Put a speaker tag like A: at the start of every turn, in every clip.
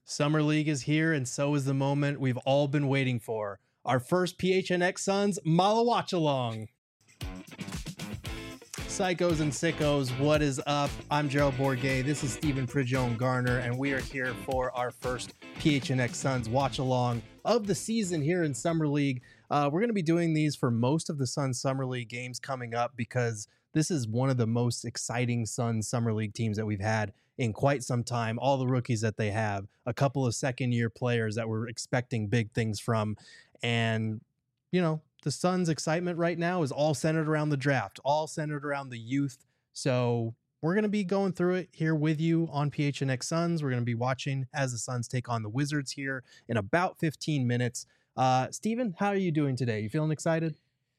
A: Summer League is here, and so is the moment we've all been waiting for. Our first PHNX Suns Mala Watch Along. Psychos and sickos, what is up? I'm Gerald Bourget. This is Stephen Prigione Garner, and we are here for our first PHNX Suns Watch Along of the season here in Summer League. We're going to be doing these for most of the Suns Summer League games coming up because this is one of the most exciting Suns Summer League teams that we've had in quite some time. All the rookies that they have, a couple of second-year players that we're expecting big things from, and, you know, the Suns' excitement right now is all centered around the draft, all centered around the youth. So we're going to be going through it here with you on PHNX Suns. We're going to be watching as the Suns take on the Wizards here in about 15 minutes. Steven, how are you doing today? You feeling excited?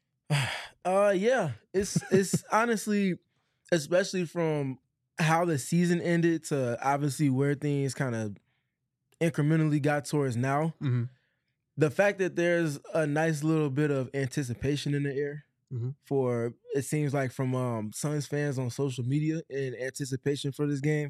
B: Yeah, it's honestly, especially from how the season ended to obviously where things kind of incrementally got towards now.
A: Mm-hmm.
B: The fact that there's a nice little bit of anticipation in the air for, it seems like, from Suns fans on social media in anticipation for this game,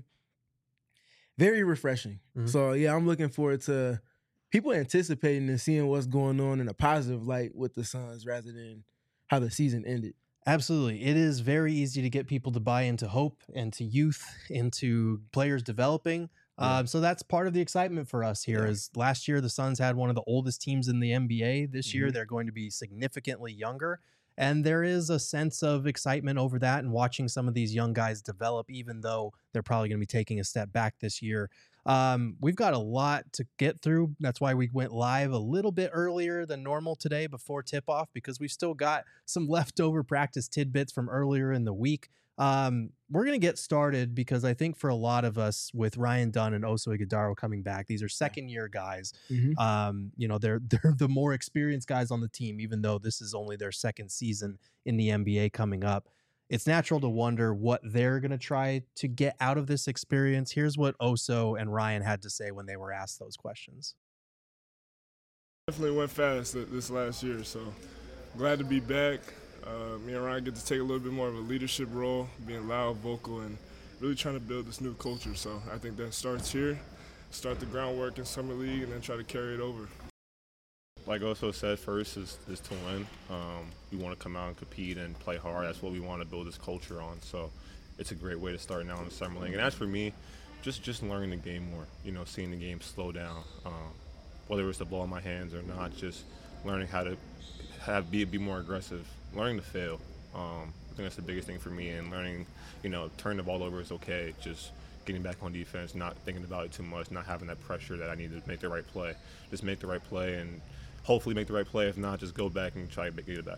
B: very refreshing. So yeah, I'm looking forward to people anticipating and seeing what's going on in a positive light with the Suns rather than how the season ended.
A: Absolutely. It is very easy to get people to buy into hope and to youth, into players developing. So that's part of the excitement for us here. Is last year the Suns had one of the oldest teams in the NBA. This year they're going to be significantly younger. And there is a sense of excitement over that and watching some of these young guys develop, even though they're probably going to be taking a step back this year. We've got a lot to get through. That's why we went live a little bit earlier than normal today before tip-off, because we've still got some leftover practice tidbits from earlier in the week. We're going to get started because I think for a lot of us, with Ryan Dunn and Oso Ighodaro coming back, these are second-year guys. You know, they're the more experienced guys on the team, even though this is only their second season in the NBA coming up. It's natural to wonder what they're going to try to get out of this experience. Here's what Oso and Ryan had to say when they were asked those questions.
C: Definitely went fast this last year, so glad to be back. Me and Ryan get to take a little bit more of a leadership role, being loud, vocal, and really trying to build this new culture. So I think that starts here, start the groundwork in Summer League, and then try to carry it over.
D: Like Oso said, first is to win. We want to come out and compete and play hard. That's what we want to build this culture on. So it's a great way to start now in the Summer League. And as for me, just learning the game more, you know, seeing the game slow down, whether it's the ball in my hands or not, just learning how to be more aggressive, learning to fail. I think that's the biggest thing for me, and learning, you know, turn the ball over is okay. Just getting back on defense, not thinking about it too much, not having that pressure that I need to make the right play. Just make the right play and hopefully make the right play. If not, just go back and try to get it back.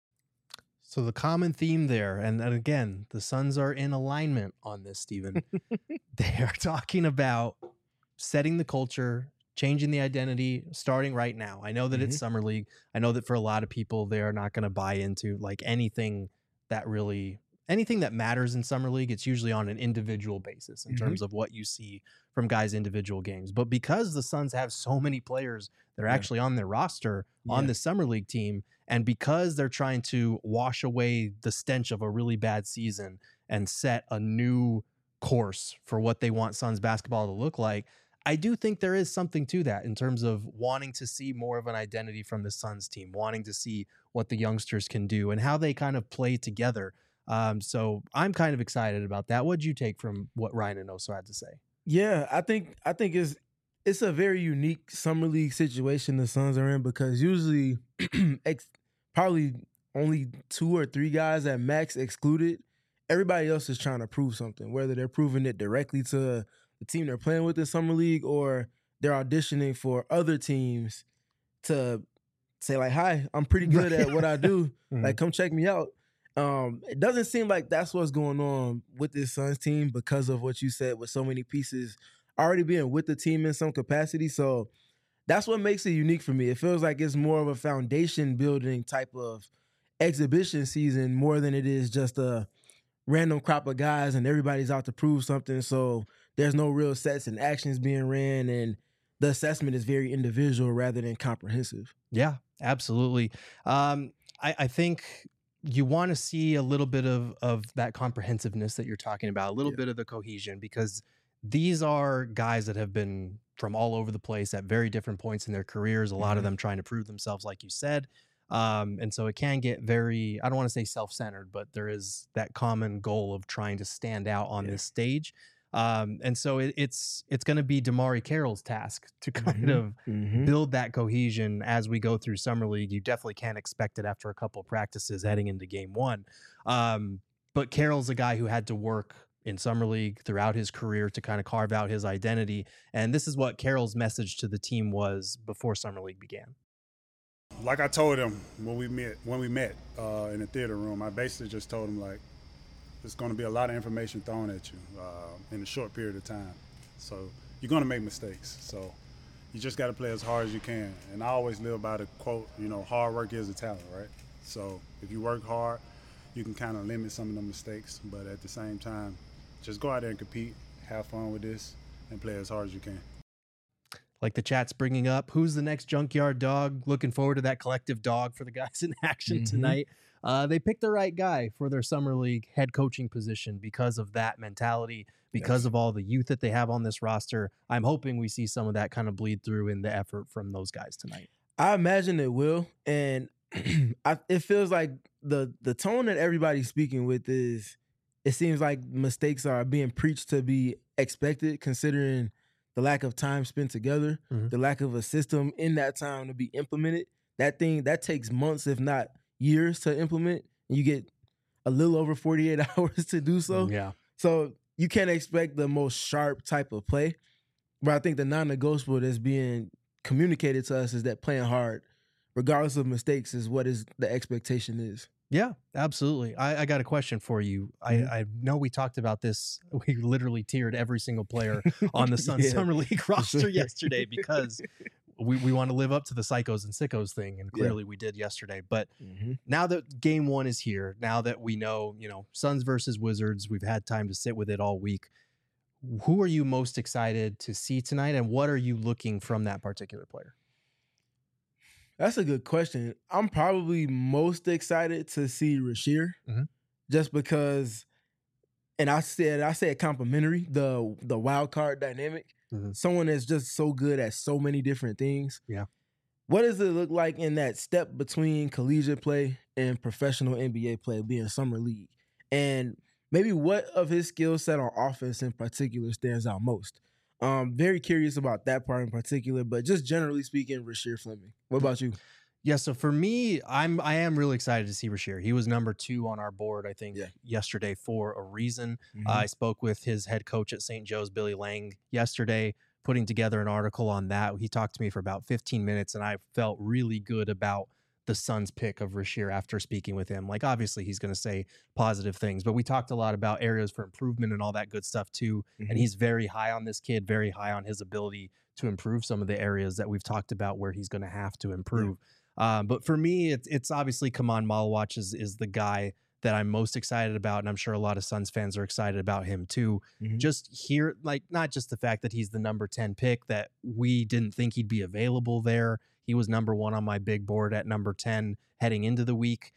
A: So the common theme there, and again, the Suns are in alignment on this, Stephen. They are talking about setting the culture, changing the identity, starting right now. I know that it's Summer League. I know that for a lot of people, they are not going to buy into like anything that matters in Summer League. It's usually on an individual basis in terms of what you see from guys' individual games. But because the Suns have so many players that are actually on their roster on the Summer League team, and because they're trying to wash away the stench of a really bad season and set a new course for what they want Suns basketball to look like, I do think there is something to that in terms of wanting to see more of an identity from the Suns team, wanting to see what the youngsters can do and how they kind of play together. So I'm kind of excited about that. What'd you take from what Ryan and Oso had to say?
B: Yeah, I think it's a very unique Summer League situation the Suns are in, because usually probably only 2 or 3 guys at max excluded. Everybody else is trying to prove something, whether they're proving it directly to the team they're playing with in Summer League or they're auditioning for other teams to say like, hi, I'm pretty good at what I do. Like, come check me out. It doesn't seem like that's what's going on with this Suns team because of what you said, with so many pieces already being with the team in some capacity. So that's what makes it unique for me. It feels like it's more of a foundation building type of exhibition season more than it is just a random crop of guys and everybody's out to prove something. So there's no real sets and actions being ran, and the assessment is very individual rather than comprehensive.
A: Yeah, absolutely. I think you want to see a little bit of that comprehensiveness that you're talking about, a little bit of the cohesion, because these are guys that have been from all over the place at very different points in their careers, a lot of
B: Mhm.
A: them trying to prove themselves, like you said. And so it can get very, I don't want to say self-centered, but there is that common goal of trying to stand out on
B: Yeah.
A: this stage. And so it's going to be Damari Carroll's task to kind
B: Mhm.
A: of
B: Mhm.
A: build that cohesion as we go through summer league. You definitely can't expect it after a couple of practices heading into game one. But Carroll's a guy who had to work in summer league throughout his career to kind of carve out his identity. And this is what Carroll's message to the team was before summer league began.
E: Like I told him when we met in the theater room, I basically just told him, like, there's going to be a lot of information thrown at you in a short period of time. So you're going to make mistakes. So you just got to play as hard as you can. And I always live by the quote, hard work is a talent, right? So if you work hard, you can kind of limit some of the mistakes. But at the same time, just go out there and compete, have fun with this, and play as hard as you can.
A: Like the chat's bringing up, who's the next junkyard dog? Looking forward to that collective dog for the guys in action tonight. They picked the right guy for their summer league head coaching position because of that mentality, because of all the youth that they have on this roster. I'm hoping we see some of that kind of bleed through in the effort from those guys tonight.
B: I imagine it will, and it feels like the tone that everybody's speaking with is, it seems like mistakes are being preached to be expected, considering the lack of time spent together, the lack of a system in that time to be implemented. That takes months, if not years, to implement. You get a little over 48 hours to do so.
A: Yeah.
B: So you can't expect the most sharp type of play. But I think the non-negotiable that's being communicated to us is that playing hard, regardless of mistakes, is what is the expectation is.
A: Yeah, absolutely. I got a question for you. I know we talked about this. We literally tiered every single player on the Suns Summer League roster yesterday because we want to live up to the psychos and sickos thing, and clearly we did yesterday. But now that game one is here, now that we know, Suns versus Wizards, we've had time to sit with it all week. Who are you most excited to see tonight, and what are you looking from that particular player?
B: That's a good question. I'm probably most excited to see Rasheer, just because, and I said complimentary, the wild card dynamic. Someone that's just so good at so many different things.
A: Yeah.
B: What does it look like in that step between collegiate play and professional NBA play, being summer league? And maybe what of his skill set on offense in particular stands out most? Very curious about that part in particular, but just generally speaking, Rasheer Fleming. What about you?
A: Yeah, so for me, I am really excited to see Rasheer. He was number 2 on our board, I think, yesterday for a reason. I spoke with his head coach at St. Joe's, Billy Lang, yesterday, putting together an article on that. He talked to me for about 15 minutes, and I felt really good about the Suns' pick of Rasheer after speaking with him. Like, obviously, he's going to say positive things, but we talked a lot about areas for improvement and all that good stuff, too. And he's very high on this kid, very high on his ability to improve some of the areas that we've talked about where he's going to have to improve. But for me, it's obviously Kaman Malawach is the guy that I'm most excited about, and I'm sure a lot of Suns fans are excited about him too. Just here, like, not just the fact that he's the number 10 pick, that we didn't think he'd be available there. He was number 1 on my big board at number 10 heading into the week.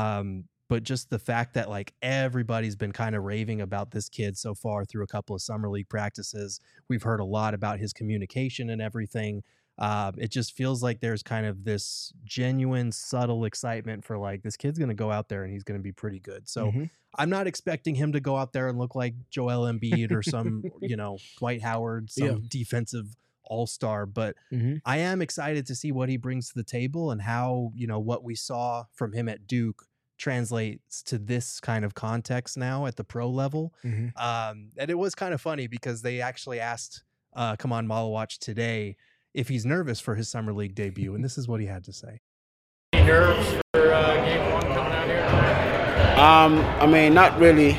A: But just the fact that, like, everybody's been kind of raving about this kid so far through a couple of summer league practices. We've heard a lot about his communication and everything. It just feels like there's kind of this genuine, subtle excitement for, like, this kid's going to go out there and he's going to be pretty good. So I'm not expecting him to go out there and look like Joel Embiid or some, Dwight Howard, some defensive all-star, but I am excited to see what he brings to the table and how, what we saw from him at Duke translates to this kind of context now at the pro level. And it was kind of funny because they actually asked Kaman Malawach today if he's nervous for his summer league debut, and this is what he had to say.
F: Any nerves for game one coming out here?
G: I mean, not really.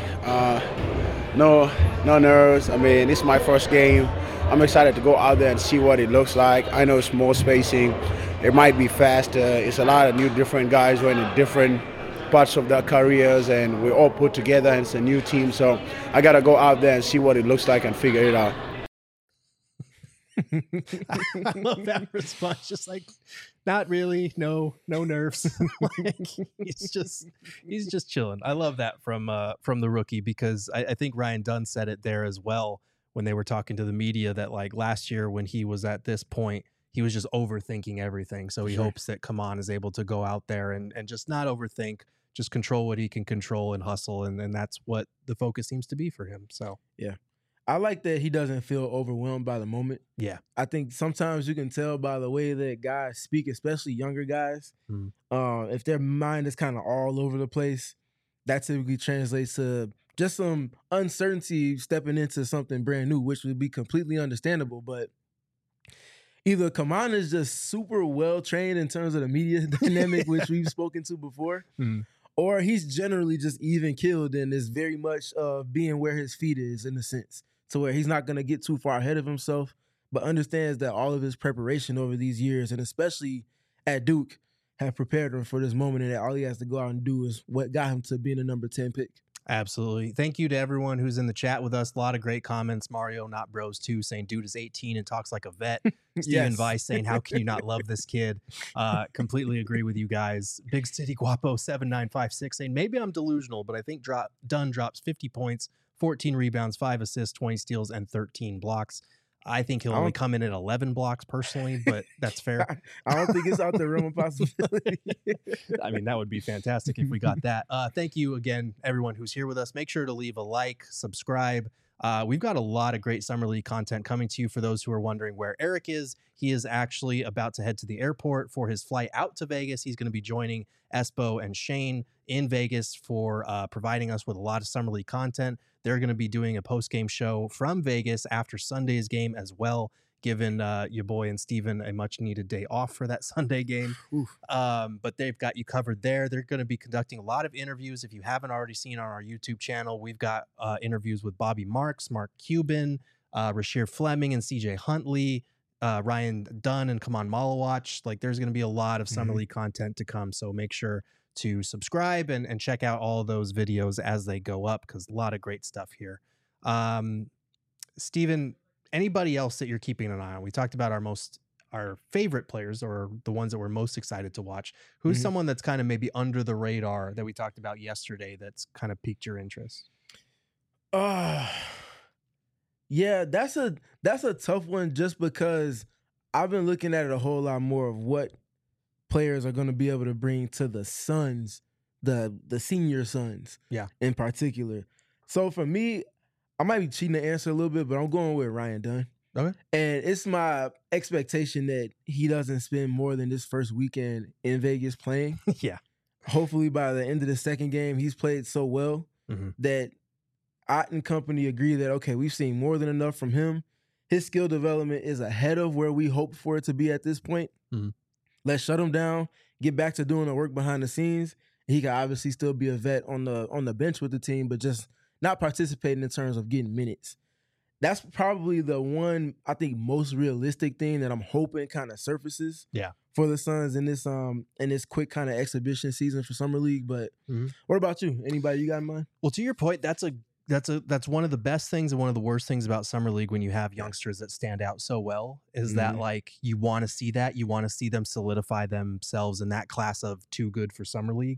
G: No nerves. I mean, this is my first game. I'm excited to go out there and see what it looks like. I know it's more spacing. It might be faster. It's a lot of new different guys who are in different parts of their careers, and we're all put together, and it's a new team. So I got to go out there and see what it looks like and figure it out.
A: I love that response. Just like, not really, no nerves. Like, he's just chilling. I love that from the rookie, because I think Ryan Dunn said it there as well when they were talking to the media that like last year when he was at this point, he was just overthinking everything. So he hopes that Kaman is able to go out there and just not overthink, just control what he can control and hustle. And that's what the focus seems to be for him. So,
B: yeah. I like that he doesn't feel overwhelmed by the moment.
A: Yeah.
B: I think sometimes you can tell by the way that guys speak, especially younger guys, if their mind is kind of all over the place, that typically translates to just some uncertainty stepping into something brand new, which would be completely understandable. But either Kaman is just super well trained in terms of the media dynamic, which we've spoken to before, or he's generally just even killed and is very much being where his feet is in a sense, to where he's not going to get too far ahead of himself, but understands that all of his preparation over these years, and especially at Duke, have prepared him for this moment, and that all he has to go out and do is what got him to being a number 10 pick.
A: Absolutely. Thank you to everyone who's in the chat with us. A lot of great comments. Mario, not bros too, saying dude is 18 and talks like a vet. Steven Weiss saying, how can you not love this kid? Completely agree with you guys. Big City Guapo 7956 saying, maybe I'm delusional, but I think Dunn drops 50 points, 14 rebounds, 5 assists, 20 steals, and 13 blocks. I think he'll only come in at 11 blocks personally, but that's fair.
B: I don't think it's out the realm of possibility.
A: I mean, that would be fantastic if we got that. Thank you again, everyone who's here with us. Make sure to leave a like, subscribe. We've got a lot of great Summer League content coming to you. For those who are wondering where Eric is, he is actually about to head to the airport for his flight out to Vegas. He's going to be joining Espo and Shane in Vegas for providing us with a lot of Summer League content. They're going to be doing a post-game show from Vegas after Sunday's game as well, giving your boy and Steven a much-needed day off for that Sunday game. But they've got you covered there. They're going to be conducting a lot of interviews. If you haven't already seen on our YouTube channel, we've got interviews with Bobby Marks, Mark Cuban, Rasheer Fleming, and CJ Huntley, Ryan Dunn, and Kaman Malawach. Like, there's going to be a lot of Summer League content to come, so make sure to subscribe and check out all of those videos as they go up, because a lot of great stuff here. Steven, anybody else that you're keeping an eye on? We talked about our favorite players, or the ones that we're most excited to watch. Who's someone that's kind of maybe under the radar that we talked about yesterday that's kind of piqued your interest?
B: Yeah, that's a tough one, just because I've been looking at it a whole lot more of what players are going to be able to bring to the Suns, the senior Suns, in particular. So for me, I might be cheating the answer a little bit, but I'm going with Ryan Dunn.
A: Okay.
B: And it's my expectation that he doesn't spend more than this first weekend in Vegas playing.
A: Yeah.
B: Hopefully by the end of the second game, he's played so well that Ott and company agree that, okay, we've seen more than enough from him. His skill development is ahead of where we hoped for it to be at this point. Let's shut him down, get back to doing the work behind the scenes. He can obviously still be a vet on the bench with the team, but just not participating in terms of getting minutes. That's probably the one, I think, most realistic thing that I'm hoping kind of surfaces for the Suns in this quick kind of exhibition season for Summer League. But what about you? Anybody you got in mind?
A: Well, to your point, that's one of the best things and one of the worst things about Summer League when you have youngsters that stand out so well is that, like, you want to see that. You want to see them solidify themselves in that class of too good for Summer League.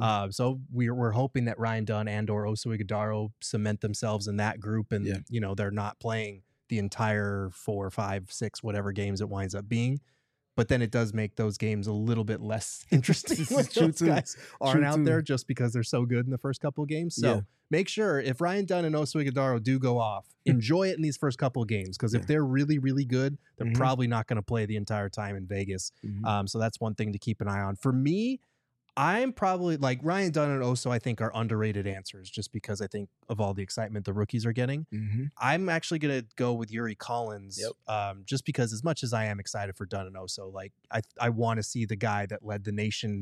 A: So we're hoping that Ryan Dunn and or Oso Ighodaro cement themselves in that group, and you know, they're not playing the entire 4, 5, 6, whatever games it winds up being. But then it does make those games a little bit less interesting when those guys aren't out there just because they're so good in the first couple of games. So make sure, if Ryan Dunn and Oso Ighodaro do go off, enjoy it in these first couple of games, because if they're really, really good, they're probably not going to play the entire time in Vegas. So that's one thing to keep an eye on. For me, I'm probably like Ryan Dunn and Oso, I think, are underrated answers just because I think of all the excitement the rookies are getting. I'm actually going to go with Yuri Collins just because, as much as I am excited for Dunn and Oso, like I want to see the guy that led the nation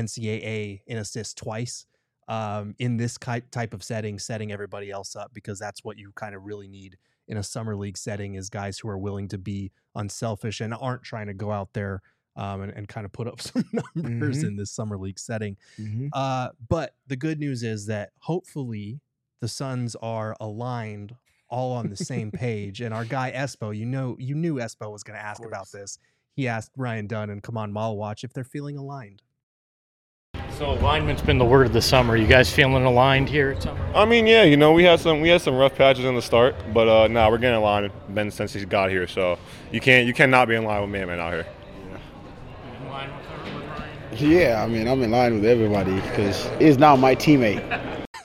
A: NCAA in assists twice in this type of setting everybody else up, because that's what you kind of really need in a Summer League setting, is guys who are willing to be unselfish and aren't trying to go out there and kind of put up some numbers in this Summer League setting. But the good news is that hopefully the Suns are aligned, all on the same page. And our guy Espo, you knew Espo was going to ask about this. He asked Ryan Dunn and Kaman Malawach if they're feeling aligned.
F: So alignment's been the word of the summer. You guys feeling aligned here at Summer?
D: I mean, yeah, you know, we had some rough patches in the start, but now we're getting in line with Ben since he's got here. So you cannot be in line with man out here.
F: In line with Ryan?
G: Yeah, I mean, I'm in line with everybody because he's now my teammate.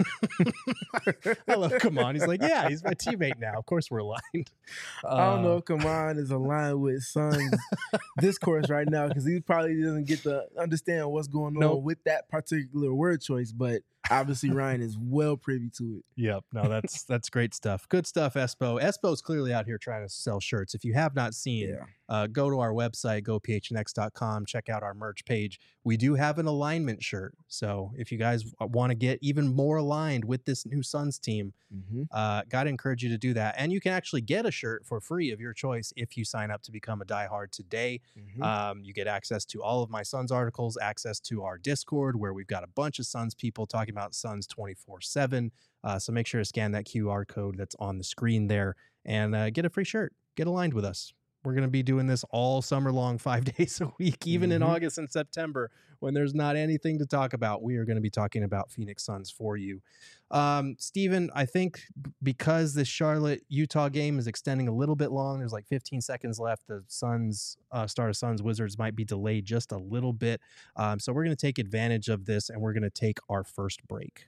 A: I love Kaman. He's like, yeah, he's my teammate now. Of course we're aligned.
B: I don't know if Kaman is aligned with Suns discourse right now because he probably doesn't get to understand what's going on with that particular word choice, but obviously Ryan is well privy to it.
A: Yep. No, that's great stuff. Good stuff, Espo. Espo's clearly out here trying to sell shirts. If you have not seen, go to our website, gophnx.com, check out our merch page. We do have an alignment shirt. So if you guys want to get even more aligned with this new Suns team, got to encourage you to do that. And you can actually get a shirt for free of your choice if you sign up to become a diehard today. You get access to all of my Suns articles, access to our Discord where we've got a bunch of Suns people talking about Suns 24/7. So make sure to scan that QR code that's on the screen there and get a free shirt. Get aligned with us. We're going to be doing this all summer long, 5 days a week, even in August and September when there's not anything to talk about. We are going to be talking about Phoenix Suns for you. Steven, I think because this Charlotte-Utah game is extending a little bit long, there's like 15 seconds left. The Suns, start of Suns-Wizards might be delayed just a little bit. So we're going to take advantage of this and we're going to take our first break.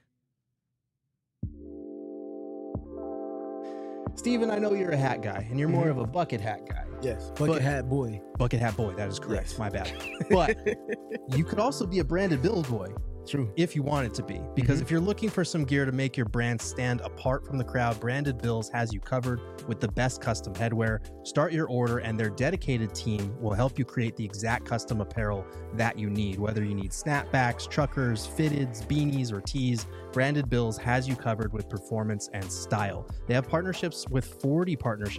A: Steven, I know you're a hat guy, and you're more of a bucket hat guy.
B: Yes, bucket hat boy.
A: Bucket hat boy, that is correct.
B: Yes.
A: My bad. But you could also be a branded Bills boy.
B: True.
A: If you want it to be. Because if you're looking for some gear to make your brand stand apart from the crowd, Branded Bills has you covered with the best custom headwear. Start your order and their dedicated team will help you create the exact custom apparel that you need. Whether you need snapbacks, truckers, fitteds, beanies, or tees, Branded Bills has you covered with performance and style. They have partnerships with 40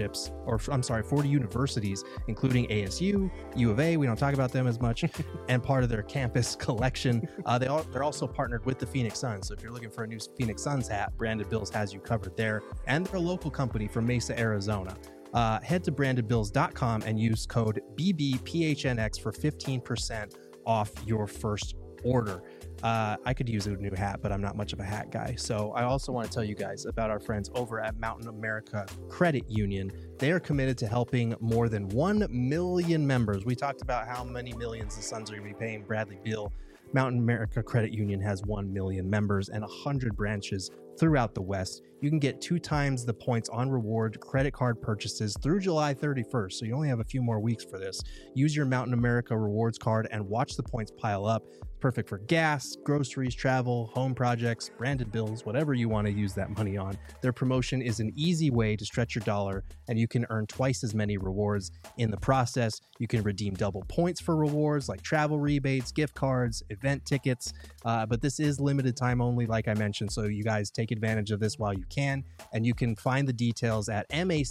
A: universities, including ASU, U of A, we don't talk about them as much, and part of their campus collection. They're also partnered with the Phoenix Suns. So if you're looking for a new Phoenix Suns hat, Branded Bills has you covered there. And they're a local company from Mesa, Arizona. Head to brandedbills.com and use code BBPHNX for 15% off your first order. I could use a new hat, but I'm not much of a hat guy. So I also want to tell you guys about our friends over at Mountain America Credit Union. They are committed to helping more than 1 million members. We talked about how many millions the Suns are going to be paying Bradley Beal. Mountain America Credit Union has 1 million members and 100 branches throughout the West. You can get 2 times the points on reward credit card purchases through July 31st. So you only have a few more weeks for this. Use your Mountain America rewards card and watch the points pile up. Perfect for gas, groceries, travel, home projects, branded bills, whatever you want to use that money on. Their promotion is an easy way to stretch your dollar, and you can earn twice as many rewards in the process. You can redeem double points for rewards like travel rebates, gift cards, event tickets. But this is limited time only, like I mentioned. So you guys take advantage of this while you can, and you can find the details at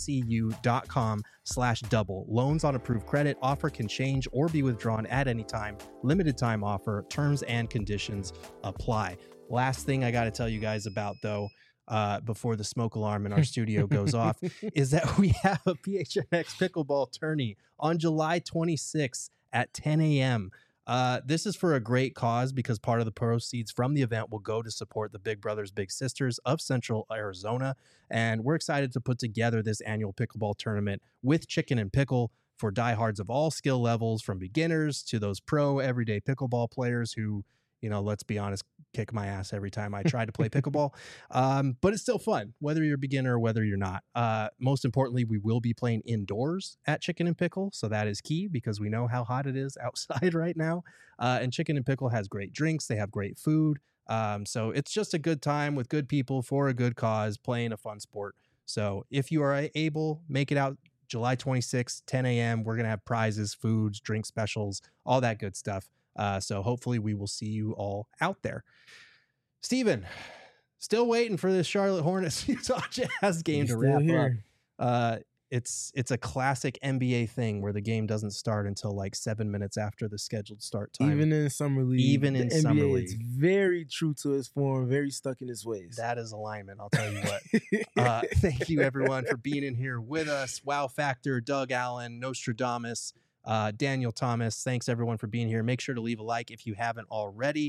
A: macu.com/double. Loans on approved credit. Offer can change or be withdrawn at any time. Limited time offer. Terms and conditions apply. Last thing I got to tell you guys about, though, before the smoke alarm in our studio goes off, is that we have a PHNX pickleball tourney on July 26th at 10 a.m. This is for a great cause because part of the proceeds from the event will go to support the Big Brothers Big Sisters of Central Arizona. And we're excited to put together this annual pickleball tournament with Chicken and Pickle for diehards of all skill levels, from beginners to those pro everyday pickleball players who, you know, let's be honest, kick my ass every time I try to play pickleball. But it's still fun, whether you're a beginner or whether you're not. Most importantly, we will be playing indoors at Chicken and Pickle. So that is key because we know how hot it is outside right now. And Chicken and Pickle has great drinks. They have great food. So it's just a good time with good people for a good cause, playing a fun sport. So if you are able, make it out July 26th, 10 a.m. We're going to have prizes, foods, drink specials, all that good stuff. So hopefully we will see you all out there. Steven, still waiting for this Charlotte Hornets Utah Jazz game to wrap up. It's a classic NBA thing where the game doesn't start until like 7 minutes after the scheduled start time.
B: Even in Summer League.
A: Even in Summer League.
B: It's very true to its form, very stuck in its ways.
A: That is alignment, I'll tell you what. Thank you, everyone, for being in here with us. Wow Factor, Doug Allen, Nostradamus, Daniel Thomas. Thanks, everyone, for being here. Make sure to leave a like if you haven't already.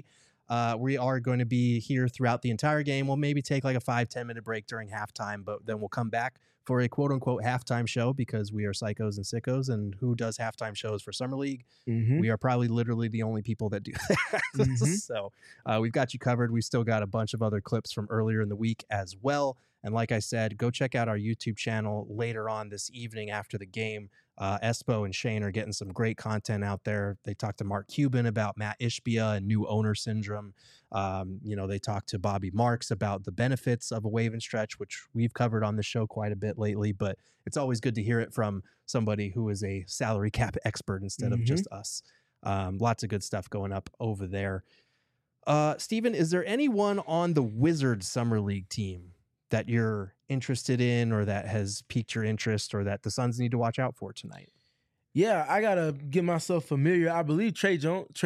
A: We are going to be here throughout the entire game. We'll maybe take like a 5-10 minute break during halftime, but then we'll come back for a quote unquote halftime show because we are psychos and sickos. And who does halftime shows for Summer League? We are probably literally the only people that do that. So we've got you covered. We've still got a bunch of other clips from earlier in the week as well. And like I said, go check out our YouTube channel later on this evening after the game. Espo and Shane are getting some great content out there. They talked to Mark Cuban about Matt Ishbia and new owner syndrome. They talked to Bobby Marks about the benefits of a wave and stretch, which we've covered on the show quite a bit lately, but it's always good to hear it from somebody who is a salary cap expert instead of just us. Lots of good stuff going up over there. Steven, is there anyone on the Wizards Summer League team that you're interested in or that has piqued your interest or that the Suns need to watch out for tonight?
B: Yeah, I gotta get myself familiar. I believe Trey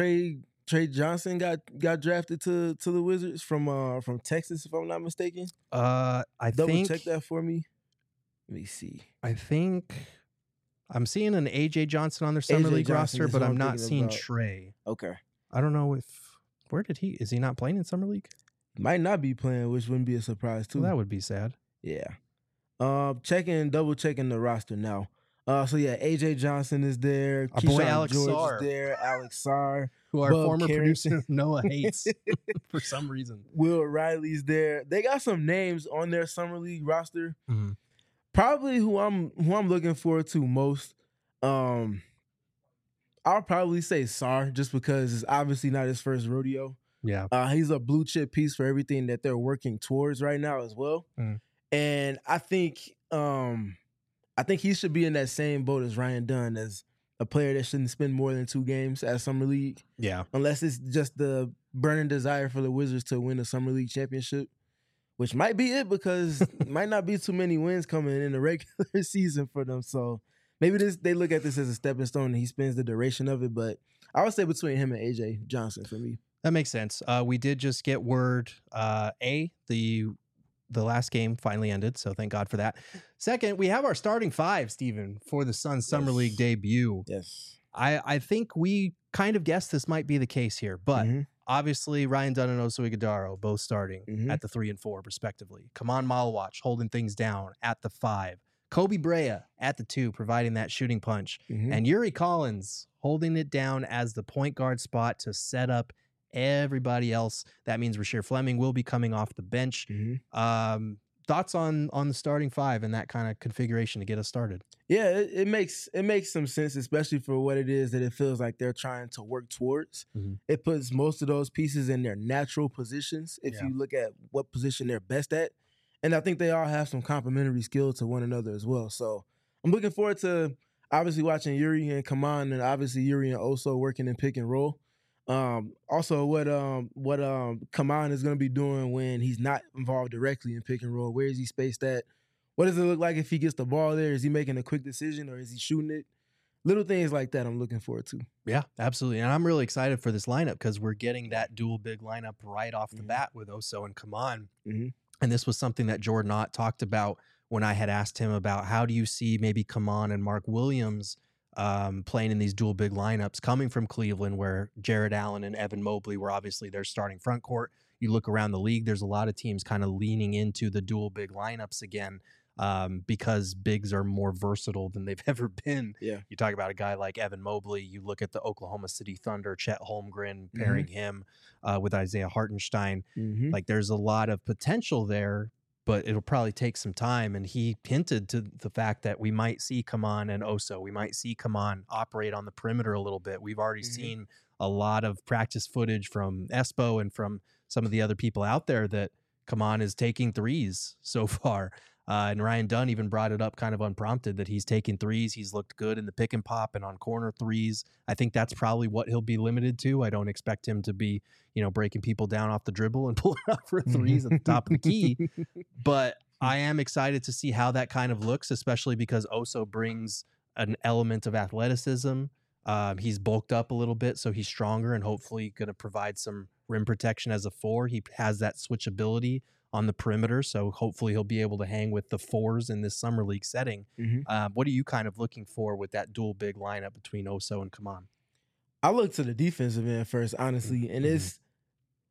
B: Johnson got drafted to the Wizards from Texas, if I'm not mistaken.
A: I
B: Double check that for me. Let me see.
A: I think I'm seeing an AJ Johnson on their Summer League roster, but I'm not seeing Trey.
B: Okay.
A: I don't know is he not playing in Summer League?
B: Might not be playing, which wouldn't be a surprise too.
A: Well, that would be sad.
B: Yeah. Double checking the roster now. AJ Johnson is there.
A: Our boy
B: Keyshawn
A: Alex
B: George
A: Sarr.
B: is there. Alex Sarr.
A: Who our
B: Bub
A: former
B: Carrington.
A: producer Noah hates for some reason.
B: Will Riley's there. They got some names on their Summer League roster.
A: Mm-hmm.
B: Probably who I'm looking forward to most. I'll probably say Sarr just because it's obviously not his first rodeo.
A: Yeah.
B: He's a blue chip piece for everything that they're working towards right now as well. And I think he should be in that same boat as Ryan Dunn, as a player that shouldn't spend more than 2 games at Summer League.
A: Yeah.
B: Unless it's just the burning desire for the Wizards to win the Summer League championship, which might be it because might not be too many wins coming in the regular season for them. So maybe they look at this as a stepping stone and he spends the duration of it. But I would say between him and AJ Johnson for me.
A: That makes sense. We did just get word, the last game finally ended, so thank God for that. Second, we have our starting 5, Steven, for the Suns Summer League debut.
B: Yes.
A: I think we kind of guessed this might be the case here, but obviously Ryan Dunn and Oso Ighodaro both starting at the 3 and 4 respectively. Kaman Malawach holding things down at the 5. Kobe Brea at the 2, providing that shooting punch. And Yuri Collins holding it down as the point guard spot to set up everybody else. That means Rasheer Fleming will be coming off the bench. Thoughts on the starting 5 and that kind of configuration to get us started?
B: Yeah, it makes some sense, especially for what it is that it feels like they're trying to work towards. It puts most of those pieces in their natural positions if you look at what position they're best at. And I think they all have some complementary skill to one another as well. So I'm looking forward to obviously watching Yuri and Kaman, and obviously Yuri and Oso working in pick and roll. Also, what Kaman is going to be doing when he's not involved directly in pick and roll. Where is he spaced at? What does it look like if he gets the ball there? Is he making a quick decision or is he shooting it? Little things like that I'm looking forward to.
A: Yeah, absolutely. And I'm really excited for this lineup because we're getting that dual big lineup right off the bat with Oso and Kaman. And this was something that Jordan Ott talked about when I had asked him about how do you see maybe Kaman and Mark Williams playing in these dual big lineups coming from Cleveland, where Jared Allen and Evan Mobley were obviously their starting front court. You look around the league, there's a lot of teams kind of leaning into the dual big lineups again because bigs are more versatile than they've ever been.
B: Yeah.
A: You talk about a guy like Evan Mobley, you look at the Oklahoma City Thunder, Chet Holmgren, pairing him with Isaiah Hartenstein. Like there's a lot of potential there, but it'll probably take some time. And he hinted to the fact that we might see Kaman and Oso. We might see Kaman operate on the perimeter a little bit. We've already seen a lot of practice footage from Espo and from some of the other people out there that Kaman is taking threes so far. And Ryan Dunn even brought it up kind of unprompted that he's taking threes. He's looked good in the pick and pop and on corner threes. I think that's probably what he'll be limited to. I don't expect him to be, breaking people down off the dribble and pulling up for threes at the top of the key. But I am excited to see how that kind of looks, especially because Oso brings an element of athleticism. He's bulked up a little bit, so he's stronger and hopefully going to provide some rim protection as a 4. He has that switchability on the perimeter, so hopefully he'll be able to hang with the 4s in this summer league setting. What are you kind of looking for with that dual big lineup between Oso and Kaman?
B: I look to the defensive end first, honestly, and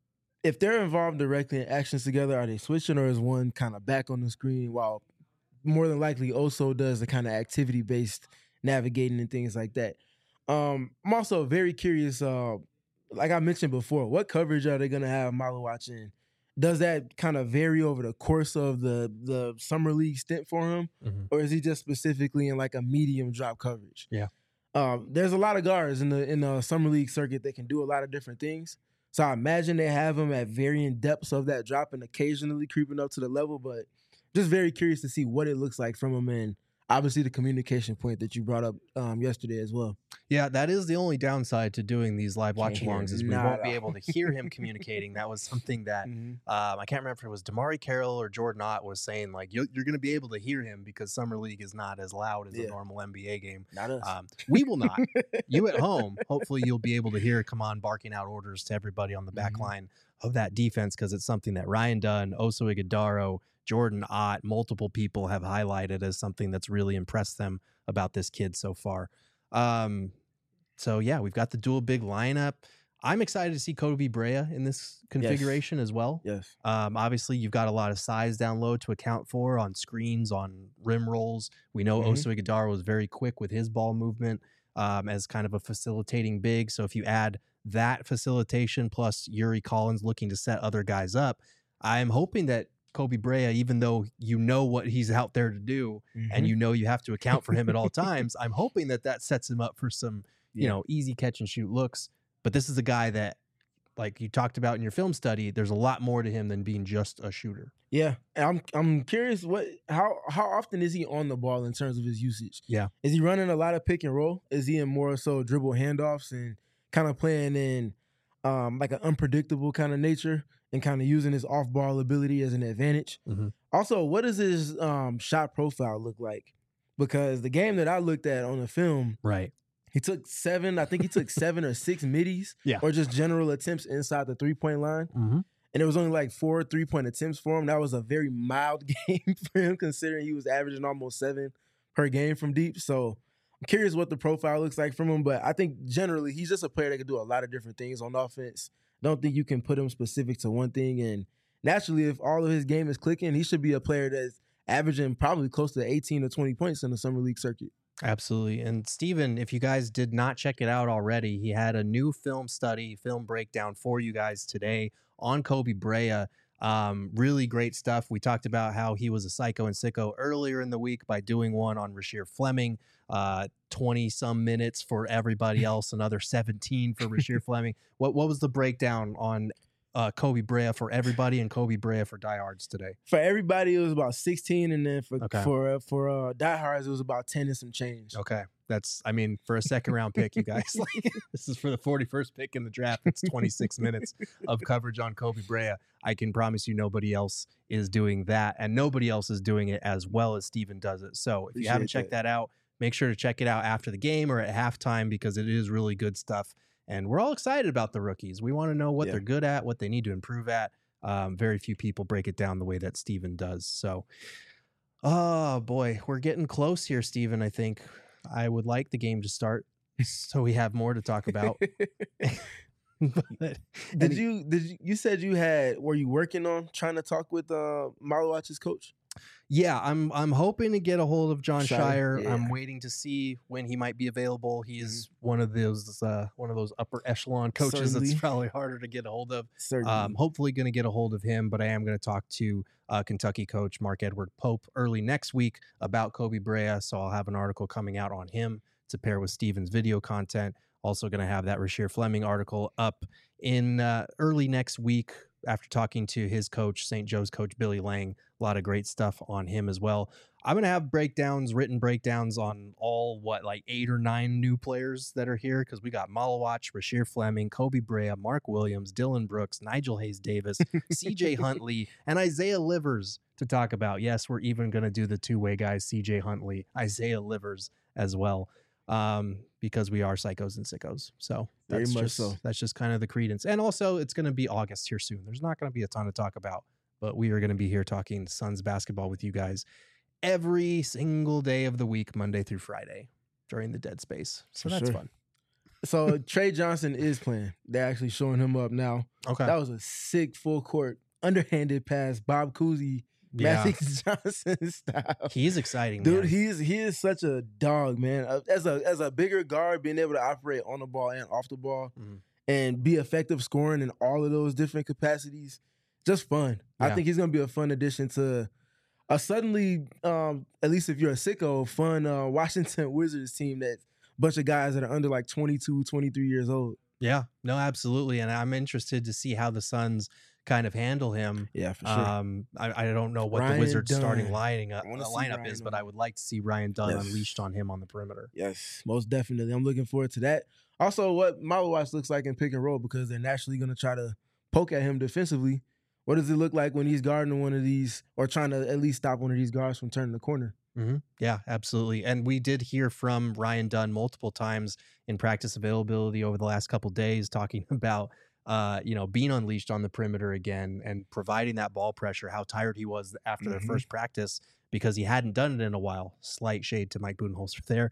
B: if they're involved directly in actions together, are they switching, or is one kind of back on the screen while more than likely Oso does the kind of activity-based navigating and things like that? I'm also very curious, like I mentioned before, what coverage are they going to have Malawach in? Does that kind of vary over the course of the summer league stint for him, or is he just specifically in like a medium drop coverage?
A: Yeah.
B: There's a lot of guards in the summer league circuit that can do a lot of different things. So I imagine they have him at varying depths of that drop and occasionally creeping up to the level, but just very curious to see what it looks like from him, and obviously the communication point that you brought up yesterday as well.
A: Yeah, that is the only downside to doing these live watch alongs is we
B: nada.
A: won't be able to hear him communicating. That was something that I can't remember if it was Damari Carroll or Jordan Ott was saying, like, you're going to be able to hear him because Summer League is not as loud as a normal NBA game.
B: Not us.
A: We will not. You at home, hopefully you'll be able to hear Kaman barking out orders to everybody on the back line of that defense, because it's something that Ryan Dunn, Oso Ighodaro, Jordan Ott, multiple people have highlighted as something that's really impressed them about this kid so far. So yeah, we've got the dual big lineup. I'm excited to see Kobe Brea in this configuration as well.
B: Yes.
A: Obviously you've got a lot of size down low to account for on screens, on rim rolls. We know Oso Ighodaro was very quick with his ball movement as kind of a facilitating big. So if you add that facilitation plus Yuri Collins looking to set other guys up, I'm hoping that Kobe Brea, even though you know what he's out there to do and you know you have to account for him at all times, I'm hoping that sets him up for some, you know, easy catch and shoot looks. But this is a guy that, like you talked about in your film study, there's a lot more to him than being just a shooter.
B: Yeah, and I'm curious how often is he on the ball in terms of his usage?
A: Yeah,
B: is he running a lot of pick and roll? Is he in more so dribble handoffs and kind of playing in like an unpredictable kind of nature and kind of using his off-ball ability as an advantage? Also, what does his shot profile look like? Because the game that I looked at on the film, he took 7 or 6 middies, or just general attempts inside the three-point line. And it was only like 4 3-point attempts for him. That was a very mild game for him, considering he was averaging almost 7 per game from deep. So I'm curious what the profile looks like from him, but I think generally he's just a player that can do a lot of different things on offense. Don't think you can put him specific to one thing. And naturally, if all of his game is clicking, he should be a player that's averaging probably close to 18 or 20 points in the summer league circuit.
A: Absolutely. And Steven, if you guys did not check it out already, he had a new film breakdown for you guys today on Kobe Brea. Really great stuff. We talked about how he was a psycho and sicko earlier in the week by doing one on Rasheer Fleming, 20 some minutes for everybody else, another 17 for Rasheer Fleming. What was the breakdown on Kobe Brea for everybody and Kobe Brea for diehards today?
B: For everybody, it was about 16, and then for diehards, it was about 10 and some change.
A: Okay. That's, I mean, for a second round pick, you guys, like, this is for the 41st pick in the draft. It's 26 minutes of coverage on Kobe Brea. I can promise you nobody else is doing that, and nobody else is doing it as well as Steven does it. So if you haven't checked that out, make sure to check it out after the game or at halftime, because it is really good stuff. And we're all excited about the rookies. We want to know what they're good at, what they need to improve at. Very few people break it down the way that Steven does. So, oh boy, we're getting close here, Steven. I think I would like the game to start so we have more to talk about.
B: You said were you working on trying to talk with Malawach's coach?
A: Yeah, I'm hoping to get a hold of John Shire.
B: Yeah.
A: I'm waiting to see when he might be available. He is one of those upper echelon coaches that's probably harder to get a hold of. Hopefully going to get a hold of him, but I am going to talk to Kentucky coach Mark Edward Pope early next week about Kobe Brea. So I'll have an article coming out on him to pair with Steven's video content. Also going to have that Rasheer Fleming article up in early next week after talking to his coach, St. Joe's coach Billy Lang. A lot of great stuff on him as well. I'm going to have written breakdowns on all, 8 or 9 new players that are here, because we got Malawach, Rasheer Fleming, Kobe Brea, Mark Williams, Dylan Brooks, Nigel Hayes-Davis, CJ Huntley, and Isaiah Livers to talk about. Yes, we're even going to do the two-way guys, CJ Huntley, Isaiah Livers as well, because we are psychos and sickos. So that's just kind of the credence. And also, it's going to be August here soon. There's not going to be a ton to talk about, but we are going to be here talking Suns basketball with you guys every single day of the week, Monday through Friday, during the dead space. So that's fun.
B: So Trey Johnson is playing. They're actually showing him up now.
A: Okay.
B: That was a sick full court underhanded pass. Bob Cousy,
A: Yeah.
B: Magic Johnson style.
A: He's exciting,
B: Dude,
A: man.
B: he is such a dog, man. As a bigger guard, being able to operate on the ball and off the ball,
A: Mhm.
B: and be effective scoring in all of those different capacities, just fun. I
A: Yeah.
B: think he's gonna be a fun addition to a suddenly, at least if you're a sicko, fun Washington Wizards team that's a bunch of guys that are under like 22, 23 years old.
A: Yeah, no, absolutely. And I'm interested to see how the Suns kind of handle him.
B: Yeah, for sure.
A: I don't know what
B: Ryan
A: the Wizards' starting
B: Dunn.
A: lineup is, but I would like to see Ryan Dunn
B: Yes.
A: unleashed on him on the perimeter.
B: Yes, most definitely. I'm looking forward to that. Also, what Malo Watch looks like in pick and roll, because they're naturally going to try to poke at him defensively. What does it look like when he's guarding one of these, or trying to at least stop one of these guards from turning the corner?
A: Mm-hmm. Yeah, absolutely. And we did hear from Ryan Dunn multiple times in practice availability over the last couple days, talking about being unleashed on the perimeter again and providing that ball pressure. How tired he was after their first practice because he hadn't done it in a while. Slight shade to Mike Budenholzer there,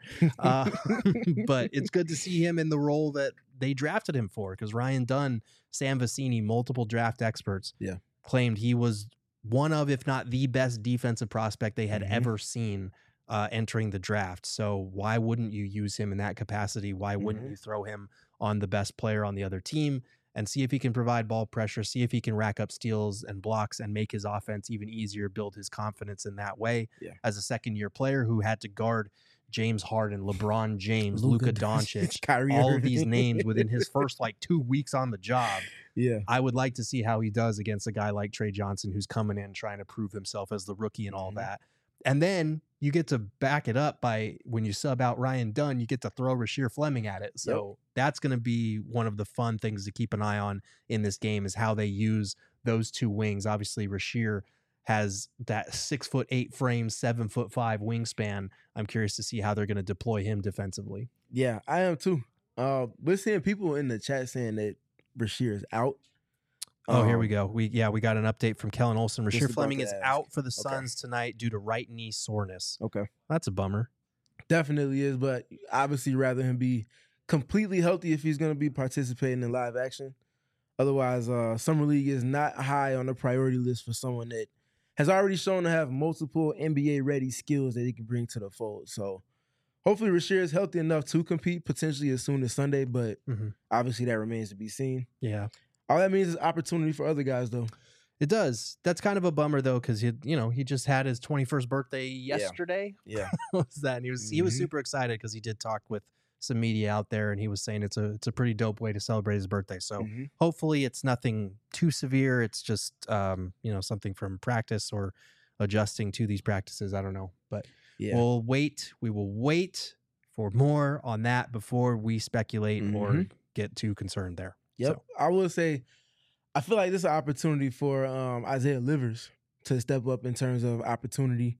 A: but it's good to see him in the role that they drafted him for. Because Ryan Dunn, Sam Vecini, multiple draft experts, claimed he was one of, if not the best defensive prospect they had ever seen entering the draft. So why wouldn't you use him in that capacity? Why wouldn't you throw him on the best player on the other team and see if he can provide ball pressure, see if he can rack up steals and blocks and make his offense even easier, build his confidence in that way as a second-year player who had to guard James Harden, LeBron James, Luka Doncic,
B: Kyrie
A: all of
B: Irving.
A: these names within his first 2 weeks on the job.
B: Yeah.
A: I would like to see how he does against a guy like Trey Johnson, who's coming in trying to prove himself as the rookie and all that. And then you get to back it up by, when you sub out Ryan Dunn, you get to throw Rasheer Fleming at it. So that's going to be one of the fun things to keep an eye on in this game, is how they use those two wings. Obviously, Rasheer has that 6'8" frame, 7'5" wingspan. I'm curious to see how they're going to deploy him defensively.
B: Yeah, I am too. We're seeing people in the chat saying that Rasheer is out.
A: Oh, here we go. We got an update from Kellen Olson.
B: Just
A: Rasheer
B: about
A: Fleming
B: to
A: is
B: ask.
A: out for the Suns tonight due to right knee soreness.
B: Okay.
A: That's a bummer.
B: Definitely is, but obviously rather him be completely healthy if he's going to be participating in live action. Otherwise, Summer League is not high on the priority list for someone that has already shown to have multiple NBA-ready skills that he can bring to the fold. So hopefully Rasheer is healthy enough to compete potentially as soon as Sunday, but obviously that remains to be seen.
A: Yeah.
B: All that means is opportunity for other guys, though.
A: It does. That's kind of a bummer, though, because he just had his 21st birthday yesterday.
B: Yeah.
A: What was that? And he was super excited because he did talk with some media out there, and he was saying it's a pretty dope way to celebrate his birthday. So hopefully it's nothing too severe. It's just something from practice or adjusting to these practices. I don't know, but we'll wait. We will wait for more on that before we speculate or get too concerned there.
B: Yep.
A: So.
B: I will say, I feel like this is an opportunity for Isaiah Livers to step up in terms of opportunity.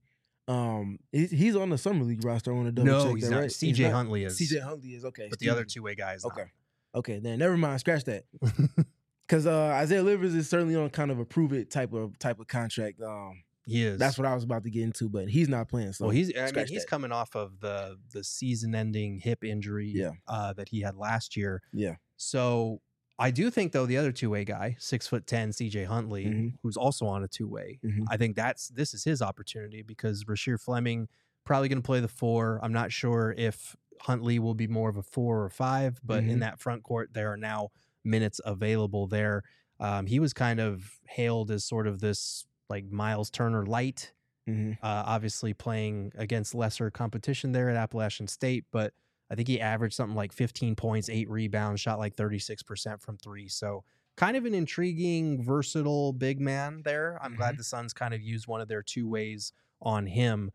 B: He's on the Summer League roster. I want to double check
A: he's
B: that,
A: not.
B: right?
A: CJ Huntley is.
B: CJ Huntley is, okay.
A: But the other two-way guy is
B: okay.
A: not.
B: Okay, then never mind. Scratch that. Because Isaiah Livers is certainly on kind of a prove it type of contract.
A: He is.
B: That's what I was about to get into, but he's not playing. So
A: well, he's
B: that.
A: coming off of the season-ending hip injury that he had last year.
B: Yeah.
A: So I do think, though, the other two-way guy, 6'10", CJ Huntley, who's also on a two-way, I think this is his opportunity, because Rasheer Fleming probably going to play the 4. I'm not sure if Huntley will be more of a 4 or 5, but in that front court, there are now minutes available there. He was kind of hailed as sort of this like Miles Turner light, obviously playing against lesser competition there at Appalachian State, but I think he averaged something like 15 points, 8 rebounds, shot like 36% from 3. So kind of an intriguing, versatile big man there. I'm glad the Suns kind of used one of their two ways on him.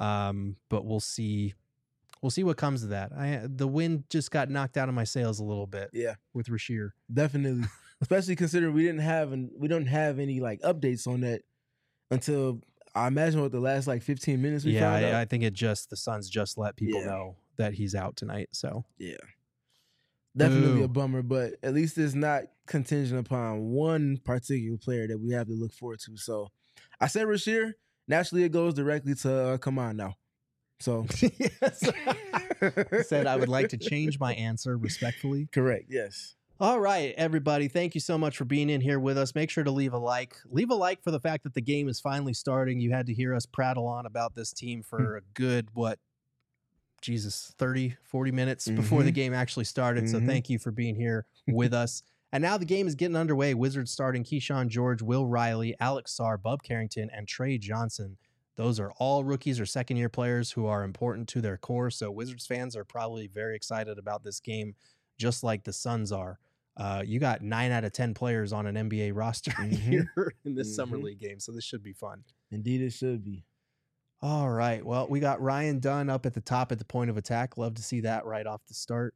A: But we'll see. We'll see what comes of that. The wind just got knocked out of my sails a little bit.
B: Yeah,
A: with Rasheer.
B: Definitely. Especially considering we don't have any like updates on that until I imagine what the last like 15 minutes we found out.
A: I think the Suns just let people know that he's out tonight. So
B: yeah, definitely a bummer, but at least it's not contingent upon one particular player that we have to look forward to. So I said Rasheer. Naturally, it goes directly to come on now. So
A: Yes. Said I would like to change my answer respectfully.
B: correct. Yes.
A: All right, everybody. Thank you so much for being in here with us. Make sure to leave a like. Leave a like for the fact that the game is finally starting. You had to hear us prattle on about this team for a good, 30, 40 minutes before the game actually started. So thank you for being here with us. And now the game is getting underway. Wizards starting Keyshawn George, Will Riley, Alex Sarr, Bub Carrington, and Trey Johnson. Those are all rookies or second-year players who are important to their core. So Wizards fans are probably very excited about this game, just like the Suns are. You got 9 out of 10 players on an NBA roster here in this summer league game, so this should be fun.
B: Indeed, it should be.
A: All right. Well, we got Ryan Dunn up at the top at the point of attack. Love to see that right off the start.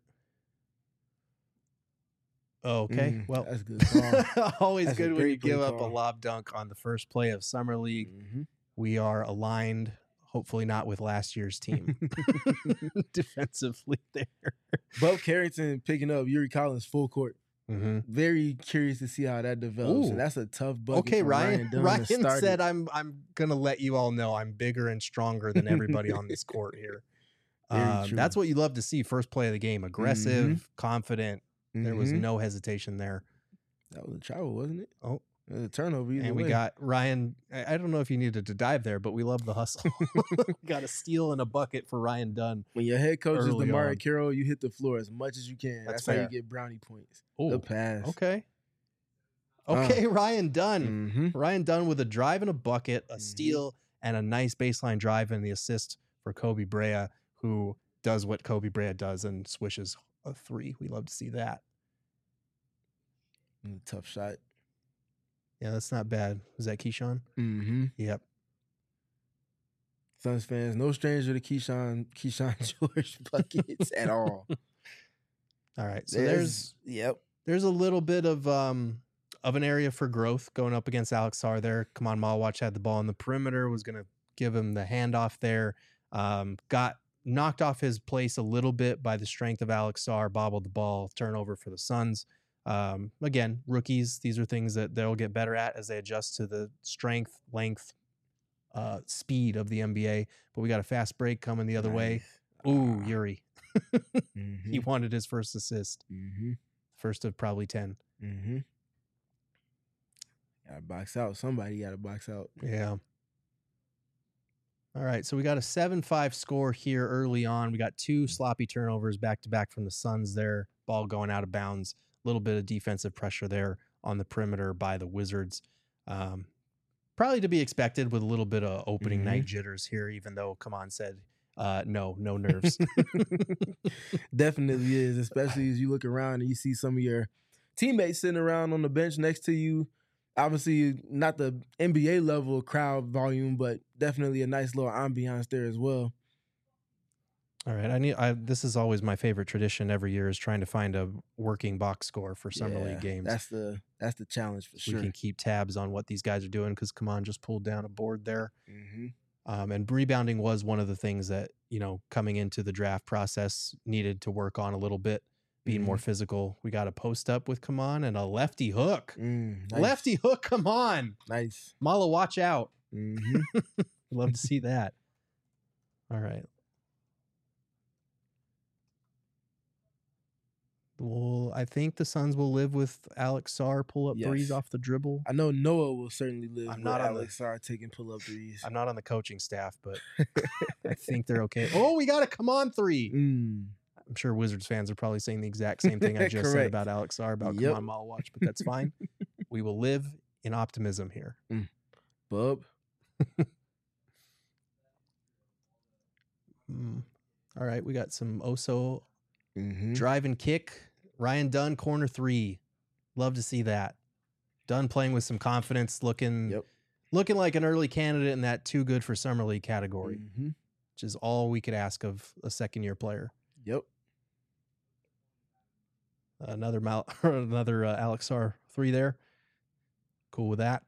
A: Okay. Well,
B: that's good call.
A: always
B: That's a
A: good when you
B: great play
A: give up a
B: call.
A: lob dunk on the first play of summer league. We are aligned, hopefully not with last year's team defensively there.
B: Bub Carrington picking up Yuri Collins full court. Very curious to see how that develops.
A: Ooh.
B: And that's a tough bucket.
A: Okay,
B: for
A: Ryan.
B: Dunn
A: Ryan
B: to start
A: said,
B: it.
A: "I'm gonna let you all know I'm bigger and stronger than everybody on this court here."
B: Very true.
A: That's what you love to see. First play of the game, aggressive, confident. There was no hesitation there.
B: That was a travel, wasn't it?
A: Oh.
B: It was a turnover. Either
A: And we
B: way.
A: got Ryan. I don't know if you needed to dive there, but we love the hustle. Got a steal and a bucket for Ryan Dunn.
B: When your head coach is
A: early on.
B: DeMar Carroll, you hit the floor as much as you can.
A: That's
B: That's how you
A: fair.
B: get brownie points.
A: Oh,
B: The pass.
A: okay. Okay, Ryan Dunn.
B: Mhm.
A: Ryan Dunn with a drive and a bucket, a steal, and a nice baseline drive and the assist for Kobe Brea, who does what Kobe Brea does and swishes a 3. We love to see that.
B: Tough shot.
A: Yeah, that's not bad. Was that Keyshawn?
B: Mm-hmm.
A: Yep.
B: Suns fans, no stranger to Keyshawn George buckets at all.
A: All right. So there's a little bit of an area for growth going up against Alex Sarr there. Kaman Malwatch had the ball on the perimeter, was going to give him the handoff there. Got knocked off his place a little bit by the strength of Alex Sarr, bobbled the ball, turnover for the Suns. Again, rookies, these are things that they'll get better at as they adjust to the strength, length, speed of the NBA. But we got a fast break coming the other way. Ooh, Yuri. He wanted his first assist. First of probably 10.
B: Gotta box out. Somebody gotta box out.
A: Yeah. All right. So we got a 7-5 score here early on. We got 2 sloppy turnovers back to back from the Suns there. Ball going out of bounds. A little bit of defensive pressure there on the perimeter by the Wizards. Probably to be expected with a little bit of opening night jitters here, even though Kaman said no nerves.
B: Definitely is, especially as you look around and you see some of your teammates sitting around on the bench next to you. Obviously, not the NBA level crowd volume, but definitely a nice little ambiance there as well.
A: All right. This is always my favorite tradition every year is trying to find a working box score for summer league games.
B: That's the challenge for sure.
A: We can keep tabs on what these guys are doing because Kaman just pulled down a board there. And rebounding was one of the things that, coming into the draft process needed to work on a little bit, being more physical. We got a post up with Kaman and a lefty hook.
B: Nice.
A: Lefty hook, come on.
B: Nice.
A: Mala, watch out. Love to see that. All right. Well, I think the Suns will live with Alex Sarr pull up threes off the dribble.
B: I know Noah will certainly live
A: I'm
B: with
A: not on
B: Alex Sarr taking pull up threes.
A: I'm not on the coaching staff, but I think they're okay. Oh, we got a come on 3. I'm sure Wizards fans are probably saying the exact same thing I just said about Alex Sarr about come on Malwatch, but that's fine. We will live in optimism here.
B: Bub.
A: All right, we got some Oso drive and kick. Ryan Dunn, corner 3. Love to see that. Dunn playing with some confidence, looking like an early candidate in that too good for summer league category, which is all we could ask of a second-year player.
B: Yep.
A: Another Alex Sarr 3 there. Cool with that.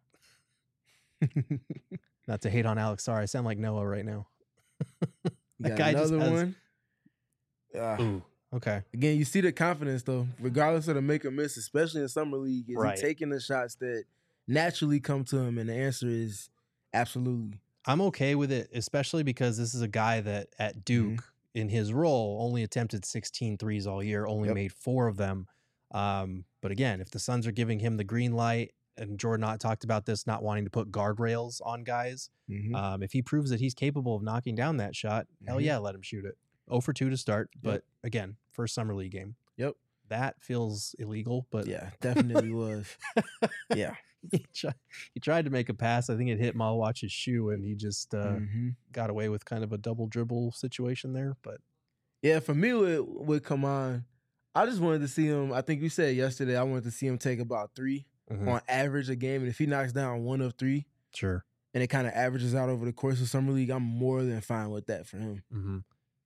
A: Not to hate on Alex Sarr. I sound like Noah right now.
B: That guy another just one.
A: Ooh. Okay.
B: Again, you see the confidence though, regardless of the make or miss, especially in summer league. Is he taking the shots that naturally come to him? And the answer is absolutely.
A: I'm okay with it, especially because this is a guy that at Duke in his role only attempted 16 threes all year, only made 4 of them. But again, if the Suns are giving him the green light, and Jordan Ott talked about this, not wanting to put guardrails on guys, if he proves that he's capable of knocking down that shot, hell yeah, let him shoot it. 0 for 2 to start, but again, first summer league game.
B: Yep.
A: That feels illegal, but
B: yeah, definitely was. Yeah.
A: He tried to make a pass. I think it hit Malawach's shoe, and he just got away with kind of a double dribble situation there. But
B: yeah, for me with Kaman, I just wanted to see him. I think you said yesterday I wanted to see him take about 3 on average a game, and if he knocks down 1 of 3,
A: sure, and
B: it kind of averages out over the course of summer league, I'm more than fine with that for him.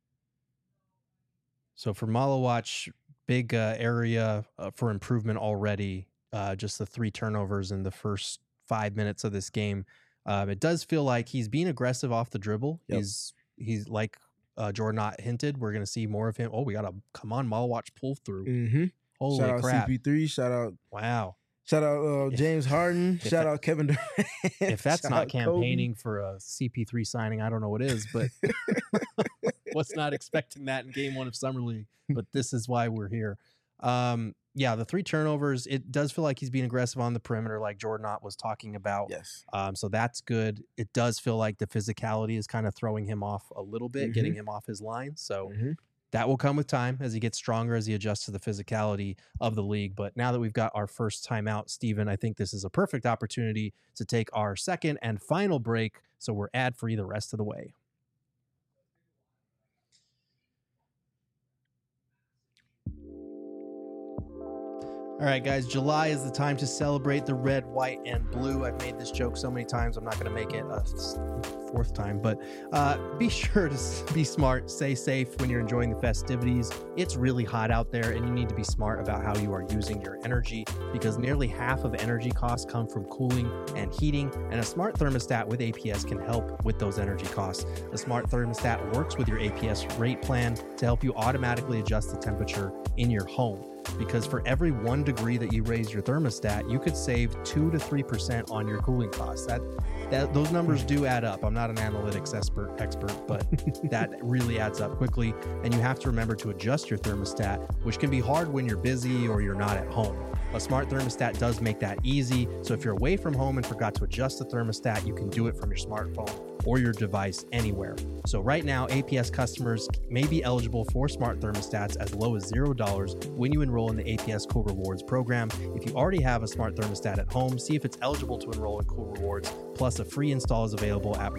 A: So for Malawach, big area for improvement already. Just the 3 turnovers in the first 5 minutes of this game. It does feel like he's being aggressive off the dribble. He's like Jordan Ott hinted. We're going to see more of him. Oh, we got a Malawach pull through. Holy
B: shout
A: crap.
B: Out CP3. Shout out.
A: Wow.
B: Shout out James Harden. Shout out Kevin Durant.
A: If that's not campaigning for a CP3 signing, I don't know what is, but was not expecting that in game 1 of Summer League. But this is why we're here. Yeah, the 3 turnovers, it does feel like he's being aggressive on the perimeter like Jordan Ott was talking about.
B: Yes.
A: So that's good. It does feel like the physicality is kind of throwing him off a little bit, getting him off his line. So that will come with time as he gets stronger, as he adjusts to the physicality of the league. But now that we've got our first timeout, Steven, I think this is a perfect opportunity to take our second and final break. So we're ad-free the rest of the way. All right, guys, July is the time to celebrate the red, white, and blue. I've made this joke so many times, I'm not going to make it a 4th time, but be sure to be smart, stay safe when you're enjoying the festivities. It's really hot out there, and you need to be smart about how you are using your energy, because nearly half of energy costs come from cooling and heating, and a smart thermostat with APS can help with those energy costs. The smart thermostat works with your APS rate plan to help you automatically adjust the temperature in your home. Because for every 1 degree that you raise your thermostat, you could save 2 to 3% on your cooling costs. Those numbers do add up. I'm not an analytics expert, but that really adds up quickly. And you have to remember to adjust your thermostat, which can be hard when you're busy or you're not at home. A smart thermostat does make that easy. So if you're away from home and forgot to adjust the thermostat, you can do it from your smartphone or your device anywhere. So right now, APS customers may be eligible for smart thermostats as low as $0 when you enroll in the APS Cool Rewards program. If you already have a smart thermostat at home, see if it's eligible to enroll in Cool Rewards. Plus, a free install is available at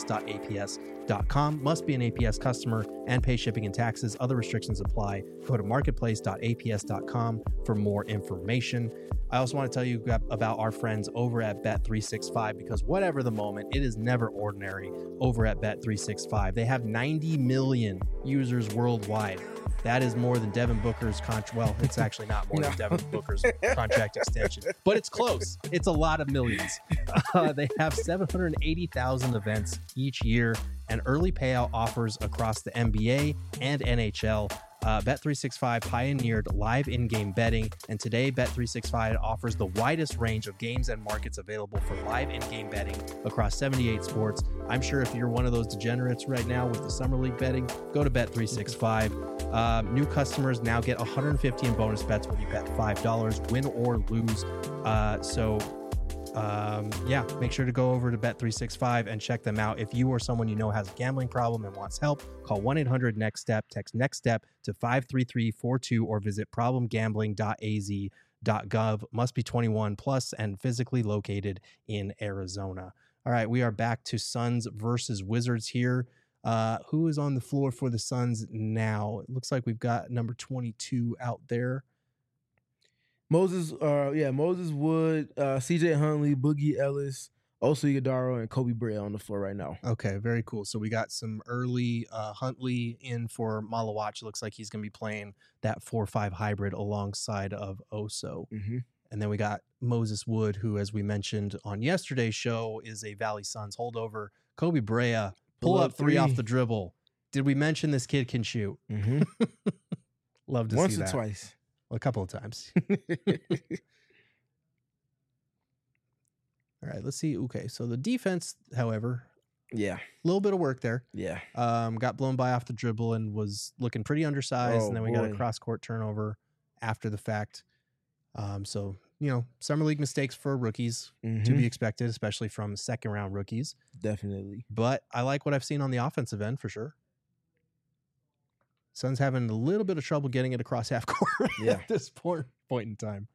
A: marketplace.aps.com. Must be an APS customer and pay shipping and taxes. Other restrictions apply. Go to marketplace.aps.com for more information. I also want to tell you about our friends over at Bet365, because whatever the moment, it is never ordinary over at Bet365. They have 90 million users worldwide. That is more than Devin Booker's contract. Well, it's actually not more than Devin Booker's contract extension, but it's close. It's a lot of millions. They have 780,000 events each year and early payout offers across the NBA and NHL. Bet365 pioneered live in-game betting, and today Bet365 offers the widest range of games and markets available for live in-game betting across 78 sports. I'm sure if you're one of those degenerates right now with the Summer League betting, go to Bet365. New customers now get $150 in bonus bets when you bet $5, win or lose. Make sure to go over to Bet365 and check them out. If you or someone you know has a gambling problem and wants help, call 1-800-NEXT-STEP, text NEXT-STEP to 53342 or visit problemgambling.az.gov. Must be 21 plus and physically located in Arizona. All right, we are back to Suns versus Wizards here. Who is on the floor for the Suns now? It looks like we've got number 22 out there.
B: Moses Wood, CJ Huntley, Boogie Ellis, Oso Ighodaro, and Kobe Bray on the floor right now.
A: Okay, very cool. So we got some early Huntley in for Malawach. Looks like he's going to be playing that 4-5 hybrid alongside of Oso. And then we got Moses Wood, who, as we mentioned on yesterday's show, is a Valley Suns holdover. Kobe Brea, pull up three off the dribble. Did we mention this kid can shoot? Love to
B: Once
A: see that.
B: Once or twice.
A: A couple of times. All right, let's see. Okay, so the defense, however,
B: Yeah.
A: A little bit of work there.
B: Yeah.
A: Got blown by off the dribble and was looking pretty undersized.
B: Oh,
A: And then we got a
B: boy.
A: cross-court turnover after the fact. So, summer league mistakes for rookies to
B: Mhm.
A: be expected, especially from second-round rookies.
B: Definitely.
A: But I like what I've seen on the offensive end for sure. Suns having a little bit of trouble getting it across half court
B: Yeah.
A: at this point in time.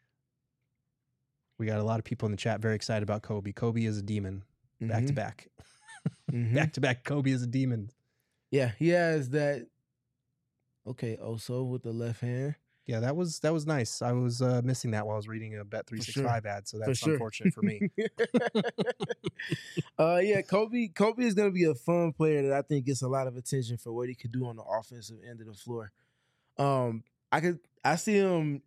A: We got a lot of people in the chat very excited about Kobe. Kobe is a demon. Back to back.
B: Mhm.
A: Back to back. Kobe is a demon.
B: Yeah, he has that. Okay, also with the left hand.
A: Yeah, that was nice. I was missing that while I was reading a Bet365 ad, so that's
B: sure.
A: unfortunate for me.
B: Yeah, Kobe is gonna be a fun player that I think gets a lot of attention for what he could do on the offensive end of the floor. I see him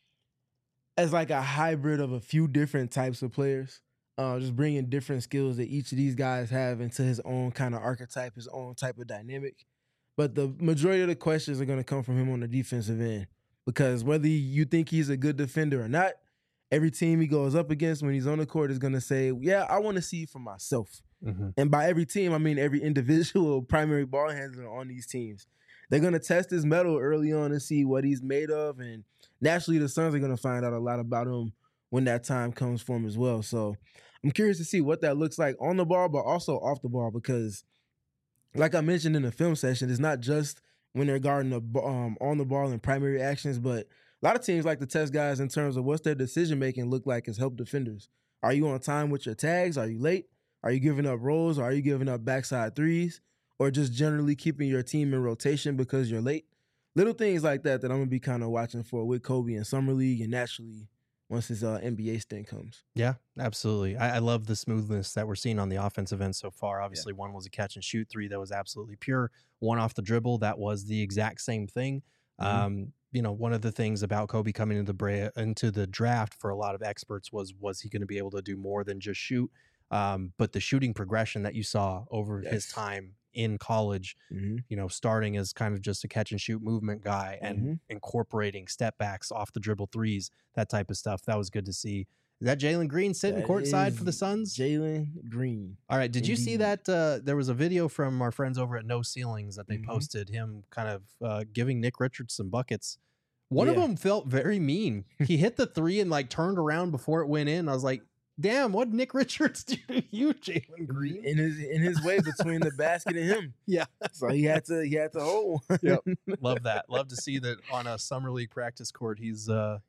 B: as like a hybrid of a few different types of players. Just bringing different skills that each of these guys have into his own kind of archetype, his own type of dynamic. But the majority of the questions are going to come from him on the defensive end, because whether you think he's a good defender or not, every team he goes up against when he's on the court is going to say, yeah, I want to see for myself.
A: Mm-hmm.
B: And by every team, I mean every individual primary ball handler on these teams. They're going to test his mettle early on and see what he's made of. And naturally, the Suns are going to find out a lot about him when that time comes for him as well. So I'm curious to see what that looks like on the ball, but also off the ball, because like I mentioned in the film session, it's not just when they're guarding on the ball in primary actions, but a lot of teams like to test guys in terms of what's their decision-making look like as help defenders. Are you on time with your tags? Are you late? Are you giving up rolls? Or are you giving up backside threes? Or just generally keeping your team in rotation because you're late? Little things like that I'm going to be kind of watching for with Kobe in Summer League and naturally once his NBA stint comes.
A: Yeah, absolutely. I love the smoothness that we're seeing on the offensive end so far. Obviously, one was a catch and shoot, 3 that was absolutely pure, 1 off the dribble that was the exact same thing.
B: Mm-hmm.
A: One of the things about Kobe coming into the draft for a lot of experts was he going to be able to do more than just shoot? But the shooting progression that you saw over his time in college, starting as kind of just a catch and shoot movement guy and incorporating step backs off the dribble threes, that type of stuff. That was good to see. Is that Jalen Green sitting courtside for the Suns?
B: Jalen Green.
A: All right. Did you see that? There was a video from our friends over at No Ceilings that they posted, him kind of giving Nick Richards some buckets. One of them felt very mean. He hit the 3 and like turned around before it went in. I was like, damn, what did Nick Richards do to you, Jalen Green?
B: In his way between the basket and him.
A: Yeah.
B: So he had to hold.
A: Yep. Love that. Love to see that on a summer league practice court. He's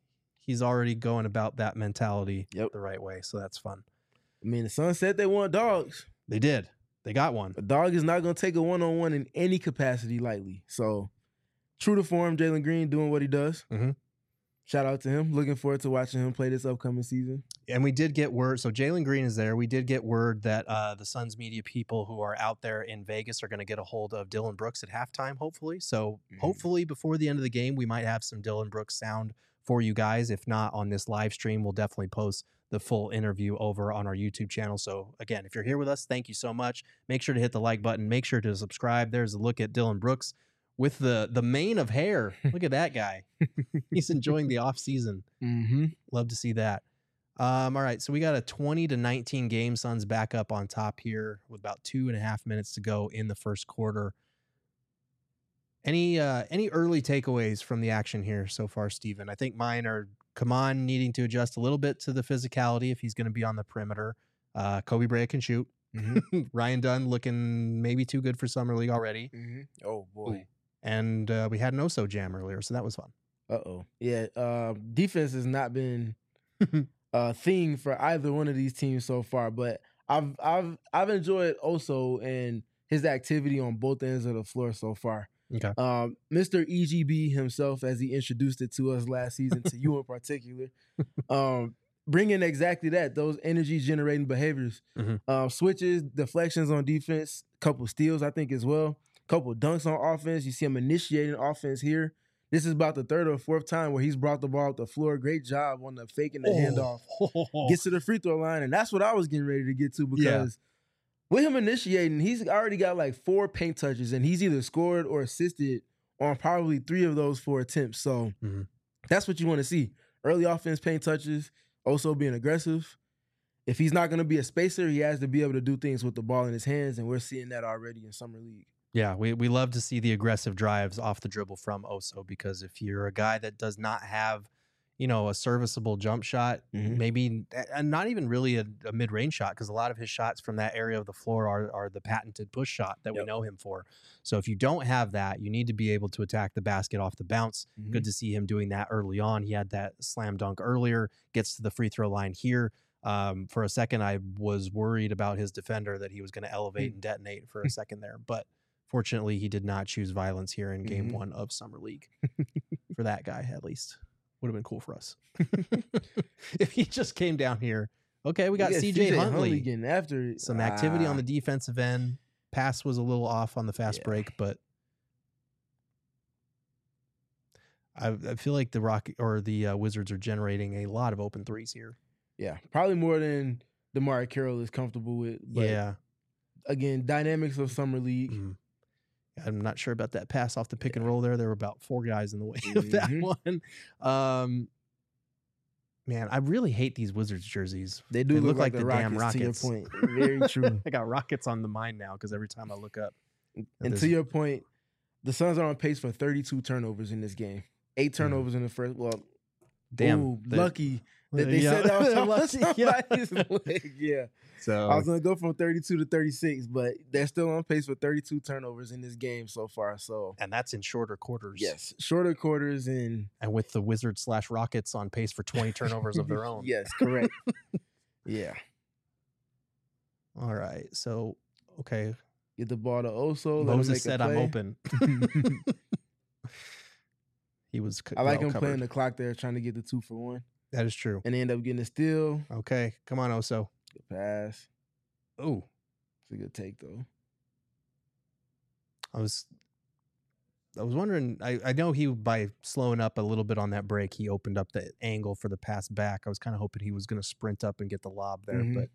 A: already going about that mentality the right way. So that's fun.
B: I mean, the Suns said they want dogs.
A: They did. They got one.
B: A dog is not going to take a one-on-one in any capacity lightly. So true to form, Jalen Green doing what he does.
A: Mm-hmm.
B: Shout out to him. Looking forward to watching him play this upcoming season.
A: And we did get word. So Jalen Green is there. We did get word that the Suns media people who are out there in Vegas are going to get a hold of Dillon Brooks at halftime, hopefully. So hopefully before the end of the game, we might have some Dillon Brooks sound for you guys. If not on this live stream, we'll definitely post the full interview over on our YouTube channel. So again, if you're here with us, thank you so much. Make sure to hit the like button. Make sure to subscribe. There's a look at Dillon Brooks with the mane of hair. Look at that guy. He's enjoying the off season. Love to see that. All right, so we got a 20-19 game. Suns back up on top here with about 2.5 minutes to go in the first quarter. Any early takeaways from the action here so far, Steven? I think mine are Kaman needing to adjust a little bit to the physicality if he's going to be on the perimeter. Kobe Bryant can shoot. Ryan Dunn looking maybe too good for Summer League already.
B: Oh, boy.
A: Ooh. And we had an Oso jam earlier, so that was fun.
B: Uh-oh. Yeah, defense has not been a thing for either one of these teams so far, but I've enjoyed Oso and his activity on both ends of the floor so far.
A: Okay.
B: Mr. EGB himself, as he introduced it to us last season, to you in particular, bringing exactly that, those energy-generating behaviors. Switches, deflections on defense, couple steals, I think, as well. Couple dunks on offense. You see him initiating offense here. This is about the 3rd or 4th time where he's brought the ball up the floor. Great job on the faking the handoff. Gets to the free throw line, and that's what I was getting ready to get to, because with him initiating, he's already got like 4 paint touches, and he's either scored or assisted on probably 3 of those 4 attempts. So that's what you want to see. Early offense paint touches, also being aggressive. if he's not going to be a spacer, he has to be able to do things with the ball in his hands, and we're seeing that already in Summer League.
A: Yeah, we love to see the aggressive drives off the dribble from Oso, because if you're a guy that does not have, a serviceable jump shot, maybe, and not even really a mid-range shot, because a lot of his shots from that area of the floor are the patented push shot that we know him for. So if you don't have that, you need to be able to attack the basket off the bounce. Good to see him doing that early on. He had that slam dunk earlier, gets to the free throw line here. For a second, I was worried about his defender, that he was going to elevate and detonate for a second there, but fortunately, he did not choose violence here in Game 1 of Summer League. For that guy, at least. Would have been cool for us. If he just came down here. Okay, we got CJ Huntley
B: getting after it.
A: Some activity on the defensive end. Pass was a little off on the fast break, but I feel like the Rocket or the Wizards are generating a lot of open threes here.
B: Yeah, probably more than DeMar Carroll is comfortable with. But again, dynamics of Summer League.
A: I'm not sure about that pass off the pick and roll there. There were about 4 guys in the way of that one. Man, I really hate these Wizards jerseys.
B: They look like
A: the damn Rockets.
B: To your point. Very true.
A: I got Rockets on the mind now because every time I look up.
B: And to your point, the Suns are on pace for 32 turnovers in this game. 8 turnovers in the first. Well,
A: damn,
B: lucky that they said that was somebody's leg. Yeah.
A: So
B: I was going to go from 32 to 36, but they're still on pace for 32 turnovers in this game so far. So,
A: and that's in shorter quarters.
B: Yes, shorter quarters and
A: with the Wizards / Rockets on pace for 20 turnovers of their own.
B: Yes, correct. Yeah.
A: All right. So, okay.
B: Get the ball to Oso.
A: Moses said, "I'm open." He was.
B: I like him playing the clock there, trying to get the 2 for 1.
A: That is true.
B: And they end up getting a steal.
A: Okay, come on, Oso.
B: Good pass.
A: Oh,
B: it's a good take though.
A: I was wondering. I know he, by slowing up a little bit on that break, he opened up the angle for the pass back. I was kind of hoping he was going to sprint up and get the lob there, but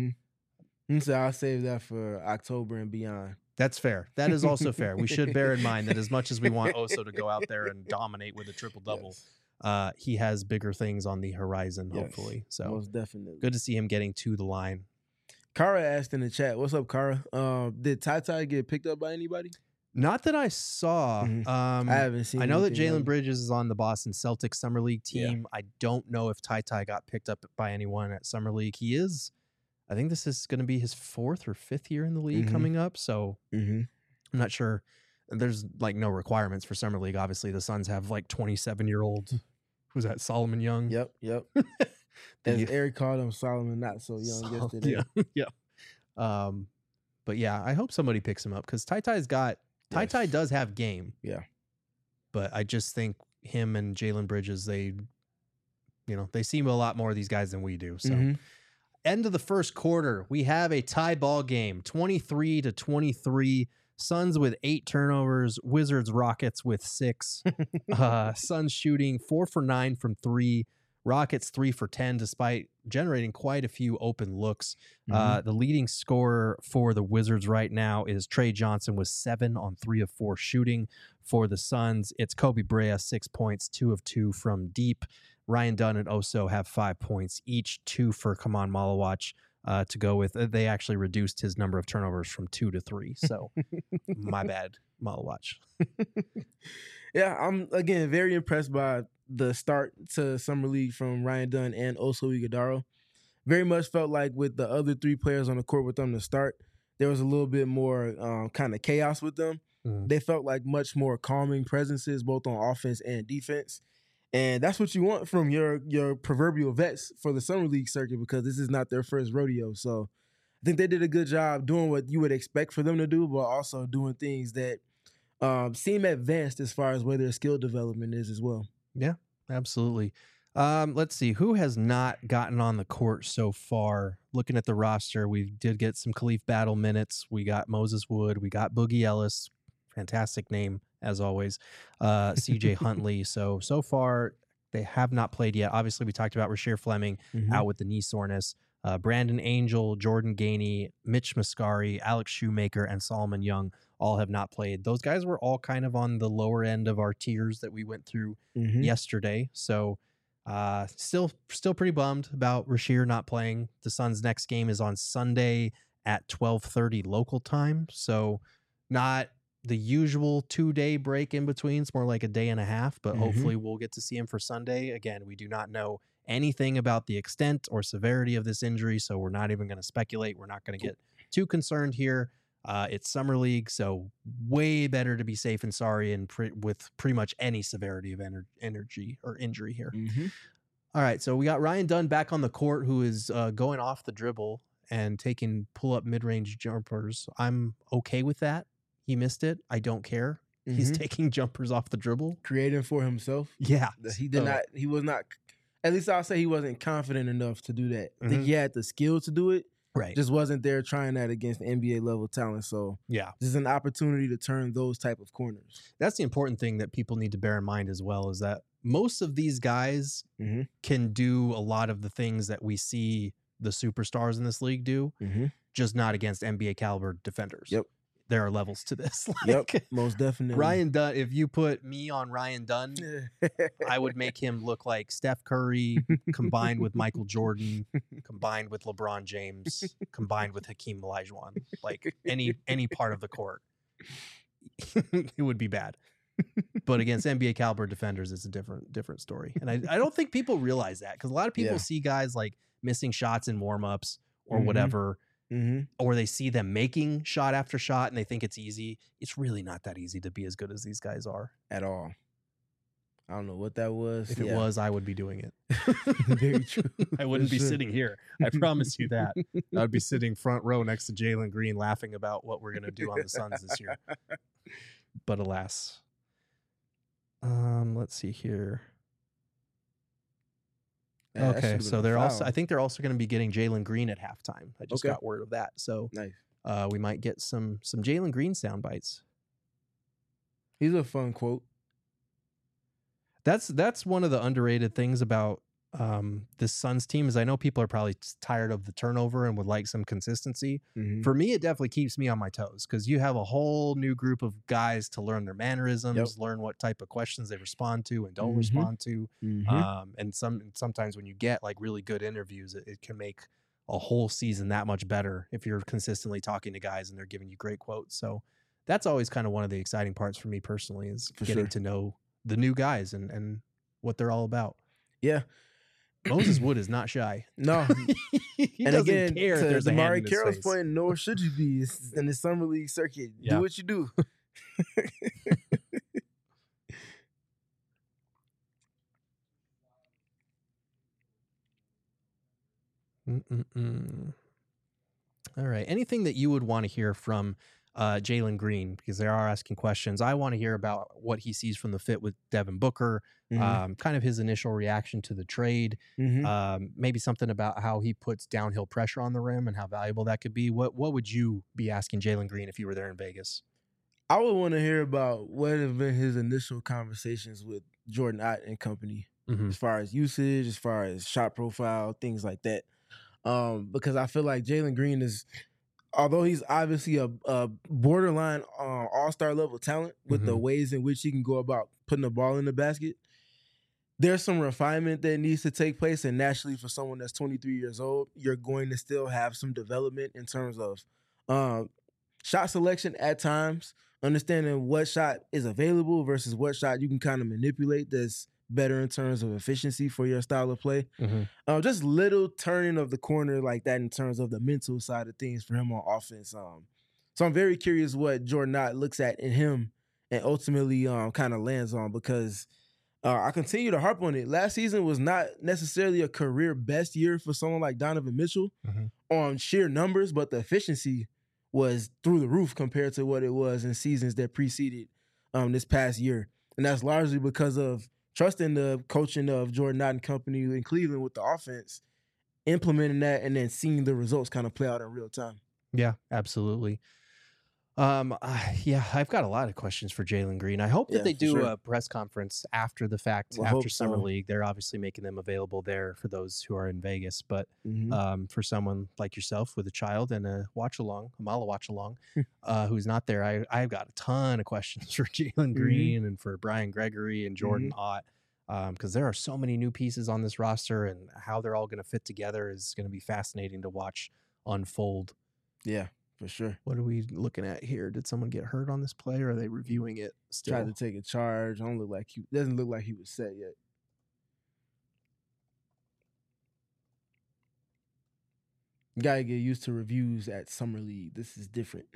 B: so I'll save that for October and beyond.
A: That's fair. That is also fair. We should bear in mind that as much as we want Oso to go out there and dominate with a triple-double, he has bigger things on the horizon, hopefully. So
B: most definitely.
A: Good to see him getting to the line.
B: Kara asked in the chat, "What's up, Kara? Did Ty get picked up by anybody?"
A: Not that I saw.
B: I haven't seen.
A: I know that Jalen Bridges is on the Boston Celtics Summer League team. I don't know if Ty got picked up by anyone at Summer League. He is. I think this is going to be his 4th or 5th year in the league coming up. So I'm not sure. There's like no requirements for Summer League. Obviously, the Suns have like 27-year-old. Who's that? Solomon Young.
B: Yep. As Eric called him, Solomon not so young yesterday.
A: Yeah. But yeah, I hope somebody picks him up because Ty does have game.
B: Yeah.
A: But I just think him and Jalen Bridges, they seem a lot more of these guys than we do. So end of the first quarter, we have a tie ball game, 23-23. Suns with 8 turnovers, Wizards Rockets with 6. Suns shooting 4 for 9 from 3. Rockets 3 for 10, despite generating quite a few open looks. The leading scorer for the Wizards right now is Trey Johnson with 7 on 3 of 4 shooting. For the Suns, it's Kobe Brea, 6 points, 2 of 2 from deep. Ryan Dunn and Oso have 5 points each, 2 for Kaman Malawach to go with. They actually reduced his number of turnovers from 2 to 3. So my bad, Malawach.
B: Yeah, I'm, again, very impressed by the start to Summer League from Ryan Dunn and Oso Ighodaro. Very much felt like with the other 3 players on the court with them to start, there was a little bit more kind of chaos with them. They felt like much more calming presences, both on offense and defense. And that's what you want from your proverbial vets for the Summer League circuit, because this is not their first rodeo. So I think they did a good job doing what you would expect for them to do, but also doing things that seem advanced as far as where their skill development is as well.
A: Yeah, absolutely. Let's see. Who has not gotten on the court so far? Looking at the roster, we did get some Khalif Battle minutes. We got Moses Wood. We got Boogie Ellis. Fantastic name, as always. CJ Huntley. So far, they have not played yet. Obviously, we talked about Rasheer Fleming out with the knee soreness. Brandon Angel, Jordan Gainey, Mitch Mascari, Alex Shoemaker, and Solomon Young all have not played. Those guys were all kind of on the lower end of our tiers that we went through yesterday. So Still pretty bummed about Rasheer not playing. The Suns' next game is on Sunday at 12:30 local time, so not the usual 2-day break in between. It's more like a day and a half, but hopefully we'll get to see him for Sunday. Again, we do not know anything about the extent or severity of this injury, so we're not even going to speculate. We're not going to get too concerned here. It's summer league, so way better to be safe and sorry and with pretty much any severity of energy or injury here. All right, so we got Ryan Dunn back on the court, who is going off the dribble and taking pull-up mid-range jumpers. I'm okay with that. He missed it. I don't care. He's taking jumpers off the dribble.
B: Creating for himself.
A: Yeah.
B: He did not, he was not, at least I'll say he wasn't confident enough to do that. I think he had the skill to do it.
A: Right.
B: Just wasn't there trying that against NBA level talent. So
A: yeah,
B: this is an opportunity to turn those type of corners.
A: That's the important thing that people need to bear in mind as well, is that most of these guys can do a lot of the things that we see the superstars in this league do, just not against NBA caliber defenders.
B: Yep.
A: There are levels to this.
B: Yep, most definitely.
A: Ryan Dunn, if you put me on Ryan Dunn, I would make him look like Steph Curry combined with Michael Jordan, combined with LeBron James, combined with Hakeem Olajuwon. Like any part of the court, it would be bad. But against NBA caliber defenders, it's a different story. And I don't think people realize that, because a lot of people see guys like missing shots in warmups or whatever. Or they see them making shot after shot and they think it's easy. It's really not that easy to be as good as these guys are
B: at all. I don't know what that was.
A: If it was, I would be doing it.
B: Very true.
A: I wouldn't be sitting here. I promise you that. I'd be sitting front row next to Jalen Green laughing about what we're going to do on the Suns this year. But alas. Let's see here.
B: Yeah,
A: okay, so they're also, I think they're also going to be getting Jalen Green at halftime. I just got word of that. So
B: nice.
A: We might get some Jalen Green sound bites.
B: He's a fun quote.
A: That's one of the underrated things about this Suns team, is I know people are probably tired of the turnover and would like some consistency. For me, it definitely keeps me on my toes, because you have a whole new group of guys to learn their mannerisms, learn what type of questions they respond to and don't respond to. And sometimes when you get like really good interviews, it can make a whole season that much better if you're consistently talking to guys and they're giving you great quotes. So that's always kind of one of the exciting parts for me personally, is getting to know the new guys and what they're all about.
B: Yeah.
A: Moses Wood is not shy.
B: No.
A: He
B: and
A: doesn't
B: again,
A: care if
B: to
A: there's a hand in his
B: Carroll's
A: face.
B: point, nor should you be. It's in the summer league circuit. Do what you do.
A: All right. Anything that you would want to hear from Jalen Green, because they are asking questions. I want to hear about what he sees from the fit with Devin Booker, kind of his initial reaction to the trade, maybe something about how he puts downhill pressure on the rim and how valuable that could be. What would you be asking Jalen Green if you were there in Vegas?
B: I would want to hear about what have been his initial conversations with Jordan Ott and company, as far as usage, as far as shot profile, things like that. Because I feel like Jalen Green is, although he's obviously a borderline all-star level talent with the ways in which he can go about putting the ball in the basket, there's some refinement that needs to take place. And naturally, for someone that's 23 years old, you're going to still have some development in terms of shot selection at times, understanding what shot is available versus what shot you can kind of manipulate that's better in terms of efficiency for your style of play. Just little turning of the corner like that in terms of the mental side of things for him on offense. So I'm very curious what Jordan Knott looks at in him and ultimately kind of lands on, because I continue to harp on it. Last season was not necessarily a career best year for someone like Donovan Mitchell on sheer numbers, but the efficiency was through the roof compared to what it was in seasons that preceded this past year. And that's largely because of trusting the coaching of Jordan Knott and company in Cleveland with the offense, implementing that, and then seeing the results kind of play out in real time.
A: Yeah, absolutely. I've got a lot of questions for Jalen Green. I hope that they do a press conference after the fact, after Summer League. They're obviously making them available there for those who are in Vegas. But for someone like yourself with a child and a Mala watch along, who's not there, I've got a ton of questions for Jalen Green and for Brian Gregory and Jordan Ott. because there are so many new pieces on this roster, and how they're all going to fit together is going to be fascinating to watch unfold.
B: Yeah, for sure.
A: What are we looking at here? Did someone get hurt on this play, or are they reviewing it still?
B: Tried to take a charge. Doesn't look like he was set yet. Gotta get used to reviews at Summer League. This is different.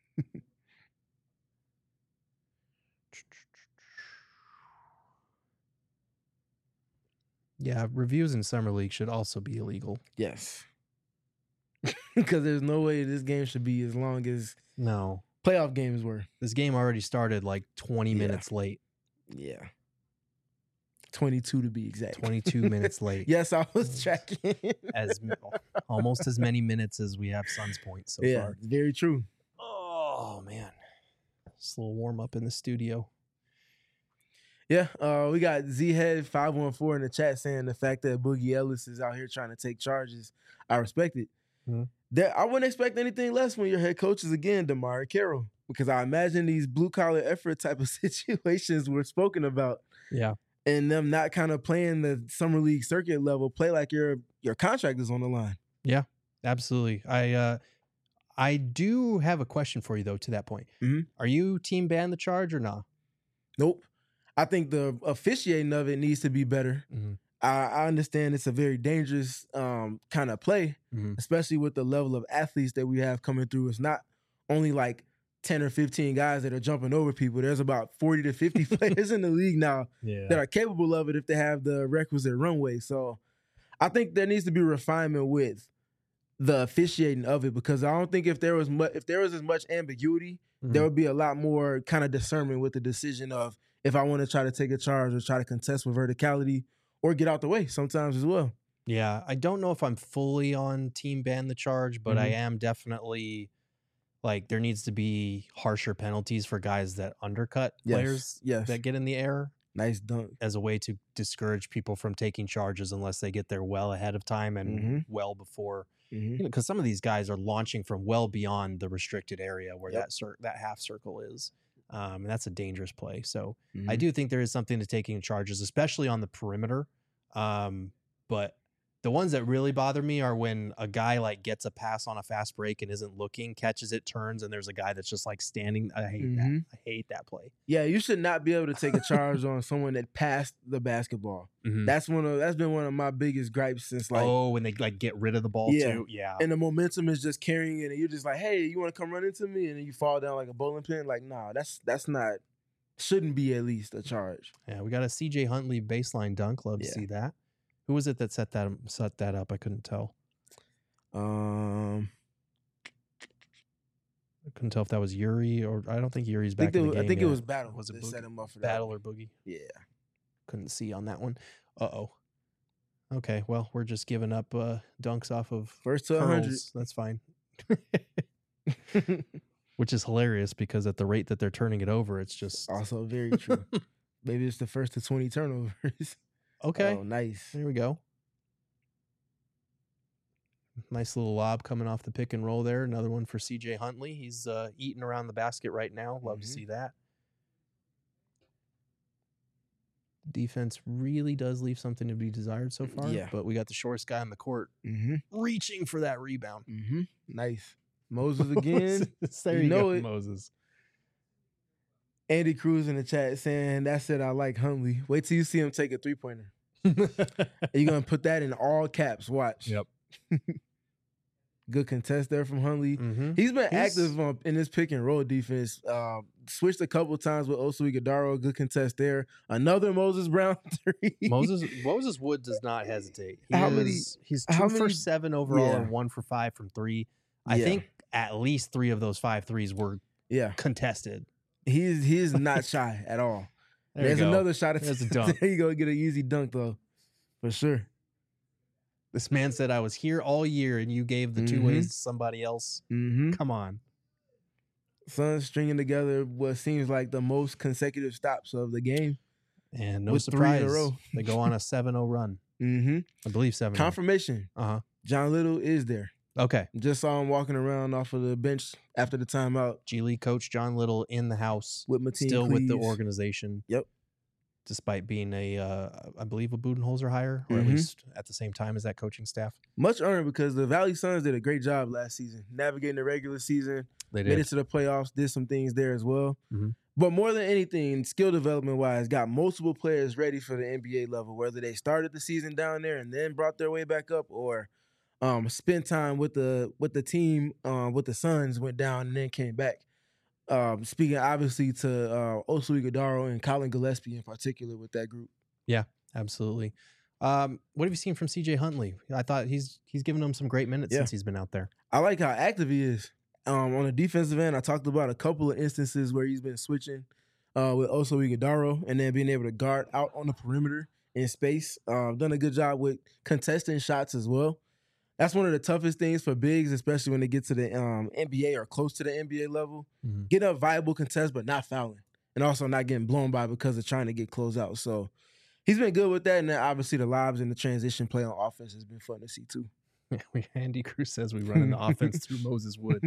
A: Yeah, reviews in Summer League should also be illegal.
B: Yes. Because there's no way this game should be as long as
A: No.
B: playoff games were.
A: This game already started like 20 minutes late.
B: Yeah. 22 to be exact.
A: 22 minutes late.
B: Yes, I was tracking.
A: Almost as many minutes as we have Suns points so far.
B: Very true.
A: Oh, man. Just a little warm up in the studio.
B: Yeah, we got Z-Head 514 in the chat saying the fact that Boogie Ellis is out here trying to take charges, I respect it.
A: Mm-hmm.
B: I wouldn't expect anything less when your head coach is, again, DeMarre Carroll, because I imagine these blue-collar effort type of situations were spoken about.
A: Yeah.
B: And them not kind of playing the Summer League circuit level, play like your contract is on the line.
A: Yeah, absolutely. I do have a question for you, though, to that point.
B: Mm-hmm.
A: Are you team ban the charge or not?
B: Nope. I think the officiating of it needs to be better.
A: Mm-hmm.
B: I understand it's a very dangerous kind of play, especially with the level of athletes that we have coming through. It's not only like 10 or 15 guys that are jumping over people. There's about 40 to 50 players in the league now that are capable of it if they have the requisite runway. So I think there needs to be refinement with the officiating of it, because I don't think if there was as much ambiguity, there would be a lot more kind of discernment with the decision of if I want to try to take a charge or try to contest with verticality or get out the way sometimes as well.
A: Yeah, I don't know if I'm fully on team ban the charge, but I am definitely like there needs to be harsher penalties for guys that undercut players that get in the air.
B: Nice dunk.
A: As a way to discourage people from taking charges unless they get there well ahead of time and well before. Because some of these guys are launching from well beyond the restricted area where that half circle is. And that's a dangerous play. So I do think there is something to taking charges, especially on the perimeter. But the ones that really bother me are when a guy like gets a pass on a fast break and isn't looking, catches it, turns, and there's a guy that's just like standing. I hate that. I hate that play.
B: Yeah, you should not be able to take a charge on someone that passed the basketball. That's been one of my biggest gripes since like
A: when they like get rid of the ball too. Yeah.
B: And the momentum is just carrying it, and you're just like, hey, you want to come run into me? And then you fall down like a bowling pin. Like, nah, that's not, shouldn't be at least a charge.
A: Yeah, we got a CJ Huntley baseline dunk. Love to see that. Who was it that set that up? I couldn't tell. I couldn't tell if that was Yuri or I don't think Yuri's back in the game.
B: I think
A: yet.
B: it was Battle.
A: Was it
B: set him up for
A: Battle
B: that.
A: or Boogie?
B: Yeah.
A: Couldn't see on that one. Okay, well, we're just giving up dunks off of
B: first to 100.
A: That's fine. Which is hilarious because at the rate that they're turning it over, it's just
B: also very true. Maybe it's the first to 20 turnovers.
A: Okay.
B: Oh, nice.
A: There we go. Nice little lob coming off the pick and roll there. Another one for CJ Huntley. He's eating around the basket right now. Love to see that. Defense really does leave something to be desired so far.
B: Yeah.
A: But we got the shortest guy on the court reaching for that rebound.
B: Nice. Moses again.
A: There you go, Moses.
B: Andy Cruz in the chat saying, that's it, I like Huntley. Wait till you see him take a three-pointer. You're going to put that in all caps. Watch.
A: Yep.
B: Good contest there from Huntley. He's been active in this pick and roll defense. Switched a couple times with Oso Ighodaro. Good contest there. Another Moses Brown three.
A: Moses Wood does not hesitate. He's 2 for 7 overall and 1 for 5 from 3. I think at least 3 of those 5 threes were contested.
B: He is not shy at all. There's another shot. There's a dunk. There you go, get an easy dunk though, for sure.
A: This man said, I was here all year and you gave the 2 ways to somebody else. Come on.
B: Suns stringing together what seems like the most consecutive stops of the game.
A: And no surprise, they go on a 7-0 run. I believe 7-0.
B: Confirmation. John Little is there.
A: Okay.
B: Just saw him walking around off of the bench after the timeout.
A: G League coach John Little in the house.
B: With Mateen
A: Still
B: Cleaves.
A: with the organization.
B: Yep.
A: despite being I believe a Budenholzer hire, or at least at the same time as that coaching staff.
B: Much earned because the Valley Suns did a great job last season, navigating the regular season.
A: They
B: Made
A: did.
B: it to the playoffs, did some things there as well.
A: Mhm.
B: But more than anything, skill development wise, got multiple players ready for the NBA level, whether they started the season down there and then brought their way back up, or spent time with the team, with the Suns, went down and then came back. Speaking obviously to Oso Ighodaro and Colin Gillespie in particular with that group.
A: Yeah, absolutely. What have you seen from CJ Huntley? I thought he's given them some great minutes since he's been out there.
B: I like how active he is. On the defensive end, I talked about a couple of instances where he's been switching with Oso Ighodaro and then being able to guard out on the perimeter in space. Done a good job with contesting shots as well. That's one of the toughest things for bigs, especially when they get to the NBA or close to the NBA level.
A: Mhm.
B: Getting a viable contest, but not fouling. And also not getting blown by because of trying to get closed out. So he's been good with that. And then obviously the lobs and the transition play on offense has been fun to see too.
A: Andy Cruz says we run an offense through Moses Wood.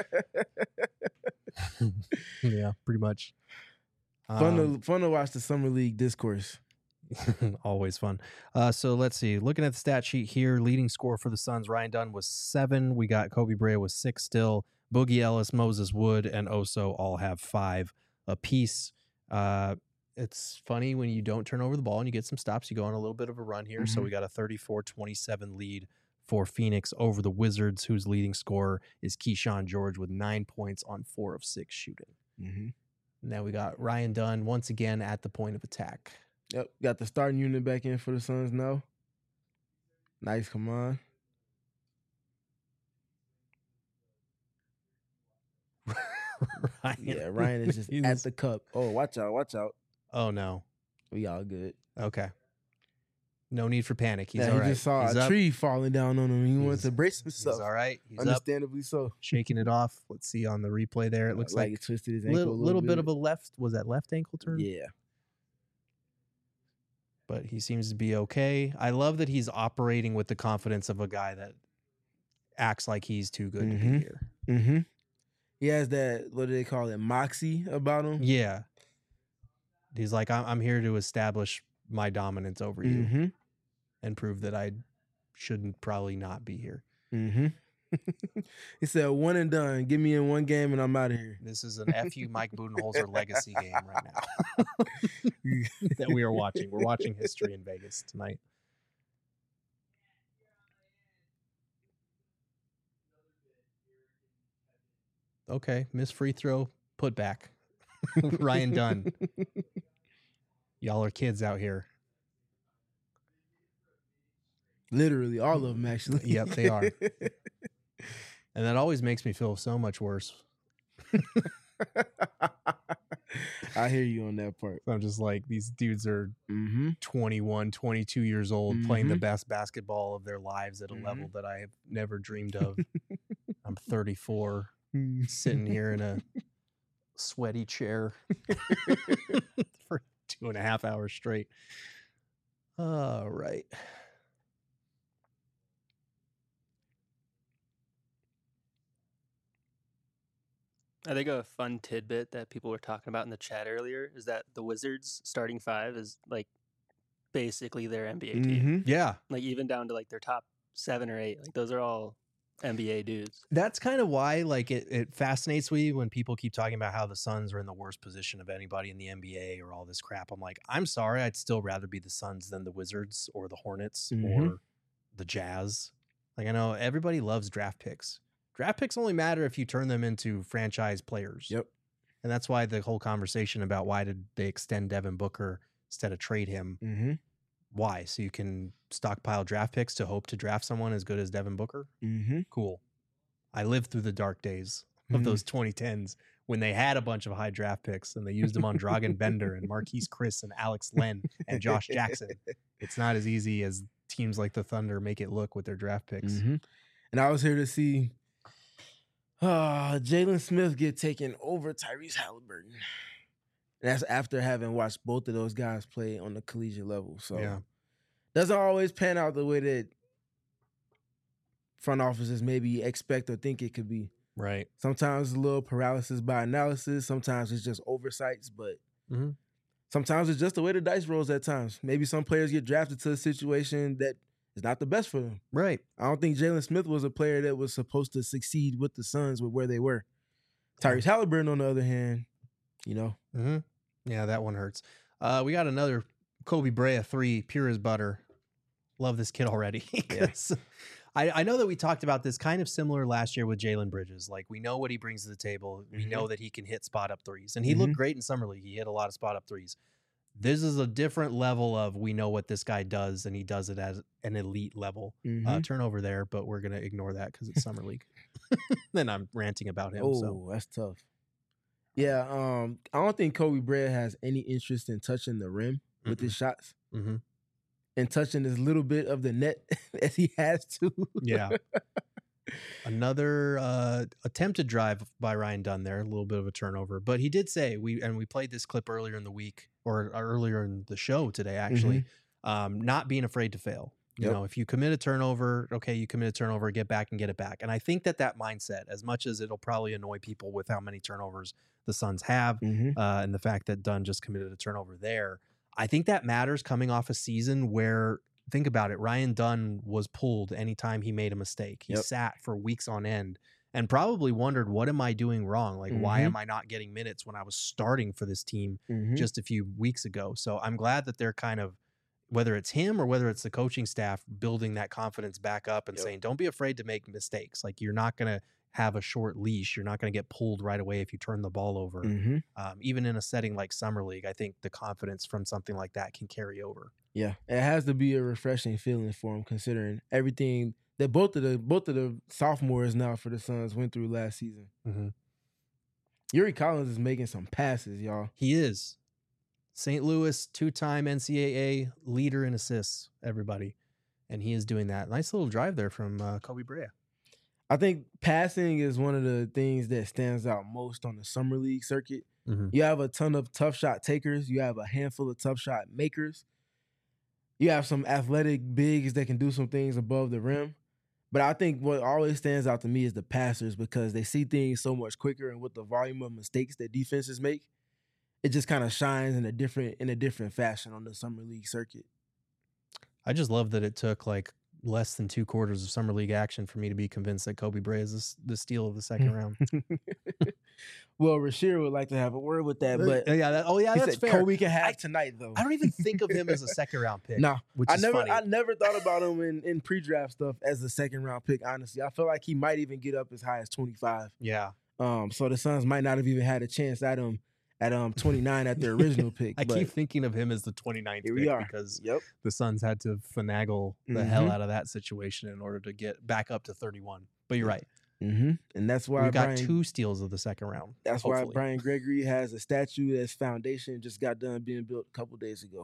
A: Yeah, pretty much.
B: Fun to watch the Summer League discourse.
A: Always fun. So let's see. Looking at the stat sheet here, leading scorer for the Suns, Ryan Dunn was 7. We got Kobe Brea with 6 still. Boogie Ellis, Moses Wood, and Oso all have 5 apiece. It's funny when you don't turn over the ball and you get some stops, you go on a little bit of a run here. So we got a 34-27 lead for Phoenix over the Wizards, whose leading scorer is Keyshawn George with 9 points on 4 of 6 shooting. Now we got Ryan Dunn once again at the point of attack.
B: Yep, got the starting unit back in for the Suns now. Nice, come on. Ryan is just at the cup. Oh, watch out.
A: Oh, no.
B: We all good.
A: Okay. No need for panic. He's
B: Yeah,
A: all right.
B: He just saw
A: He's
B: a
A: up.
B: tree falling down on him. He wanted
A: He's-
B: to brace himself.
A: He's all right. He's up,
B: Understandably so.
A: shaking it off. Let's see on the replay there. It looks like
B: he twisted his ankle
A: little bit of a left. Was that left ankle turn?
B: Yeah.
A: But he seems to be okay. I love that he's operating with the confidence of a guy that acts like he's too good to be here.
B: Mm-hmm. He has that, what do they call it, moxie about him.
A: Yeah. He's like, I'm here to establish my dominance over you
B: Mm-hmm.
A: and prove that I shouldn't probably not be here.
B: Mm-hmm. He said, one and done. Get me in one game and I'm out of here.
A: This is an FU Mike Budenholzer legacy game right now that we are watching. We're watching history in Vegas tonight. Okay, miss free throw, put back. Ryan Dunn. Y'all are kids out here.
B: Literally, all of them, actually.
A: Yep, they are. And that always makes me feel so much worse.
B: I hear you on that part.
A: I'm just like, these dudes are
B: Mm-hmm.
A: 21, 22 years old, playing the best basketball of their lives at a
B: Mhm.
A: level that I have never dreamed of. I'm 34, sitting here in a sweaty chair for 2.5 hours straight. All right.
H: I think a fun tidbit that people were talking about in the chat earlier is that the Wizards starting 5 is like basically their NBA team.
B: Mm-hmm.
A: Yeah.
H: Like even down to like their top 7 or 8. Like those are all NBA dudes.
A: That's kind of why, like, it fascinates me when people keep talking about how the Suns are in the worst position of anybody in the NBA or all this crap. I'm like, I'm sorry, I'd still rather be the Suns than the Wizards or the Hornets or the Jazz. Like, I know everybody loves draft picks. Draft picks only matter if you turn them into franchise players.
B: Yep.
A: And that's why the whole conversation about why did they extend Devin Booker instead of trade him.
B: Mm-hmm.
A: Why? So you can stockpile draft picks to hope to draft someone as good as Devin Booker?
B: Mm-hmm.
A: Cool. I lived through the dark days of those 2010s when they had a bunch of high draft picks and they used them on Dragan Bender and Marquise Chris and Alex Len and Josh Jackson. It's not as easy as teams like the Thunder make it look with their draft picks.
B: Mm-hmm. And I was here to see Jalen Smith get taken over Tyrese Halliburton. And that's after having watched both of those guys play on the collegiate level. So
A: Yeah.
B: doesn't always pan out the way that front offices maybe expect or think it could be.
A: Right.
B: Sometimes a little paralysis by analysis. Sometimes it's just oversights. But sometimes it's just the way the dice rolls at times. Maybe some players get drafted to a situation that is not the best for them.
A: Right.
B: I don't think Jalen Smith was a player that was supposed to succeed with the Suns with where they were. Tyrese Halliburton, on the other hand,
A: Mm-hmm. Yeah, that one hurts. We got another Kobe Brea 3, pure as butter. Love this kid already. I know that we talked about this kind of similar last year with Jalen Bridges. Like, we know what he brings to the table. We know that he can hit spot up threes. And he looked great in Summer League. He hit a lot of spot up threes. This is a different level of we know what this guy does, and he does it at an elite level. Turnover there, but we're going to ignore that because it's Summer League. Then I'm ranting about him.
B: Oh, that's tough. Yeah, I don't think Kobe Brea has any interest in touching the rim with his shots. And touching as little bit of the net as he has to.
A: Yeah. Another attempted drive by Ryan Dunn there, a little bit of a turnover. But he did say, we played this clip earlier in the week, or earlier in the show today, actually, not being afraid to fail. You know, if you commit a turnover, okay, you commit a turnover, get back and get it back. And I think that mindset, as much as it'll probably annoy people with how many turnovers the Suns have, and the fact that Dunn just committed a turnover there, I think that matters coming off a season where, think about it, Ryan Dunn was pulled anytime he made a mistake. He sat for weeks on end and probably wondered, what am I doing wrong? Like, why am I not getting minutes when I was starting for this team just a few weeks ago? So I'm glad that they're kind of, whether it's him or whether it's the coaching staff, building that confidence back up and saying, don't be afraid to make mistakes. Like, you're not going to have a short leash. You're not going to get pulled right away if you turn the ball over. Even in a setting like Summer League, I think the confidence from something like that can carry over. Yeah,
B: it has to be a refreshing feeling for him, considering everything that both of the sophomores now for the Suns went through last season. Yuri Collins is making some passes, y'all.
A: He is. St. Louis, 2-time NCAA leader in assists, everybody. And he is doing that. Nice little drive there from Kobe Brea.
B: I think passing is one of the things that stands out most on the Summer League circuit. You have a ton of tough shot takers. You have a handful of tough shot makers. You have some athletic bigs that can do some things above the rim. But I think what always stands out to me is the passers, because they see things so much quicker, and with the volume of mistakes that defenses make, it just kind of shines in a different fashion on the Summer League circuit.
A: I just love that it took like less than 2 quarters of Summer League action for me to be convinced that Kobe Brea is the steal of the second round.
B: Well, Rasheer would like to have a word with that, but
A: that's fair.
B: Kobe can have tonight, though.
A: I don't even think of him as a second round pick.
B: Nah,
A: which is funny.
B: I never thought about him in pre-draft stuff as a second round pick. Honestly, I feel like he might even get up as high as 25.
A: Yeah.
B: So the Suns might not have even had a chance at him at 29 at their original pick.
A: I keep thinking of him as the 29th pick because the Suns had to finagle the hell out of that situation in order to get back up to 31. But you're right.
B: And that's why
A: we got 2 steals of the second round.
B: That's why Brian Gregory has a statue that's foundation just got done being built a couple days ago.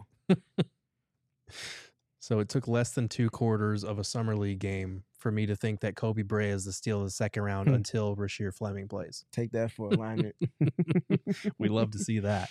A: So it took less than 2 quarters of a Summer League game for me to think that Kobe Brea is the steal of the second round until Rasheer Fleming plays.
B: Take that for alignment.
A: We love to see that.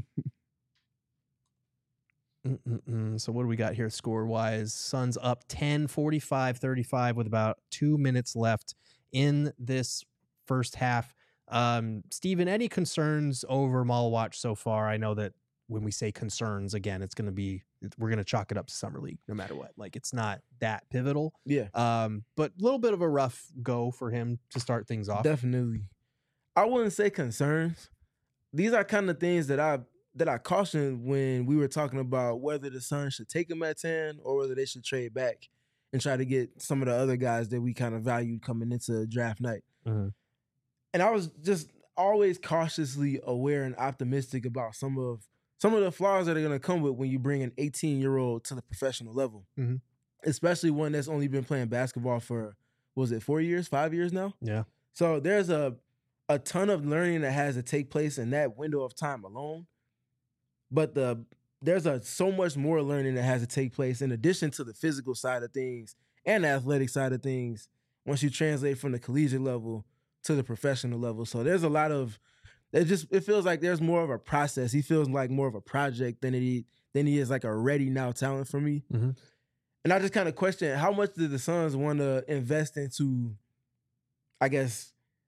A: So what do we got here score-wise? Suns up 10, 45-35 with about 2 minutes left in this first half. Steven, any concerns over Malawach so far? I know that when we say concerns, again, we're going to chalk it up to Summer League no matter what. Like, it's not that pivotal.
B: Yeah.
A: But a little bit of a rough go for him to start things off.
B: Definitely. I wouldn't say concerns. These are kind of things that I cautioned when we were talking about whether the Suns should take him at 10 or whether they should trade back and try to get some of the other guys that we kind of valued coming into draft night. And I was just always cautiously aware and optimistic about some of the flaws that are going to come with when you bring an 18-year-old to the professional level, especially one that's only been playing basketball for, 4 years, 5 years now?
A: Yeah.
B: So there's a ton of learning that has to take place in that window of time alone. But there's so much more learning that has to take place in addition to the physical side of things and the athletic side of things once you translate from the collegiate level to the professional level. So there's a lot of it feels like there's more of a process. He feels like more of a project than he is like a ready now talent for me. And I just kind of question, how much did the Suns want to invest into, I guess,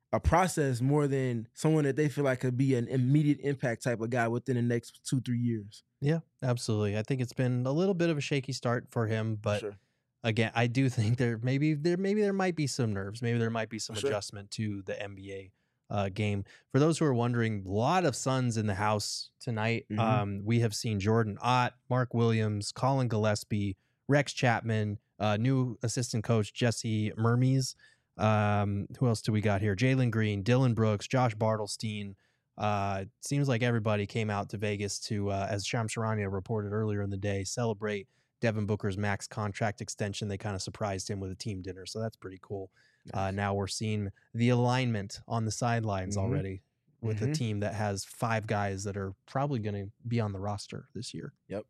B: a process more than someone that they feel like could be an immediate impact type of guy within the next 2-3 years.
A: Yeah, absolutely. I think it's been a little bit of a shaky start for him, but again, I do think there might be some nerves. Maybe there might be some adjustment to the NBA game. For those who are wondering, a lot of Suns in the house tonight. We have seen Jordan Ott, Mark Williams, Colin Gillespie, Rex Chapman, new assistant coach Jesse Mermes. Who else do we got here? Jalen Green, Dylan Brooks, Josh Bartelstein. Seems like everybody came out to Vegas to, as Shams Charania reported earlier in the day, celebrate Devin Booker's max contract extension. They kind of surprised him with a team dinner, so that's pretty cool. Now we're seeing the alignment on the sidelines already with a team that has 5 guys that are probably going to be on the roster this year.
B: Yep.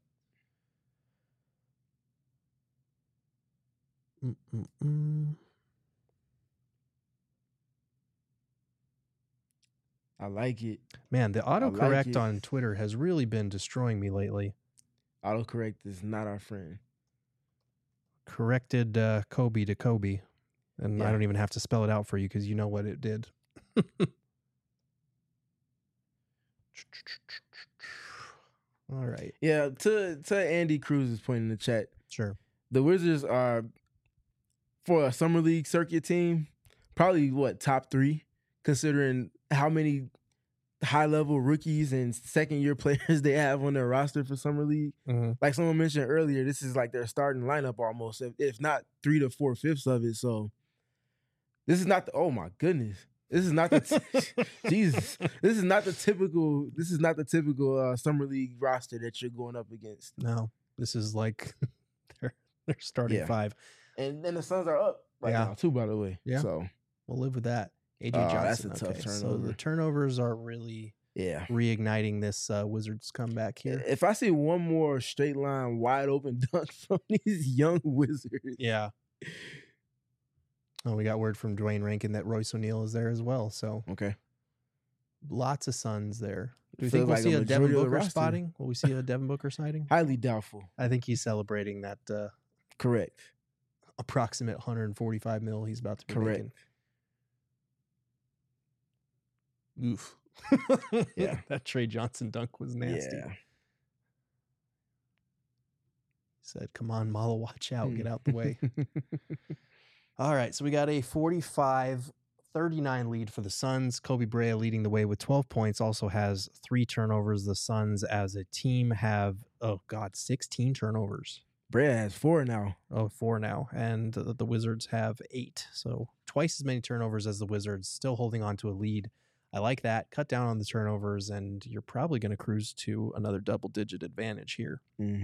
B: I like it.
A: Man, the autocorrect on Twitter has really been destroying me lately.
B: Autocorrect is not our friend.
A: Corrected Kobe to Kobe. And I don't even have to spell it out for you because you know what it did. All right.
B: Yeah, to Andy Cruz's point in the chat.
A: Sure.
B: The Wizards are, for a summer league circuit team, probably top 3, considering how many high-level rookies and second-year players they have on their roster for summer league. Like someone mentioned earlier, this is like their starting lineup almost, if not 3 to 4/5 of it. So this is not the, oh my goodness. This is not the Jesus. This is not the typical summer league roster that you're going up against.
A: No, this is like their starting 5.
B: And then the Suns are up now too, by the way.
A: Yeah.
B: So
A: we'll live with that. AJ Johnson.
B: That's a tough turnover.
A: So the turnovers are really reigniting this Wizards comeback here.
B: If I see one more straight line wide open dunk from these young Wizards.
A: Yeah. Oh, we got word from Dwayne Rankin that Royce O'Neal is there as well. So lots of Suns there. Do you think we'll see a Devin Booker spotting? Will we see a Devin Booker sighting?
B: Highly doubtful.
A: I think he's celebrating that
B: correct
A: approximate $145 million he's about to be making. Oof.
B: Yeah.
A: That Trey Johnson dunk was nasty.
B: Yeah.
A: He said, come on, Malo, watch out. Get out the way. All right, so we got a 45-39 lead for the Suns. Kobe Brea leading the way with 12 points, also has 3 turnovers. The Suns as a team have, 16 turnovers.
B: Brea has 4 now.
A: 4 now. And the Wizards have 8. So twice as many turnovers as the Wizards, still holding on to a lead. I like that. Cut down on the turnovers, and you're probably going to cruise to another double-digit advantage here.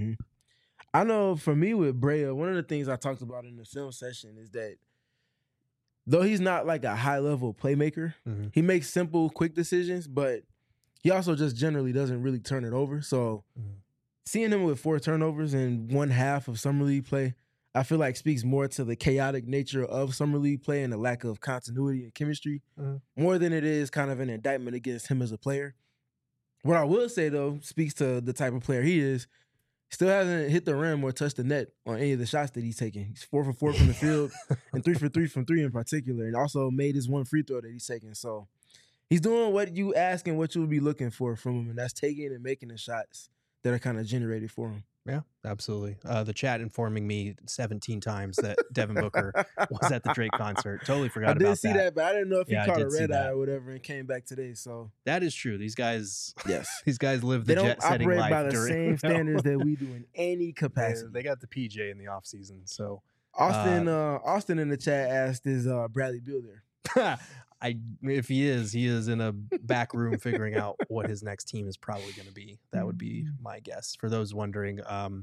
B: I know for me with Brea, one of the things I talked about in the film session is that though he's not like a high-level playmaker, he makes simple, quick decisions, but he also just generally doesn't really turn it over. So seeing him with 4 turnovers in one half of summer league play, I feel like speaks more to the chaotic nature of summer league play and the lack of continuity and chemistry more than it is kind of an indictment against him as a player. What I will say, though, speaks to the type of player he is. Still hasn't hit the rim or touched the net on any of the shots that he's taken. He's 4 for 4 from the field and 3 for 3 from 3 in particular, and also made his 1 free throw that he's taken. So he's doing what you ask and what you would be looking for from him, and that's taking and making the shots that are kind of generated for him.
A: Yeah, absolutely. The chat informing me 17 times that Devin Booker was at the Drake concert. Totally forgot about that.
B: I did see that, but I didn't know if he caught a red eye
A: that.
B: or whatever and came back today. So
A: that is true. These guys,
B: yes,
A: these guys live the jet-setting life.
B: They don't operate by the same standards that we do in any capacity.
A: They got the PJ in the off season. So
B: Austin in the chat asked, "Is Bradley Beal there?"
A: If he is in a back room figuring out what his next team is probably going to be. That would be my guess. For those wondering,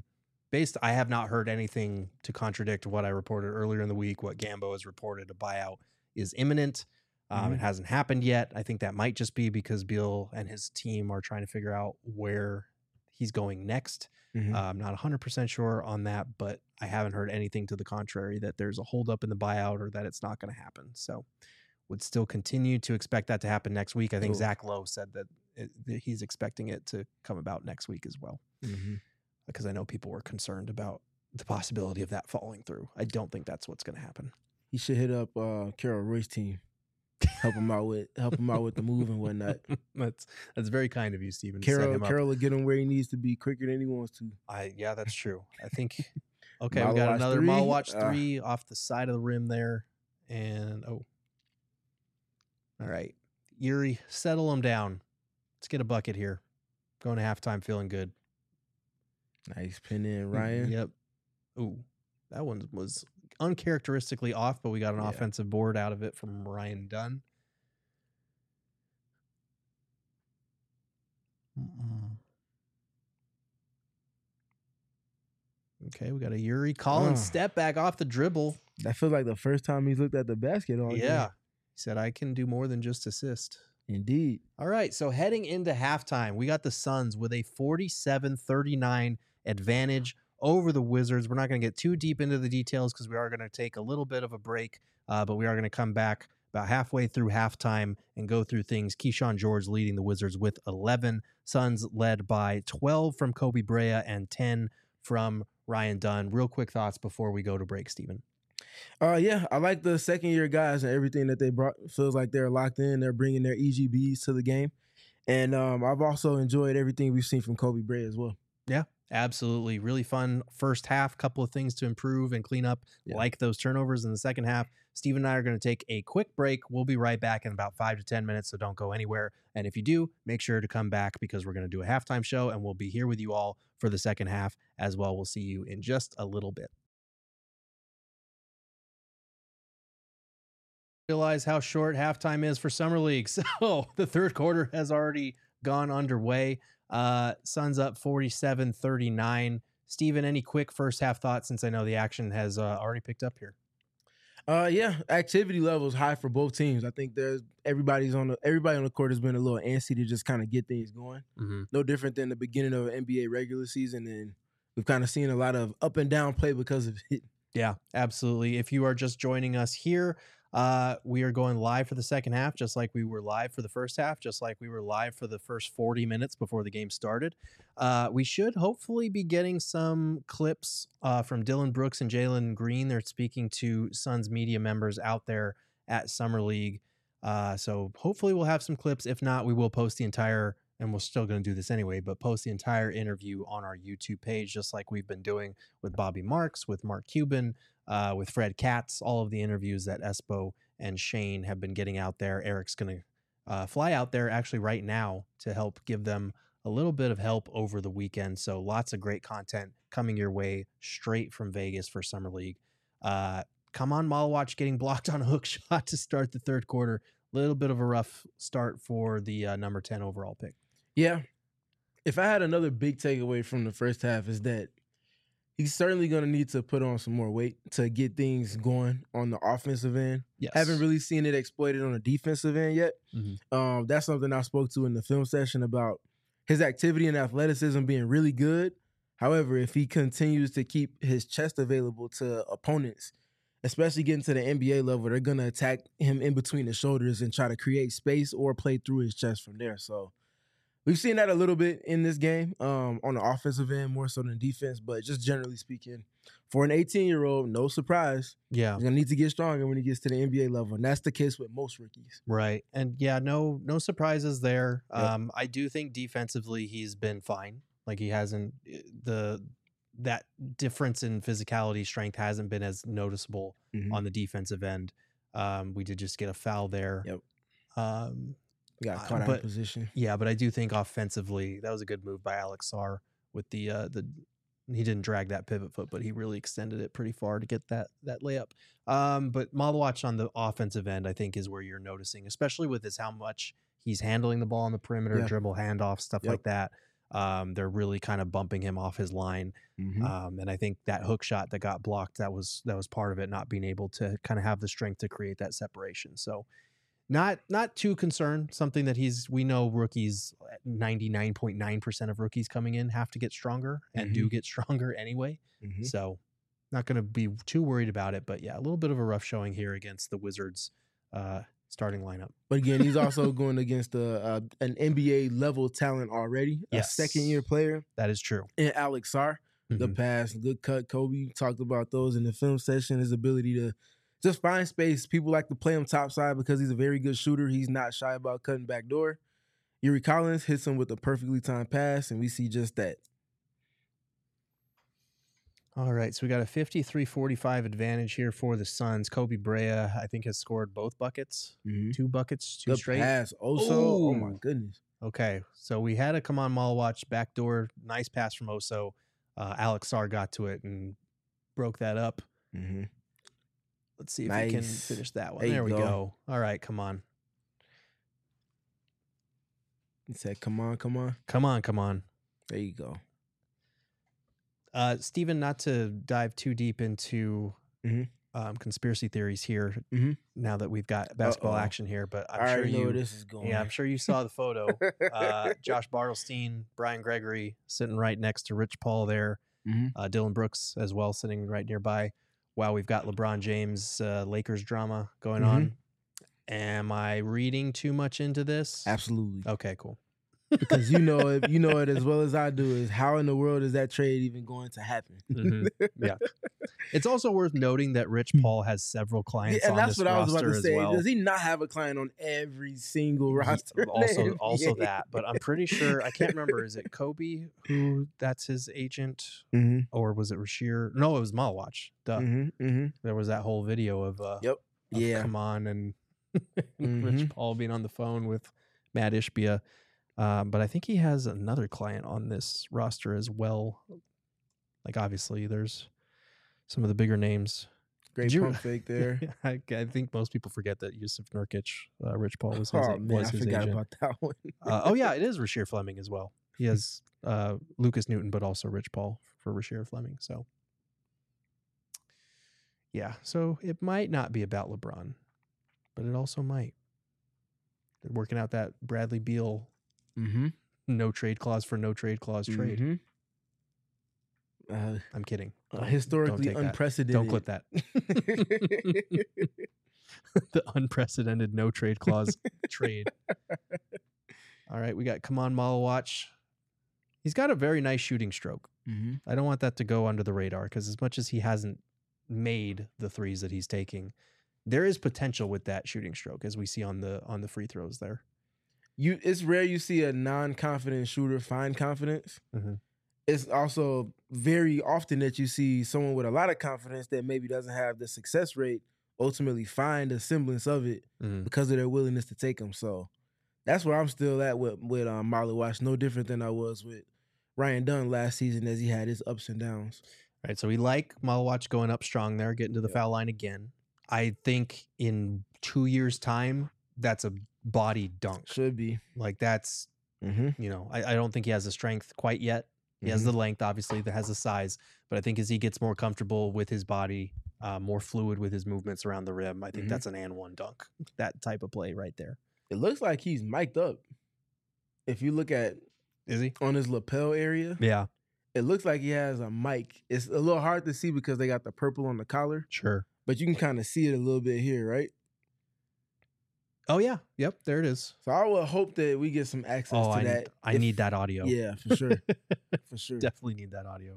A: I have not heard anything to contradict what I reported earlier in the week. What Gambo has reported, a buyout is imminent. It hasn't happened yet. I think that might just be because Beal and his team are trying to figure out where he's going next. I'm not 100% sure on that, but I haven't heard anything to the contrary that there's a holdup in the buyout or that it's not going to happen. So would still continue to expect that to happen next week. I think Zach Lowe said that he's expecting it to come about next week as well. Because I know people were concerned about the possibility of that falling through. I don't think that's what's going to happen.
B: He should hit up Carol Roy's team. help him out with the move and whatnot.
A: That's very kind of you, Steven. to set him up.
B: Carroll will get him where he needs to be quicker than he wants to.
A: Yeah, that's true. I think. Okay, we
B: Malo
A: got
B: Watch
A: another
B: 3.
A: Malo Watch 3 off the side of the rim there, and all right, Yuri, settle him down. Let's get a bucket here. Going to halftime, feeling good.
B: Nice pin in, Ryan.
A: Yep. Ooh, that one was uncharacteristically off, but we got an offensive board out of it from Ryan Dunn. Okay, we got a Yuri Collins step back off the dribble.
B: That feels like the first time he's looked at the basket all game.
A: Yeah. He said, I can do more than just assist.
B: Indeed.
A: All right, so heading into halftime, we got the Suns with a 47-39 advantage over the Wizards. We're not going to get too deep into the details because we are going to take a little bit of a break, but we are going to come back about halfway through halftime and go through things. Keyshawn George leading the Wizards with 11. Suns led by 12 from Kobe Brea and 10 from Ryan Dunn. Real quick thoughts before we go to break, Steven.
B: Yeah, I like the second-year guys and everything that they brought. Feels like they're locked in. They're bringing their EGBs to the game. And I've also enjoyed everything we've seen from Kobe Brea as well.
A: Yeah, absolutely. Really fun first half. Couple of things to improve and clean up, like those turnovers in the second half. Steve and I are going to take a quick break. We'll be right back in about 5 to 10 minutes, so don't go anywhere. And if you do, make sure to come back because we're going to do a halftime show, and we'll be here with you all for the second half as well. We'll see you in just a little bit. Realize how short halftime is for Summer League. So the third quarter has already gone underway. Suns up 47-39. Steven, any quick first half thoughts since I know the action has already picked up here?
B: Yeah, activity level is high for both teams. I think everybody on the court has been a little antsy to just kind of get things going.
A: Mm-hmm.
B: No different than the beginning of an NBA regular season, and we've kind of seen a lot of up and down play because of it.
A: Yeah, absolutely. If you are just joining us here, we are going live for the second half, just like we were live for the first half, just like we were live for the first 40 minutes before the game started. We should hopefully be getting some clips from Dylan Brooks and Jalen Green. They're speaking to Suns media members out there at Summer League. So hopefully we'll have some clips. If not, we will post the entire, and we're still going to do this anyway, but post the entire interview on our YouTube page, just like we've been doing with Bobby Marks, with Mark Cuban, with Fred Katz, all of the interviews that Espo and Shane have been getting out there. Eric's going to fly out there actually right now to help give them a little bit of help over the weekend. So lots of great content coming your way straight from Vegas for Summer League. Come on, Malawatch getting blocked on a hook shot to start the third quarter. A little bit of a rough start for the number 10 overall pick.
B: Yeah. If I had another big takeaway from the first half is that he's certainly going to need to put on some more weight to get things going on the offensive end.
A: Yes.
B: Haven't really seen it exploited on the defensive end yet.
A: Mm-hmm.
B: That's something I spoke to in the film session about his activity and athleticism being really good. However, if he continues to keep his chest available to opponents, especially getting to the NBA level, they're going to attack him in between the shoulders and try to create space or play through his chest from there. So we've seen that a little bit in this game on the offensive end, more so than defense. But just generally speaking, for an 18-year-old, no surprise.
A: Yeah.
B: He's going to need to get stronger when he gets to the NBA level. And that's the case with most rookies.
A: Right. And yeah, no surprises there.
B: Yep.
A: I do think defensively he's been fine. Like he hasn't, that difference in physicality, strength hasn't been as noticeable on the defensive end. We did just get a foul there.
B: Yep. We got caught out of position.
A: Yeah, but I do think offensively that was a good move by Alex Sarr with the he didn't drag that pivot foot, but he really extended it pretty far to get that layup. But Malawatch on the offensive end, I think, is where you're noticing, especially with how much he's handling the ball on the perimeter, dribble handoff, stuff like that. They're really kind of bumping him off his line. And I think that hook shot that got blocked, that was part of it, not being able to kind of have the strength to create that separation. So not too concerned. Something that we know rookies, 99.9% of rookies coming in have to get stronger and do get stronger anyway. So not going to be too worried about it. But yeah, a little bit of a rough showing here against the Wizards starting lineup.
B: But again, he's also going against an NBA level talent already, a second-year player.
A: That is true.
B: And Alex Sarr, the pass, good cut. Kobe talked about those in the film session, his ability just find space. People like to play him topside because he's a very good shooter. He's not shy about cutting back door. Yuri Collins hits him with a perfectly timed pass, and we see just that.
A: All right, so we got a 53-45 advantage here for the Suns. Kobe Brea, I think, has scored both buckets. 2 buckets, 2
B: Good
A: straight.
B: pass. Oso. Oh, my
A: Ooh.
B: goodness.
A: Okay, so we had a Kaman Malawach backdoor. Nice pass from Oso. Alex Sarr got to it and broke that up.
B: Mm-hmm.
A: Let's see if we can
B: Nice.
A: finish that one.
B: There you
A: There we
B: go.
A: go. All right, come on.
B: He said, come on, come on.
A: Come on, come on.
B: There you go.
A: Steven, not to dive too deep into conspiracy theories here now that we've got basketball action here, but I'm
B: I
A: sure
B: already know
A: you
B: where this is going.
A: Yeah, I'm sure you saw the photo. Josh Bartelstein, Brian Gregory sitting right next to Rich Paul there. Dylan Brooks as well sitting right nearby. Wow, we've got LeBron James Lakers drama going on. Am I reading too much into this?
B: Absolutely.
A: Okay, cool.
B: Because you know it as well as I do, is how in the world is that trade even going to happen?
A: Yeah. It's also worth noting that Rich Paul has several clients
B: and
A: on
B: that's
A: this
B: what I was about
A: roster
B: to
A: as
B: say.
A: well.
B: Does he not have a client on every single roster?
A: Also that, but I'm pretty sure, I can't remember, is it Kobe who that's his agent, or was it Rasheer? No, it was Malawach. Duh. There was that whole video of come on and Rich Paul being on the phone with Matt Ishbia. But I think he has another client on this roster as well. Like, obviously, there's some of the bigger names.
B: Great pump fake there.
A: I think most people forget that Yusuf Nurkic, Rich Paul was his,
B: Oh man, I
A: his
B: forgot
A: agent.
B: about that one.
A: Oh yeah, it is Rasheer Fleming as well. He has Lucas Newton, but also Rich Paul for Rasheer Fleming. So yeah, so it might not be about LeBron, but it also might. They're working out that Bradley Beal no trade clause for no trade clause trade. I'm kidding.
B: Historically
A: don't take
B: unprecedented.
A: That. Don't clip that. The unprecedented no trade clause trade. All right, we got Kaman Malawach. He's got a very nice shooting stroke. I don't want that to go under the radar because as much as he hasn't made the threes that he's taking, there is potential with that shooting stroke, as we see on the free throws there.
B: It's rare you see a non-confident shooter find confidence. It's also very often that you see someone with a lot of confidence that maybe doesn't have the success rate ultimately find a semblance of it because of their willingness to take them. So that's where I'm still at with Malawach. No different than I was with Ryan Dunn last season as he had his ups and downs.
A: All right, so we like Malawach going up strong there, getting to the foul line again. I think in 2 years' time, that's a body dunk.
B: Should be.
A: Like that's, I don't think he has the strength quite yet. He has the length, obviously, that has the size. But I think as he gets more comfortable with his body, more fluid with his movements around the rim, I think that's an and one dunk. That type of play right there.
B: It looks like he's mic'd up. If you look at,
A: is he
B: on his lapel area?
A: Yeah.
B: It looks like he has a mic. It's a little hard to see because they got the purple on the collar.
A: Sure.
B: But you can kind of see it a little bit here, right?
A: Oh, yeah. Yep. There it is.
B: So I would hope that we get some access to that.
A: I need that audio.
B: Yeah, for sure. For sure.
A: Definitely need that audio.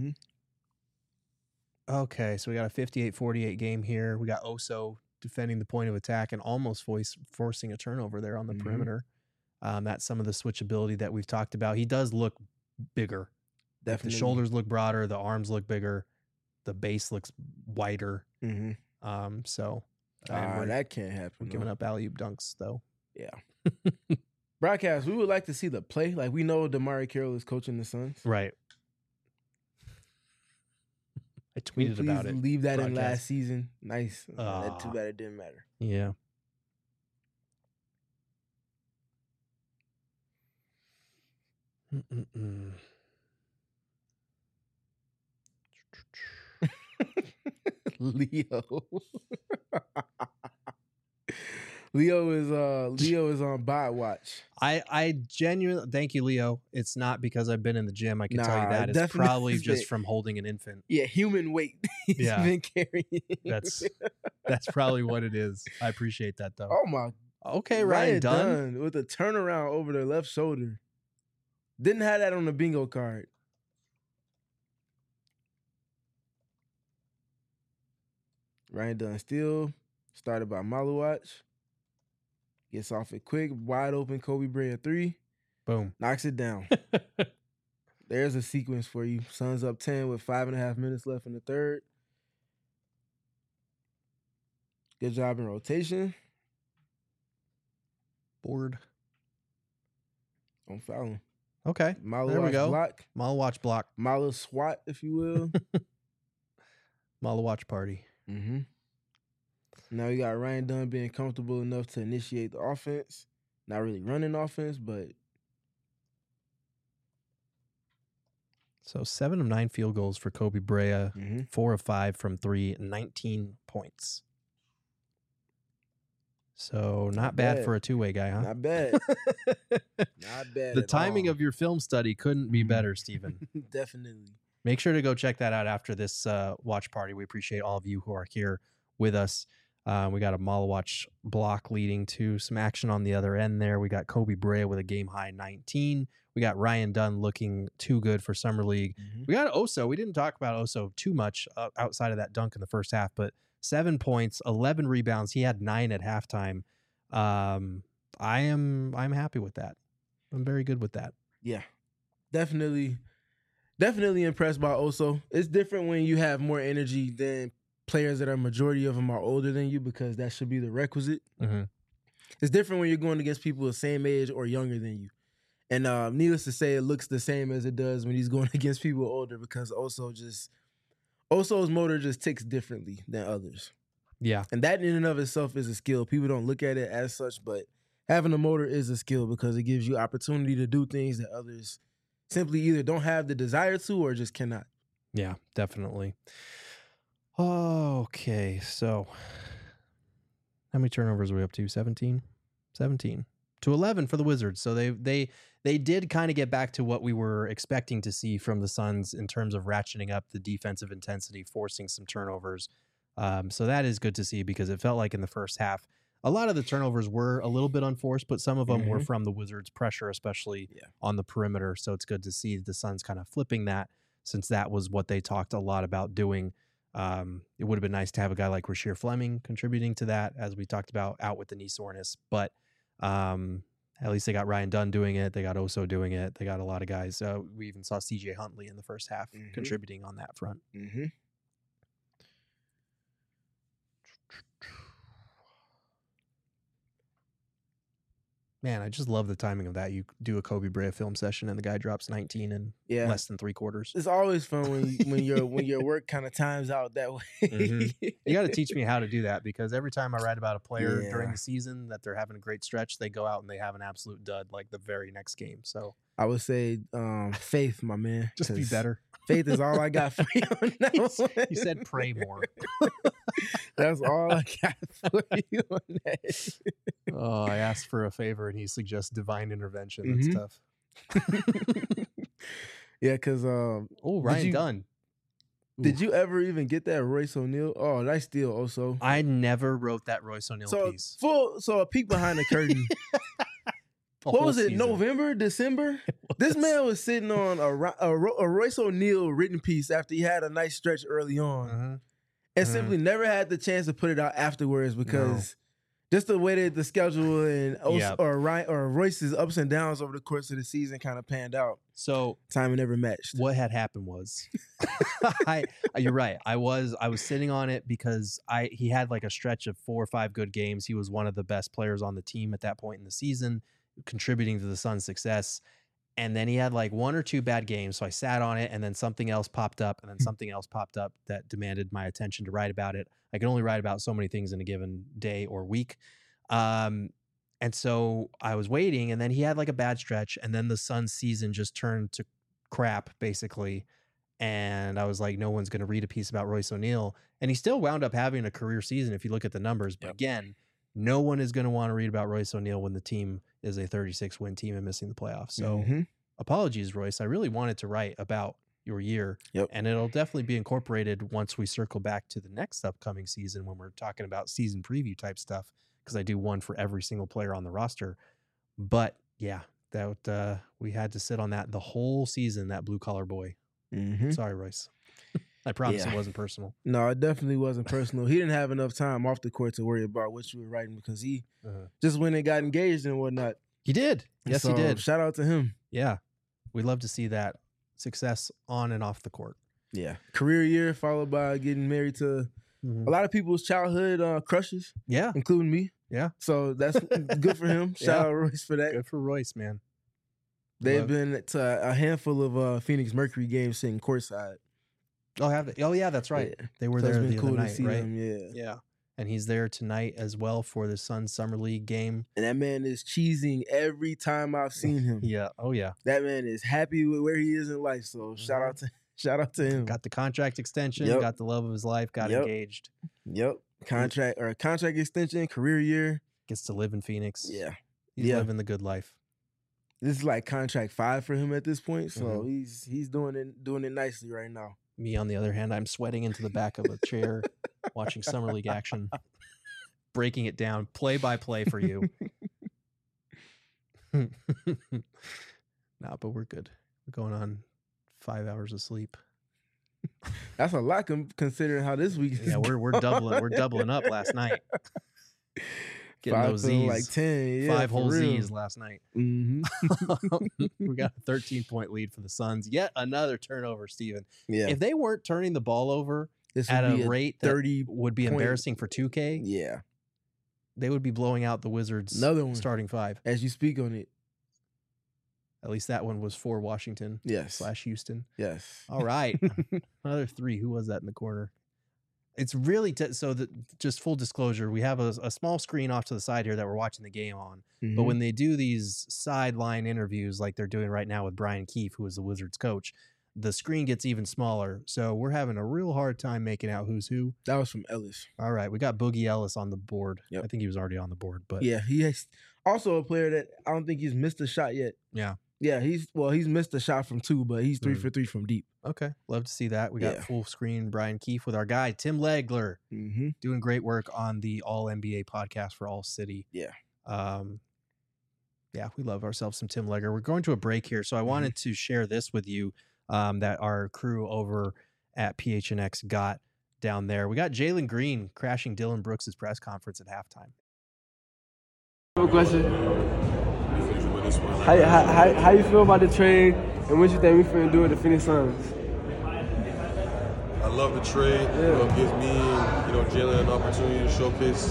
A: Okay. So we got a 58-48 game here. We got Oso defending the point of attack and almost forcing a turnover there on the perimeter. That's some of the switchability that we've talked about. He does look bigger.
B: Definitely.
A: The shoulders look broader. The arms look bigger. The base looks wider. So
B: that can't happen.
A: We're giving up alley-oop dunks, though.
B: Yeah. Broadcast, we would like to see the play. Like, we know Damari Carroll is coaching the Suns.
A: Right. I tweeted about it.
B: Leave that in last season. Nice. Too bad it didn't matter.
A: Yeah.
B: Leo is on bot watch.
A: I genuinely thank you, Leo. It's not because I've been in the gym. I can tell you that. It's probably just from holding an infant.
B: Yeah, human weight. He's been carrying.
A: That's probably what it is. I appreciate that though.
B: Oh my.
A: Okay, Ryan Dunn
B: with a turnaround over the left shoulder. Didn't have that on the bingo card. Ryan Dunn steal, started by Maluach. Gets off it quick, wide open. Kobe Bray a 3.
A: Boom.
B: Knocks it down. There's a sequence for you. Suns up 10 with 5.5 minutes left in the third. Good job in rotation.
A: Board.
B: On fouling.
A: Okay.
B: Maluach
A: There we go.
B: block.
A: Malawatch block.
B: Mala swat, if you will.
A: Malawatch party.
B: Mm-hmm. Now you got Ryan Dunn being comfortable enough to initiate the offense. Not really running offense, but
A: So 7 of 9 field goals for Kobe Brea.
B: mm-hmm.
A: 4 of 5 from 3, 19 points. So not bad
B: bad.
A: for a two-way guy, huh?
B: Not bad. Not bad.
A: The
B: at
A: timing
B: all.
A: of your film study couldn't be better, Stephen.
B: Definitely.
A: Make sure to go check that out after this watch party. We appreciate all of you who are here with us. We got a Malawatch block leading to some action on the other end there. We got Kobe Brea with a game-high 19. We got Ryan Dunn looking too good for Summer League.
B: Mm-hmm.
A: We got Oso. We didn't talk about Oso too much outside of that dunk in the first half, but 7 points, 11 rebounds. He had 9 at halftime. I'm happy with that. I'm very good with that.
B: Yeah. Definitely impressed by Oso. It's different when you have more energy than players that are majority of them are older than you, because that should be the requisite.
A: Mm-hmm.
B: It's different when you're going against people the same age or younger than you. And needless to say, it looks the same as it does when he's going against people older, because Oso's motor just ticks differently than others.
A: Yeah.
B: And that in and of itself is a skill. People don't look at it as such, but having a motor is a skill because it gives you opportunity to do things that others simply either don't have the desire to or just cannot.
A: Yeah, definitely. Okay, so how many turnovers are we up to? 17? 17 to 11 for the Wizards. So they did kind of get back to what we were expecting to see from the Suns in terms of ratcheting up the defensive intensity, forcing some turnovers. So that is good to see, because it felt like in the first half, a lot of the turnovers were a little bit unforced, but some of them were from the Wizards' pressure, especially on the perimeter. So it's good to see the Suns kind of flipping that, since that was what they talked a lot about doing. It would have been nice to have a guy like Rasheer Fleming contributing to that, as we talked about, out with the knee soreness. But at least they got Ryan Dunn doing it. They got Oso doing it. They got a lot of guys. We even saw CJ Huntley in the first half contributing on that front.
B: Mm-hmm.
A: Man, I just love the timing of that. You do a Kobe Brea film session and the guy drops 19 in less than 3 quarters.
B: It's always fun when your work kind of times out that way.
A: You got to teach me how to do that, because every time I write about a player during the season that they're having a great stretch, they go out and they have an absolute dud like the very next game. So
B: I would say faith, my man.
A: Just be better.
B: Faith is all I got for you on that one.
A: You said pray more.
B: That's all I got for you on that.
A: Oh, I asked for a favor and he suggests divine intervention. That's tough.
B: Yeah, because
A: Ryan Dunn.
B: Did you ever even get that Royce O'Neal? Oh, nice steal also.
A: I never wrote that Royce O'Neal piece.
B: So a peek behind the curtain. What was it? Season. November, December? This man was sitting on a Royce O'Neal written piece after he had a nice stretch early on, and simply never had the chance to put it out afterwards, because just the way that the schedule and or Royce's ups and downs over the course of the season kind of panned out.
A: So
B: timing never matched.
A: What had happened was, you're right. I was sitting on it because he had like a stretch of 4 or 5 good games. He was one of the best players on the team at that point in the season, contributing to the Suns' success. And then he had like 1 or 2 bad games. So I sat on it, and then something else popped up, and then something else popped up that demanded my attention to write about it. I can only write about so many things in a given day or week. And so I was waiting, and then he had like a bad stretch, and then the Suns season just turned to crap, basically. And I was like, no one's going to read a piece about Royce O'Neal. And he still wound up having a career season if you look at the numbers. But again, no one is going to want to read about Royce O'Neal when the team is a 36-win team and missing the playoffs. So apologies, Royce. I really wanted to write about your year. And it'll definitely be incorporated once we circle back to the next upcoming season when we're talking about season preview type stuff, because I do one for every single player on the roster. But yeah, that we had to sit on that the whole season, that blue collar boy. Sorry, Royce. I promise
B: Yeah.
A: it wasn't personal.
B: No, it definitely wasn't personal. He didn't have enough time off the court to worry about what you were writing because he just went and got engaged and whatnot.
A: He did. Yes,
B: So,
A: he did.
B: Shout out to him.
A: Yeah. We love to see that success on and off the court.
B: Yeah. Career year followed by getting married to a lot of people's childhood crushes,
A: Yeah.
B: including me.
A: Yeah.
B: So that's good for him. Shout out Royce for that.
A: Good for Royce, man.
B: They've
A: Love-
B: been to a handful of Phoenix Mercury games sitting courtside.
A: Oh, have they? Oh, yeah, that's right.
B: Yeah.
A: They were
B: So it's
A: there
B: been
A: the
B: cool
A: other
B: to
A: night,
B: see
A: right?
B: them, yeah.
A: Yeah. And he's there tonight as well for the Suns Summer League game.
B: And that man is cheesing every time I've seen him.
A: Yeah. Oh, yeah.
B: That man is happy with where he is in life. So shout out to him.
A: Got the contract extension,
B: Yep.
A: got the love of his life, got
B: Yep.
A: engaged.
B: Yep. Contract extension, career year.
A: Gets to live in Phoenix.
B: Yeah.
A: He's
B: Yeah.
A: living the good life.
B: This is like contract 5 for him at this point. So
A: Mhm.
B: he's doing it nicely right now.
A: Me, on the other hand, I'm sweating into the back of a chair watching Summer League action, breaking it down play by play for you. No, but we're good. We're going on 5 hours of sleep.
B: That's a lot considering how this week is.
A: Yeah, we're doubling up last night. Getting
B: 5
A: those
B: to
A: Z's.
B: like 10. Yeah,
A: 5
B: for
A: whole
B: real.
A: Z's last night.
B: Mm-hmm.
A: We got a 13-point lead for the Suns. Yet another turnover, Steven.
B: Yeah.
A: If they weren't turning the ball over
B: This
A: at
B: would
A: a
B: be
A: rate that
B: 30
A: would be
B: point-
A: embarrassing for 2K,
B: Yeah.
A: they would be blowing out the Wizards'
B: Another one.
A: starting 5.
B: As you speak on it.
A: At least that one was for Washington
B: Yes.
A: / Houston.
B: Yes.
A: All right. Another 3. Who was that in the corner? It's really just full disclosure. We have a small screen off to the side here that we're watching the game on. But
B: Mhm.
A: when they do these sideline interviews like they're doing right now with Brian Keefe, who is the Wizards coach, the screen gets even smaller. So we're having a real hard time making out who's who.
B: That was from Ellis.
A: All right. We got Boogie Ellis on the board.
B: Yep.
A: I think he was already on the board, but
B: Yeah, he is also a player that I don't think he's missed a shot yet.
A: yeah.
B: Yeah, he's missed a shot from 2, but he's 3 for 3 from deep.
A: Okay. Love to see that. We got
B: Yeah.
A: full screen Brian Keefe with our guy, Tim Legler,
B: Mm-hmm.
A: doing great work on the All NBA podcast for All City.
B: Yeah.
A: Yeah, we love ourselves some Tim Legler. We're going to a break here, so I wanted to share this with you that our crew over at PHNX got down there. We got Jalen Green crashing Dylan Brooks' press conference at halftime.
I: One question. How you feel about the trade, and what you think we finna do with the Phoenix Suns?
J: I love the trade. You know, it gives me, Jalen an opportunity to showcase,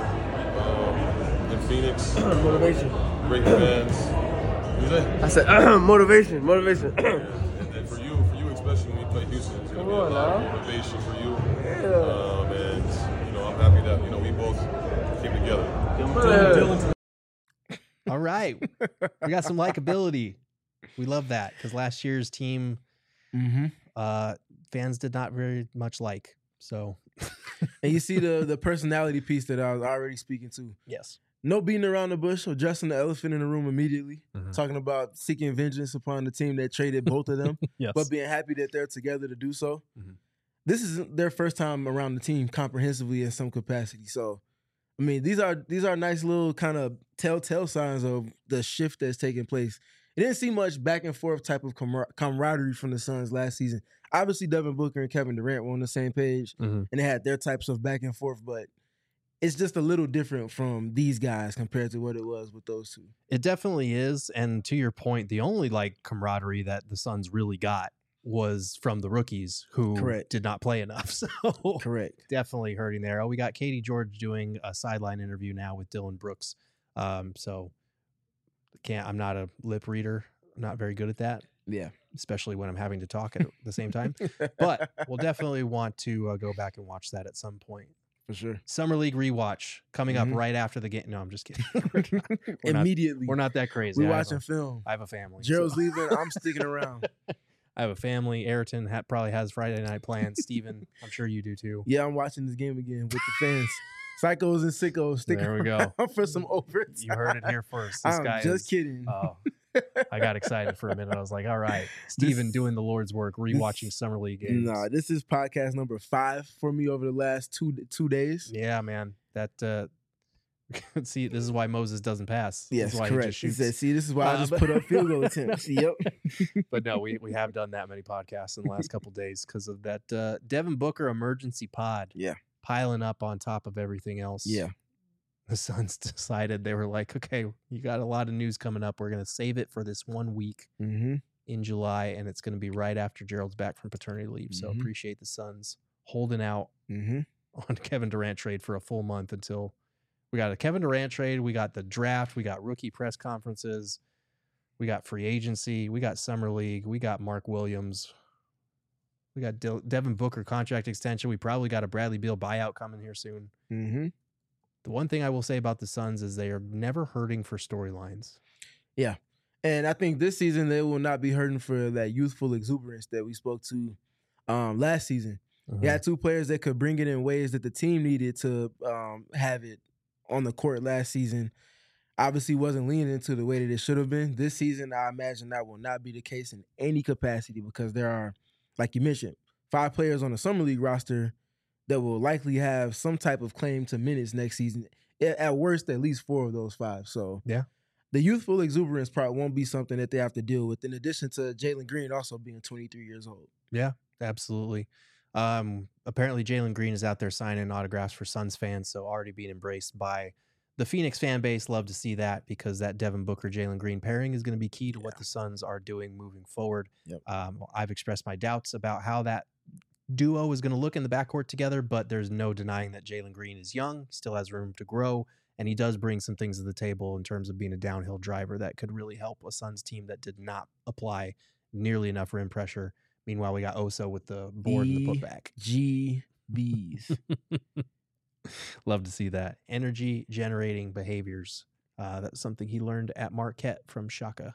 J: in Phoenix.
I: Motivation.
J: Great fans. You say?
I: I said motivation.
J: And for you especially when you play Houston, it's gonna be a lot of motivation for you. And I'm happy that we both came together.
A: All right. We got some likability. We love that because last year's team fans did not very much like. So,
B: And you see the personality piece that I was already speaking to.
A: yes.
B: No beating around the bush, addressing the elephant in the room immediately, talking about seeking vengeance upon the team that traded both of them,
A: Yes.
B: but being happy that they're together to do so.
A: Mhm.
B: This is their first time around the team comprehensively in some capacity. So, I mean, these are nice little kind of telltale signs of the shift that's taking place. It didn't see much back and forth type of camaraderie from the Suns last season. Obviously, Devin Booker and Kevin Durant were on the same page, and they had their types of back and forth, but it's just a little different from these guys compared to what it was with those two.
A: It definitely is. And to your point, the only camaraderie that the Suns really got was from the rookies who
B: Correct.
A: did not play enough. So
B: Correct.
A: definitely hurting there. Oh, we got Katie George doing a sideline interview now with Dylan Brooks. So I'm not a lip reader. I'm not very good at that,
B: Yeah.
A: especially when I'm having to talk at the same time. But we'll definitely want to go back and watch that at some point.
B: For sure.
A: Summer League rewatch coming up right after the game. No, I'm just kidding. We're not-
B: Immediately.
A: we're not that crazy.
B: We're
A: I have
B: watching film.
A: I have a family.
B: Gerald's
A: so-
B: leaving. I'm sticking around.
A: I have a family. Ayrton probably has Friday night plans. Steven, I'm sure you do too.
B: Yeah, I'm watching this game again with the fans. Psychos and sickos sticking
A: There we go.
B: around for some overtime.
A: You heard it here first. This
B: I'm
A: guy
B: just
A: is,
B: kidding.
A: Oh, I got excited for a minute. I was like, all right, Steven
B: This-
A: doing the Lord's work, rewatching Summer League games.
B: Nah, this is podcast number 5 for me over the last two days.
A: Yeah, man. That See, this is why Moses doesn't pass. This
B: Yes,
A: is why
B: correct.
A: He just
B: He
A: shoots.
B: said, "See, this is why I just put up field goal attempts." Yep.
A: But no, we have done that many podcasts in the last couple days because of that Devin Booker emergency pod.
B: Yeah.
A: Piling up on top of everything else.
B: Yeah.
A: The Suns decided, they were like, okay, you got a lot of news coming up. We're going to save it for this 1 week
B: Mm-hmm.
A: in July, and it's going to be right after Gerald's back from paternity leave. So
B: Mhm.
A: appreciate the Suns holding out
B: Mm-hmm.
A: on Kevin Durant trade for a full month until we got a Kevin Durant trade. We got the draft. We got rookie press conferences. We got free agency. We got summer league. We got Mark Williams. We got Devin Booker contract extension. We probably got a Bradley Beal buyout coming here soon.
B: Mm-hmm.
A: The one thing I will say about the Suns is they are never hurting for storylines.
B: Yeah. And I think this season they will not be hurting for that youthful exuberance that we spoke to last season. You had two players that could bring it in ways that the team needed to have it on the court last season. Obviously wasn't leaning into the way that it should have been. This season, I imagine that will not be the case in any capacity because there are, like you mentioned, 5 players on the Summer League roster that will likely have some type of claim to minutes next season. At worst, at least 4 of those 5. So
A: yeah,
B: the youthful exuberance part won't be something that they have to deal with, in addition to Jalen Green also being 23 years old.
A: Yeah, absolutely. Apparently Jalen Green is out there signing autographs for Suns fans, so already being embraced by the Phoenix fan base. Love to see that because that Devin Booker, Jalen Green pairing is going to be key to what the Suns are doing moving forward.
B: Yep.
A: I've expressed my doubts about how that duo is going to look in the backcourt together, but there's no denying that Jalen Green is young, still has room to grow, and he does bring some things to the table in terms of being a downhill driver that could really help a Suns team that did not apply nearly enough rim pressure. Meanwhile, we got Oso with the board and the putback.
B: GBs.
A: Love to see that. Energy generating behaviors. That's something he learned at Marquette from Shaka.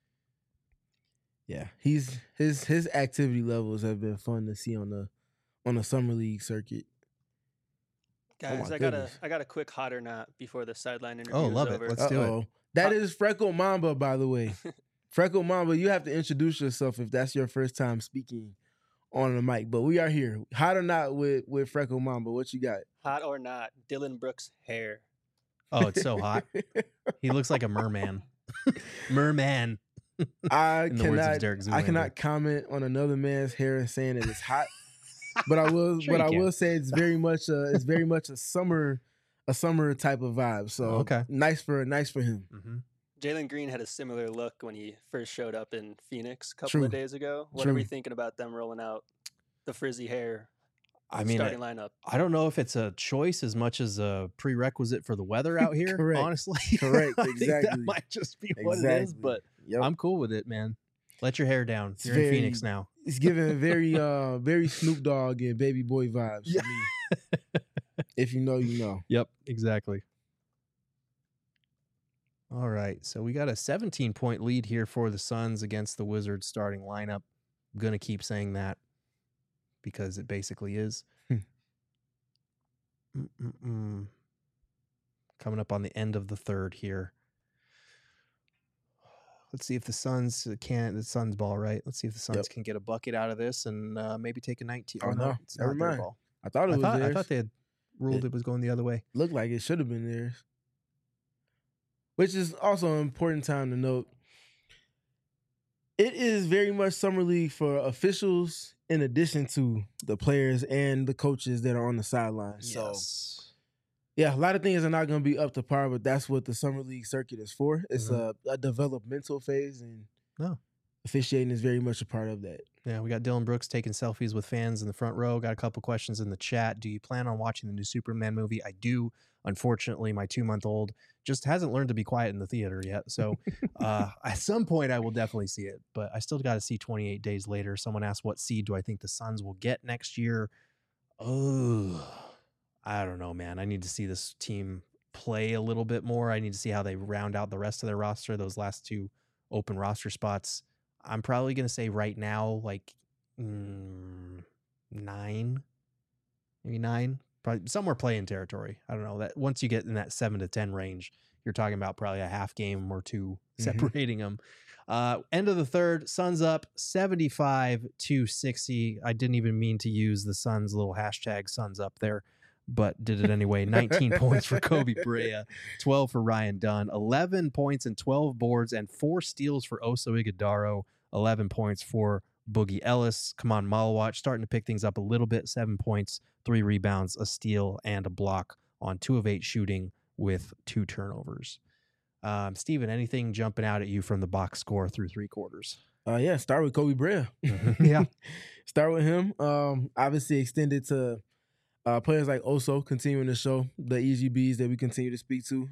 B: Yeah, his activity levels have been fun to see on the summer league circuit.
H: Guys, I got a quick hot or not before the sideline interview.
A: Oh, love
H: is
A: it.
H: over.
A: Let's do it.
B: That is Freckle Mamba, by the way. Freckle Mamba, you have to introduce yourself if that's your first time speaking on the mic. But we are here. Hot or not with Freckle Mamba. What you got?
H: Hot or not, Dylan Brooks' hair.
A: Oh, it's so hot. He looks like a merman. Merman.
B: I
A: In the words of Derek
B: cannot
A: Zoolander.
B: comment on another man's hair and saying that it's hot. But I will
A: Sure you
B: I
A: can.
B: will say it's very much a summer type of vibe. So
A: Okay.
B: nice for him.
A: Mm-hmm.
H: Jalen Green had a similar look when he first showed up in Phoenix a couple
B: True.
H: of days ago. What
B: True.
H: are we thinking about them rolling out the frizzy hair
A: I mean,
H: starting lineup?
A: I don't know if it's a choice as much as a prerequisite for the weather out here.
B: Correct.
A: Honestly,
B: Correct.
A: I think that
B: Exactly.
A: might just be what it is.
B: Exactly.
A: But
B: Yep.
A: I'm cool with it, man. Let your hair down.
B: It's
A: You're in
B: very-
A: Phoenix now.
B: It's giving very Snoop Dogg and Baby Boy vibes to me. If you know, you know.
A: Yep, exactly. All right, so we got a 17-point lead here for the Suns against the Wizards starting lineup. I'm going to keep saying that because it basically is. Coming up on the end of the third here. Let's see if the Suns the Suns ball, right? Let's see if the Suns can get a bucket out of this and maybe take a 19.
B: Oh, no.
A: It's
B: Never
A: not their
B: mind.
A: ball.
B: I thought it was
A: I
B: theirs.
A: thought they had ruled it was going the other way.
B: Looked like it should have been theirs. Which is also an important time to note. It is very much summer league for officials in addition to the players and the coaches that are on the sidelines. So, yeah, a lot of things are not going to be up to par, but that's what the summer league circuit is for. It's a developmental phase, and officiating is very much a part of that.
A: Yeah, we got Dylan Brooks taking selfies with fans in the front row. Got a couple questions in the chat. Do you plan on watching the new Superman movie? I do. Unfortunately, my 2-month-old just hasn't learned to be quiet in the theater yet. So at some point, I will definitely see it. But I still got to see 28 Days Later. Someone asked, what seed do I think the Suns will get next year? Oh, I don't know, man. I need to see this team play a little bit more. I need to see how they round out the rest of their roster, those last 2 open roster spots. I'm probably going to say right now, like 9, maybe 9, probably somewhere playing territory. I don't know that once you get in that 7 to 10 range, you're talking about probably a half game or 2 separating them. End of the third, Suns up 75-60. I didn't even mean to use the Suns little hashtag Suns up there, but did it anyway. 19 points for Kobe Brea, 12 for Ryan Dunn, 11 points and 12 boards and 4 steals for Oso Ighodaro, 11 points for Boogie Ellis. Kaman Malawach starting to pick things up a little bit, 7 points, 3 rebounds, a steal, and a block on 2 of 8 shooting with 2 turnovers. Steven, anything jumping out at you from the box score through 3 quarters?
B: Yeah, start with Kobe Brea.
A: Yeah.
B: Start with him. Obviously extended to players like Oso, continuing to show the EGBs that we continue to speak to.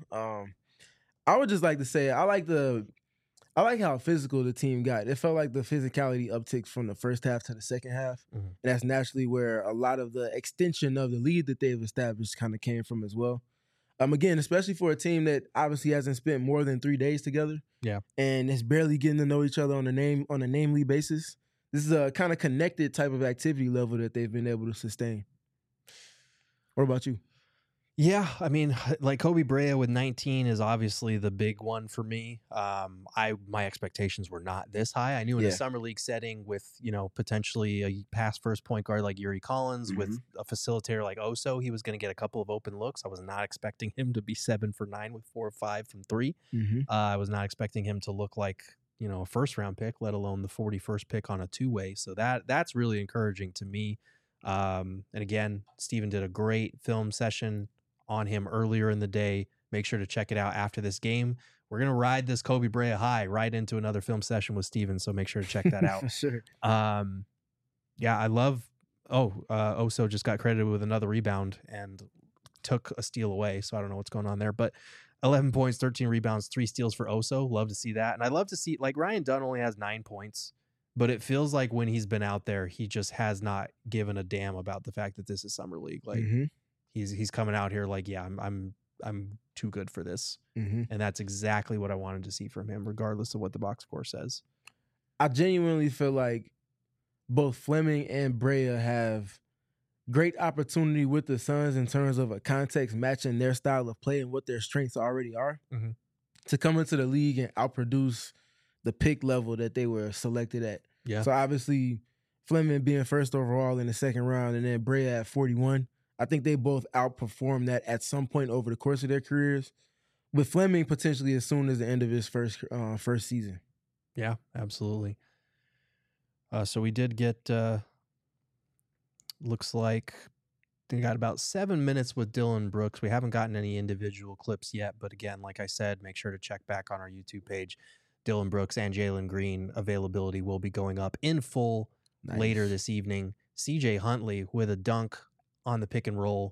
B: I would just like to say I like how physical the team got. It felt like the physicality uptick from the first half to the second half.
A: Mm-hmm.
B: And that's naturally where a lot of the extension of the lead that they've established kind of came from as well. Again, especially for a team that obviously hasn't spent more than 3 days together.
A: Yeah.
B: And is barely getting to know each other on a namely basis. This is a kind of connected type of activity level that they've been able to sustain. What about you?
A: Yeah, I mean, like Kobe Brea with 19 is obviously the big one for me. My expectations were not this high. I knew in a summer league setting with, potentially a pass first point guard like Yuri Collins, with a facilitator like Oso, he was going to get a couple of open looks. I was not expecting him to be 7 for 9 with 4 or 5 from 3. I was not expecting him to look like, a first round pick, let alone the 41st pick on a 2-way. So that's really encouraging to me. And again, Steven did a great film session on him earlier in the day. Make sure to check it out after this game. We're going to ride this Kobe Brea high right into another film session with Steven, so make sure to check that out.
B: For sure.
A: Yeah, I love Oso just got credited with another rebound and took a steal away, so I don't know what's going on there. But 11 points, 13 rebounds, 3 steals for Oso. Love to see that. And I love to see, like, Ryan Dunn only has 9 points, but it feels like when he's been out there, he just has not given a damn about the fact that this is summer league. Like, he's coming out here like, yeah, I'm too good for this. And that's exactly what I wanted to see from him, regardless of what the box score says.
B: I genuinely feel like both Fleming and Brea have great opportunity with the Suns in terms of a context matching their style of play and what their strengths already are to come into the league and outproduce the pick level that they were selected at.
A: Yeah.
B: So obviously Fleming being first overall in the second round and then Brea at 41, I think they both outperformed that at some point over the course of their careers, with Fleming potentially as soon as the end of his first season.
A: Yeah, absolutely. So we did get, looks like they got about 7 minutes with Dillon Brooks. We haven't gotten any individual clips yet, but again, like I said, make sure to check back on our YouTube page. Dillon Brooks and Jalen Green availability will be going up in full later this evening. CJ Huntley with a dunk on the pick and roll.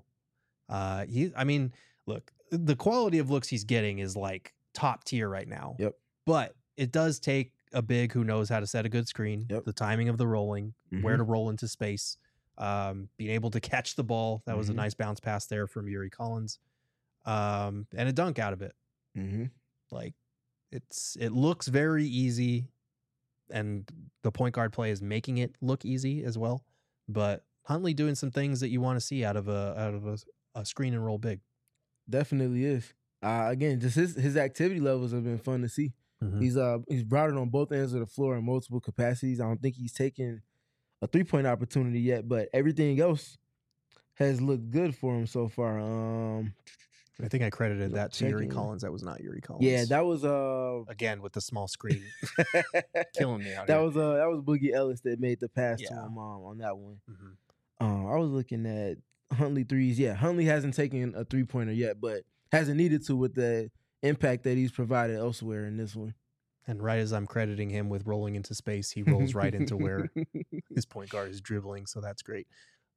A: Look, the quality of looks he's getting is like top tier right now.
B: Yep.
A: But it does take a big who knows how to set a good screen, the timing of the rolling, where to roll into space, being able to catch the ball. That was a nice bounce pass there from Yuri Collins, and a dunk out of it. Like it looks very easy, and the point guard play is making it look easy as well. But Huntley doing some things that you want to see out of a screen and roll big.
B: Definitely is. Again, just his activity levels have been fun to see. He's brought it on both ends of the floor in multiple capacities. I don't think he's taken a 3-point opportunity yet, but everything else has looked good for him so far.
A: I think I credited that to Yuri Collins. That was not Yuri Collins.
B: Yeah, that was
A: again with the small screen, killing me out
B: that
A: here.
B: That was Boogie Ellis that made the pass to him on that one. I was looking at Huntley threes. Yeah, Huntley hasn't taken a 3-pointer yet, but hasn't needed to with the impact that he's provided elsewhere in this one.
A: And right as I'm crediting him with rolling into space, he rolls right into where his point guard is dribbling. So that's great.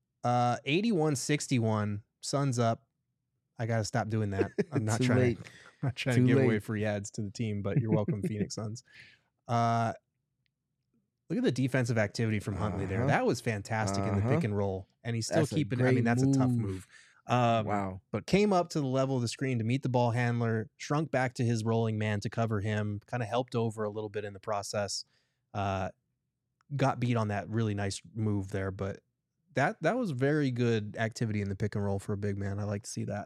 A: 81-61, Suns up. I got to stop doing that. I'm not trying to give away free ads to the team, but you're welcome, Phoenix Suns. Look at the defensive activity from Huntley there. That was fantastic in the pick and roll. And he's still keeping it. I mean, that's a tough move.
B: Wow.
A: But came up to the level of the screen to meet the ball handler, shrunk back to his rolling man to cover him, kind of helped over a little bit in the process. Got beat on that really nice move there, but that was very good activity in the pick and roll for a big man. I like to see that.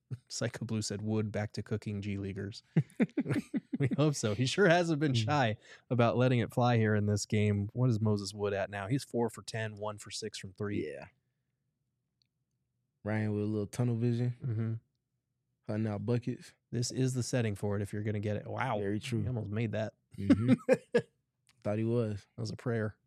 A: Psycho Blue said Wood back to cooking G Leaguers. We hope so. He sure hasn't been shy about letting it fly here in this game. What is Moses Wood at now? He's 4 for 10, 1 for 6 from 3.
B: Yeah. Ryan with a little tunnel vision.
A: Mm-hmm.
B: Hunting out buckets.
A: This is the setting for it if you're going to get it. Wow.
B: Very true.
A: He almost made that.
B: Mm-hmm. Thought he was.
A: That was a prayer.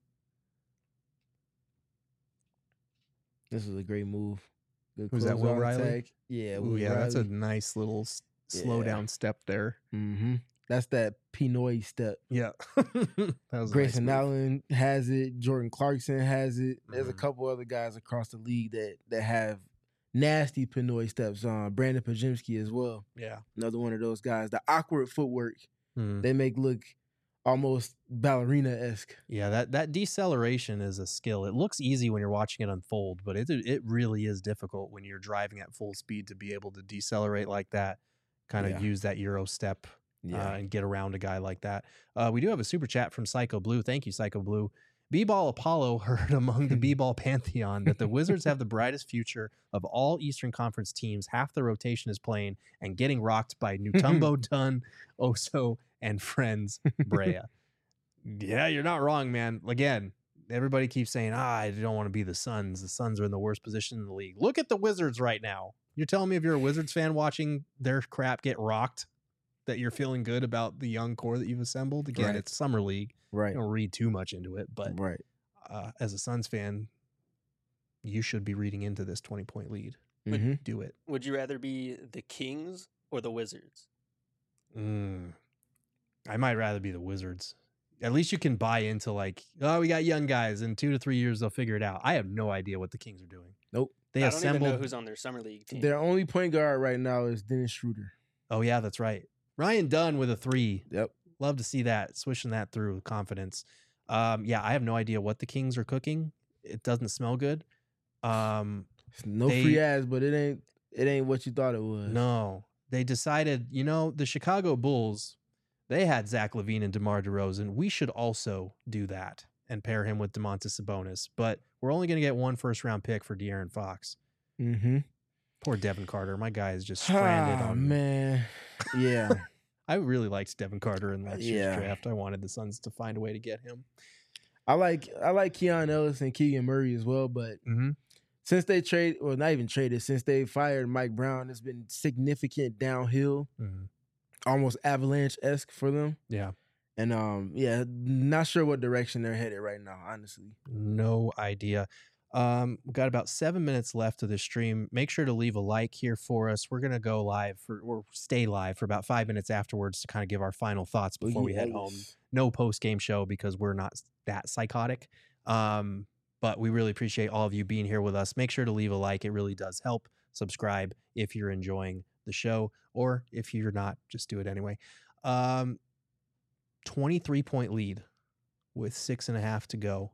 B: This was a great move. Good
A: Was that Will
B: closeout
A: Riley?
B: attack. Yeah.
A: Ooh,
B: Will
A: yeah, that's a
B: Riley.
A: nice little slow down step there.
B: Mm-hmm. That's that Pinoy step.
A: Yeah. That was
B: Grayson
A: a nice move.
B: Allen has it. Jordan Clarkson has it. There's a couple other guys across the league that have nasty Pinoy steps. Brandon Pajemski as well.
A: Yeah.
B: Another one of those guys. The awkward footwork
A: Mm.
B: they make look almost ballerina-esque.
A: Yeah, that deceleration is a skill. It looks easy when you're watching it unfold, but it really is difficult when you're driving at full speed to be able to decelerate like that, kind of
B: Yeah.
A: use that Euro step
B: Yeah.
A: and get around a guy like that. We do have a super chat from Psycho Blue. Thank you, Psycho Blue. B-Ball Apollo heard among the B-Ball Pantheon that the Wizards have the brightest future of all Eastern Conference teams. Half the rotation is playing and getting rocked by Mutombo, Dunn, Oso, and friends Brea. Yeah, you're not wrong, man. Again, everybody keeps saying, I don't want to be the Suns. The Suns are in the worst position in the league. Look at the Wizards right now. You're telling me if you're a Wizards fan watching their crap get rocked, that you're feeling good about the young core that you've assembled? Again,
B: Right.
A: it's summer league.
B: Right.
A: Don't read too much into it, but
B: Right.
A: As a Suns fan, you should be reading into this 20-point lead.
B: Mm-hmm.
A: Do it.
H: Would you rather be the Kings or the Wizards?
A: I might rather be the Wizards. At least you can buy into like, oh, we got young guys. In 2 to 3 years, they'll figure it out. I have no idea what the Kings are doing.
B: Nope.
A: They
H: I don't even
A: assembled.
H: know who's on their summer league team.
B: Their only point guard right now is Dennis Schroeder.
A: Oh, yeah, that's right. Ryan Dunn with a 3.
B: Yep.
A: Love to see that. Swishing that through with confidence. Yeah, I have no idea what the Kings are cooking. It doesn't smell good.
B: No free ads, but it ain't what you thought it was.
A: No. They decided, the Chicago Bulls, they had Zach LaVine and DeMar DeRozan. We should also do that and pair him with DeMontis Sabonis. But we're only going to get 1 first-round pick for De'Aaron Fox.
B: Mm-hmm.
A: Poor Devin Carter. My guy is just stranded on.
B: Man. Yeah.
A: I really liked Devin Carter in last year's
B: Yeah.
A: draft. I wanted the Suns to find a way to get him.
B: I like Keon Ellis and Keegan Murray as well, but since they since they fired Mike Brown, it's been significant downhill, almost avalanche-esque for them.
A: Yeah.
B: And not sure what direction they're headed right now, honestly.
A: No idea. We've got about 7 minutes left of this stream. Make sure to leave a like here for us. We're gonna go live or stay live for about 5 minutes afterwards to kind of give our final thoughts before we head home. No post-game show because we're not that psychotic. But we really appreciate all of you being here with us. Make sure to leave a like. It really does help. Subscribe if you're enjoying the show, or if you're not, just do it anyway. 23-point lead with 6.5 to go.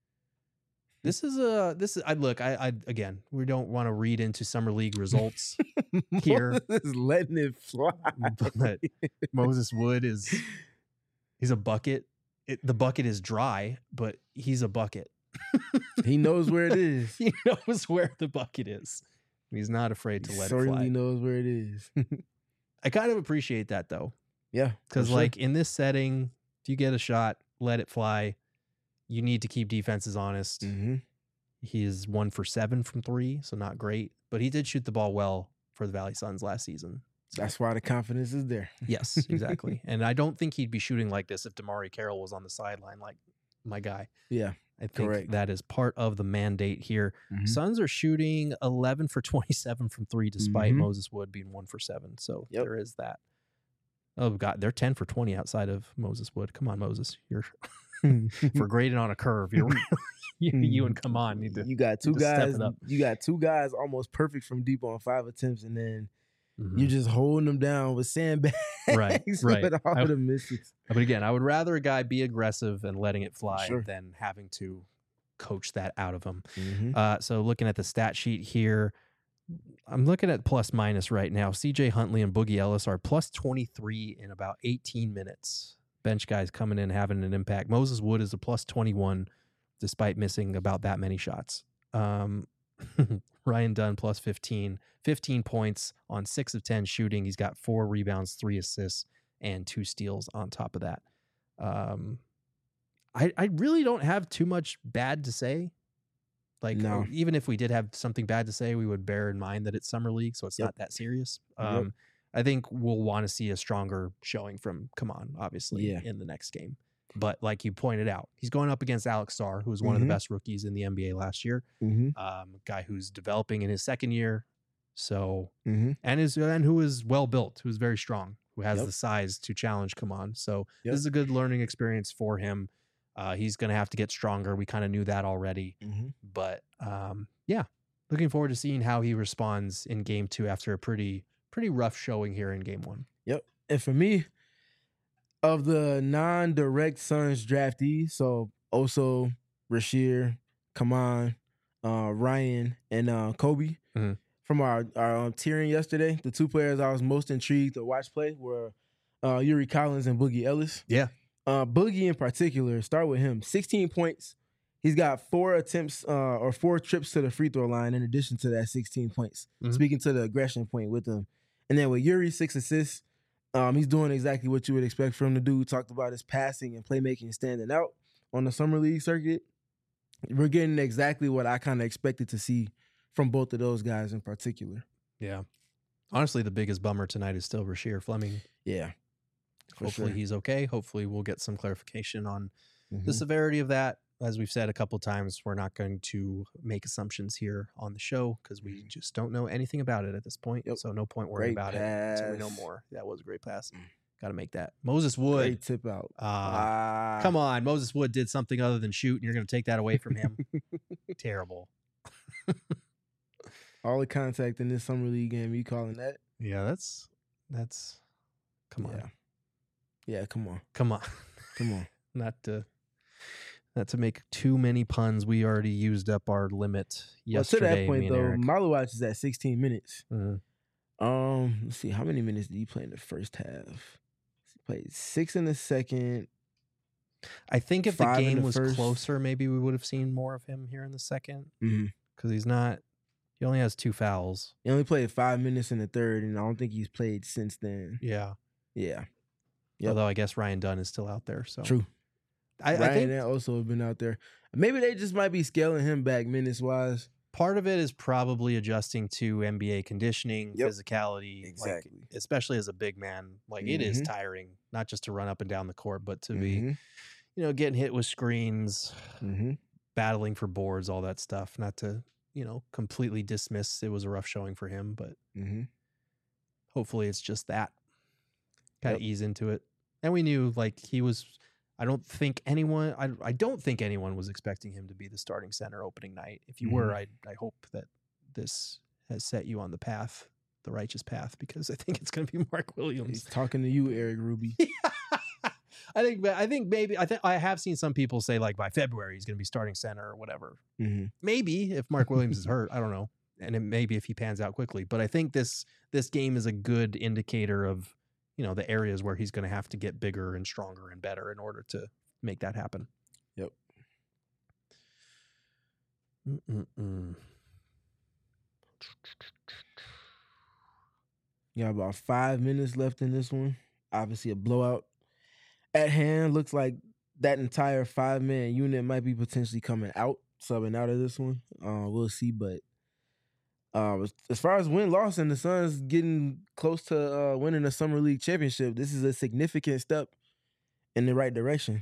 A: Again, we don't want to read into summer league results here.
B: Is letting it fly.
A: But Moses Wood he's a bucket. The bucket is dry, but he's a bucket.
B: He knows where it is.
A: He knows where the bucket is. He's not afraid to let it fly.
B: Certainly knows where it is.
A: I kind of appreciate that though.
B: Yeah.
A: Because in this setting, if you get a shot, let it fly. You need to keep defenses honest.
B: Mm-hmm.
A: He is 1 for 7 from 3, so not great. But he did shoot the ball well for the Valley Suns last season. So.
B: That's why the confidence is there.
A: Yes, exactly. And I don't think he'd be shooting like this if DeMarre Carroll was on the sideline like my guy.
B: Yeah,
A: I think that is part of the mandate here.
B: Mm-hmm.
A: Suns are shooting 11 for 27 from 3 despite Moses Wood being 1 for 7. So there is that. Oh, God, they're 10 for 20 outside of Moses Wood. Come on, Moses. You're for grading on a curve. You're you and come on.
B: You got two guys. You got 2 guys almost perfect from deep on 5 attempts, and then you're just holding them down with sandbags.
A: Right.
B: With all the misses.
A: But again, I would rather a guy be aggressive and letting it fly than having to coach that out of him. So looking at the stat sheet here, I'm looking at plus minus right now. CJ Huntley and Boogie Ellis are plus 23 in about 18 minutes. Bench guys coming in, having an impact. Moses Wood is a plus 21 despite missing about that many shots. Ryan Dunn plus 15 points on 6 of 10 shooting. He's got 4 rebounds, 3 assists, and 2 steals on top of that. I really don't have too much bad to say. Like,
B: No.
A: even if we did have something bad to say, we would bear in mind that it's summer league, so it's not that serious. I think we'll want to see a stronger showing from Kaman, obviously, in the next game. But like you pointed out, he's going up against Alex Sarr, who was one of the best rookies in the NBA last year. Guy who's developing in his second year, so and who is well built, who's very strong, who has the size to challenge Kaman. So this is a good learning experience for him. He's going to have to get stronger. We kind of knew that already, but looking forward to seeing how he responds in game 2 after a pretty rough showing here in game 1.
B: Yep. And for me, of the non-direct Suns draftees, so Oso, Rasheer, Kaman, Ryan, and Kobe, from our tiering yesterday, the 2 players I was most intrigued to watch play were Yuri Collins and Boogie Ellis.
A: Yeah.
B: Boogie in particular, start with him. 16 points. He's got 4 attempts or 4 trips to the free throw line in addition to that 16 points. Speaking to the aggression point with him. And then with Yuri, 6 assists. He's doing exactly what you would expect from the dude. Talked about his passing and playmaking standing out on the summer league circuit. We're getting exactly what I kind of expected to see from both of those guys in particular.
A: Yeah. Honestly, the biggest bummer tonight is still Rasheer Fleming.
B: Yeah.
A: Hopefully he's okay. Hopefully we'll get some clarification on the severity of that. As we've said a couple times, we're not going to make assumptions here on the show because we just don't know anything about it at this point. So no point worrying about it until we know more. That was a great pass. Got to make that. Moses Wood.
B: Great tip out.
A: Come on. Moses Wood did something other than shoot, and you're going to take that away from him. Terrible.
B: All the contact in this summer league game, you calling that?
A: Yeah, that's come on.
B: Yeah, come on.
A: Come on.
B: Come on.
A: Not to make too many puns. We already used up our limit yesterday.
B: Well, to that point, though,
A: Eric.
B: Malowacz is at 16 minutes. Let's see. How many minutes did he play in the first half? He played 6 in the second.
A: I think if the
B: 5 in
A: game
B: the
A: was
B: first.
A: closer, maybe we would have seen more of him here in the second. Because he only has 2 fouls.
B: He only played 5 minutes in the third, and I don't think he's played since then.
A: Yeah.
B: Yeah.
A: Although I guess Ryan Dunn is still out there. So
B: True.
A: I think
B: and also have been out there. Maybe they just might be scaling him back minutes wise.
A: part of it is probably adjusting to NBA conditioning, physicality,
B: exactly.
A: Like, especially as a big man. Like it is tiring, not just to run up and down the court, but to be, getting hit with screens, battling for boards, all that stuff. Not to, completely dismiss it was a rough showing for him, but hopefully it's just that. Kind of ease into it. And we knew he was. I don't think anyone was expecting him to be the starting center opening night. If you were, I hope that this has set you on the path, the righteous path, because I think it's going to be Mark Williams.
B: He's talking to you, Eric Ruby.
A: I have seen some people say by February he's going to be starting center or whatever. Maybe if Mark Williams is hurt, I don't know, and maybe if he pans out quickly. But I think this game is a good indicator of the areas where he's going to have to get bigger and stronger and better in order to make that happen.
B: Yep. Got about 5 minutes left in this one. Obviously a blowout at hand. Looks like that entire 5-man unit might be potentially subbing out of this one. We'll see, but as far as win-loss and the Suns getting close to winning the Summer League championship, this is a significant step in the right direction.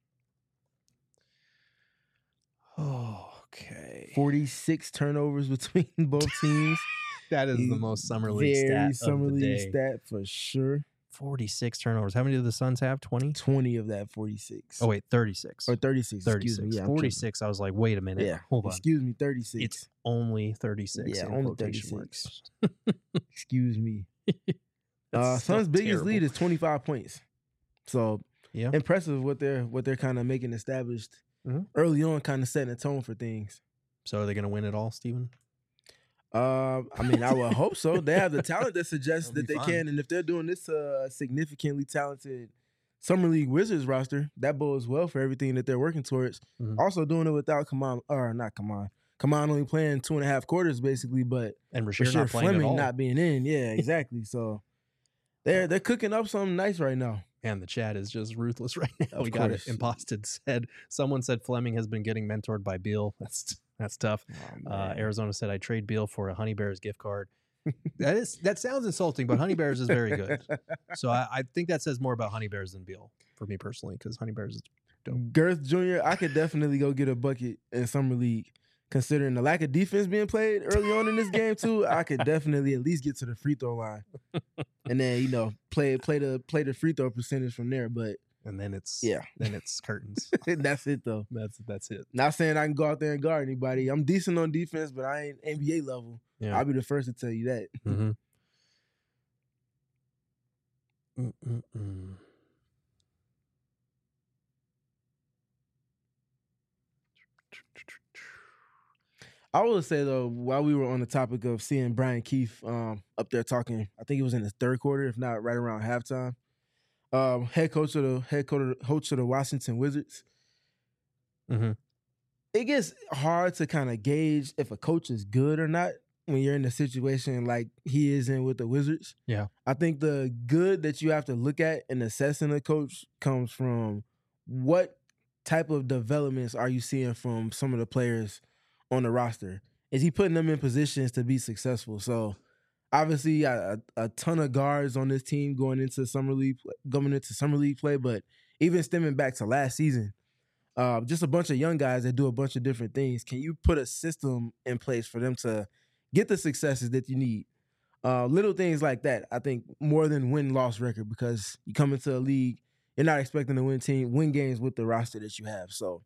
A: Okay.
B: 46 turnovers between both teams.
A: That is the most Summer League stat
B: Summer
A: of the
B: League
A: day.
B: stat for sure.
A: 46 turnovers. How many do the Suns have? 20?
B: 20 of that 46.
A: Oh, wait, 36.
B: Or 36.
A: 36.
B: Excuse me. Yeah,
A: 46, I was like, wait a minute.
B: Yeah.
A: Hold on.
B: Excuse me, 36.
A: It's only 36.
B: Yeah,
A: in
B: only
A: quotation
B: 36.
A: marks.
B: Excuse me.
A: That's
B: Suns'
A: so
B: biggest
A: terrible.
B: lead is 25 points. So impressive what they're kind of making established early on, kind of setting a tone for things.
A: So are they going to win it all, Steven?
B: I would hope so. They have the talent that suggests
A: That'll
B: that
A: be
B: they
A: fun.
B: can, and if they're doing this significantly talented Summer League Wizards roster, that bodes well for everything that they're working towards. Also doing it without Come on, only playing 2.5 quarters basically, but
A: And Rasheer not playing at
B: Fleming
A: all.
B: not being in. Yeah, exactly. So they're cooking up something nice right now.
A: And the chat is just ruthless right now.
B: Of
A: We got it.
B: course.
A: Imposted said, someone said Fleming has been getting mentored by Beal. That's tough. Arizona said, I trade Beal for a Honey Bears gift card. That sounds insulting, but Honey Bears is very good. So I think that says more about Honey Bears than Beal for me personally, because Honey Bears is dope.
B: Girth Jr., I could definitely go get a bucket in Summer League. Considering the lack of defense being played early on in this game too, I could definitely at least get to the free throw line, and then play the free throw percentage from there. But
A: And then it's curtains.
B: that's it though.
A: That's it.
B: Not saying I can go out there and guard anybody. I'm decent on defense, but I ain't NBA level.
A: Yeah.
B: I'll be the first to tell you that.
A: Mm-hmm.
B: I will say though, while we were on the topic of seeing Brian Keefe up there talking, I think it was in the third quarter, if not right around halftime. Head coach of the Washington Wizards.
A: Mm-hmm.
B: It gets hard to kind of gauge if a coach is good or not when you're in a situation like he is in with the Wizards.
A: Yeah.
B: I think the good that you have to look at in assessing a coach comes from what type of developments are you seeing from some of the players on the roster? Is he putting them in positions to be successful? So obviously a ton of guards on this team going into summer league play, but even stemming back to last season, just a bunch of young guys that do a bunch of different things. Can you put a system in place for them to get the successes that you need? Little things like that, I think, more than win-loss record, because you come into a league, you're not expecting to win games with the roster that you have. So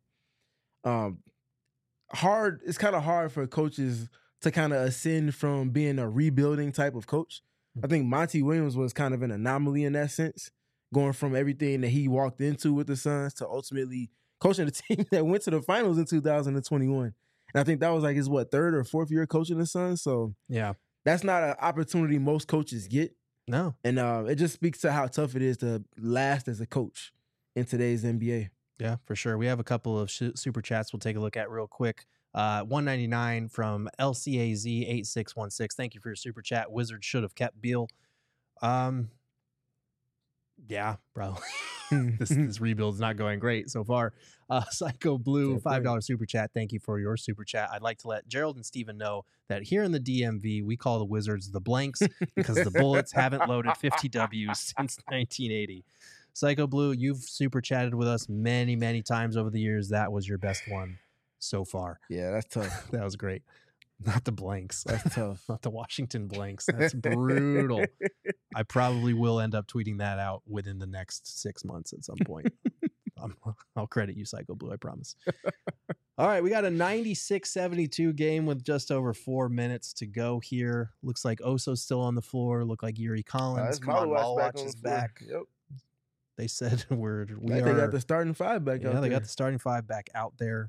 B: it's kind of hard for coaches to kind of ascend from being a rebuilding type of coach. I think Monty Williams was kind of an anomaly in that sense, going from everything that he walked into with the Suns to ultimately coaching the team that went to the finals in 2021. And I think that was like his, third or fourth year coaching the Suns. So
A: yeah,
B: that's not an opportunity most coaches get.
A: No.
B: And it just speaks to how tough it is to last as a coach in today's NBA.
A: Yeah, for sure. We have a couple of super chats we'll take a look at real quick. 199 from LCAZ8616. Thank you for your super chat. Wizards should have kept Beal. Yeah, probably. This rebuild is not going great so far. Psycho Blue, $5 super chat. Thank you for your super chat. I'd like to let Gerald and Steven know that here in the DMV, we call the Wizards the blanks because the Bullets haven't loaded 50 Ws since 1980. Psycho Blue, you've super chatted with us many, many times over the years. That was your best one so far.
B: Yeah, that's tough.
A: That was great. Not the blanks.
B: That's tough.
A: Not the Washington blanks. That's brutal. I probably will end up tweeting that out within the next 6 months at some point. I'll credit you, Psycho Blue, I promise. All right, we got a 96-72 game with just over 4 minutes to go here. Looks like Oso's still on the floor. Look like Yuri Collins. Come on, Malwatch is back.
B: Yep.
A: They said we
B: they got the starting five back out there.
A: Yeah, they got the starting five back out there.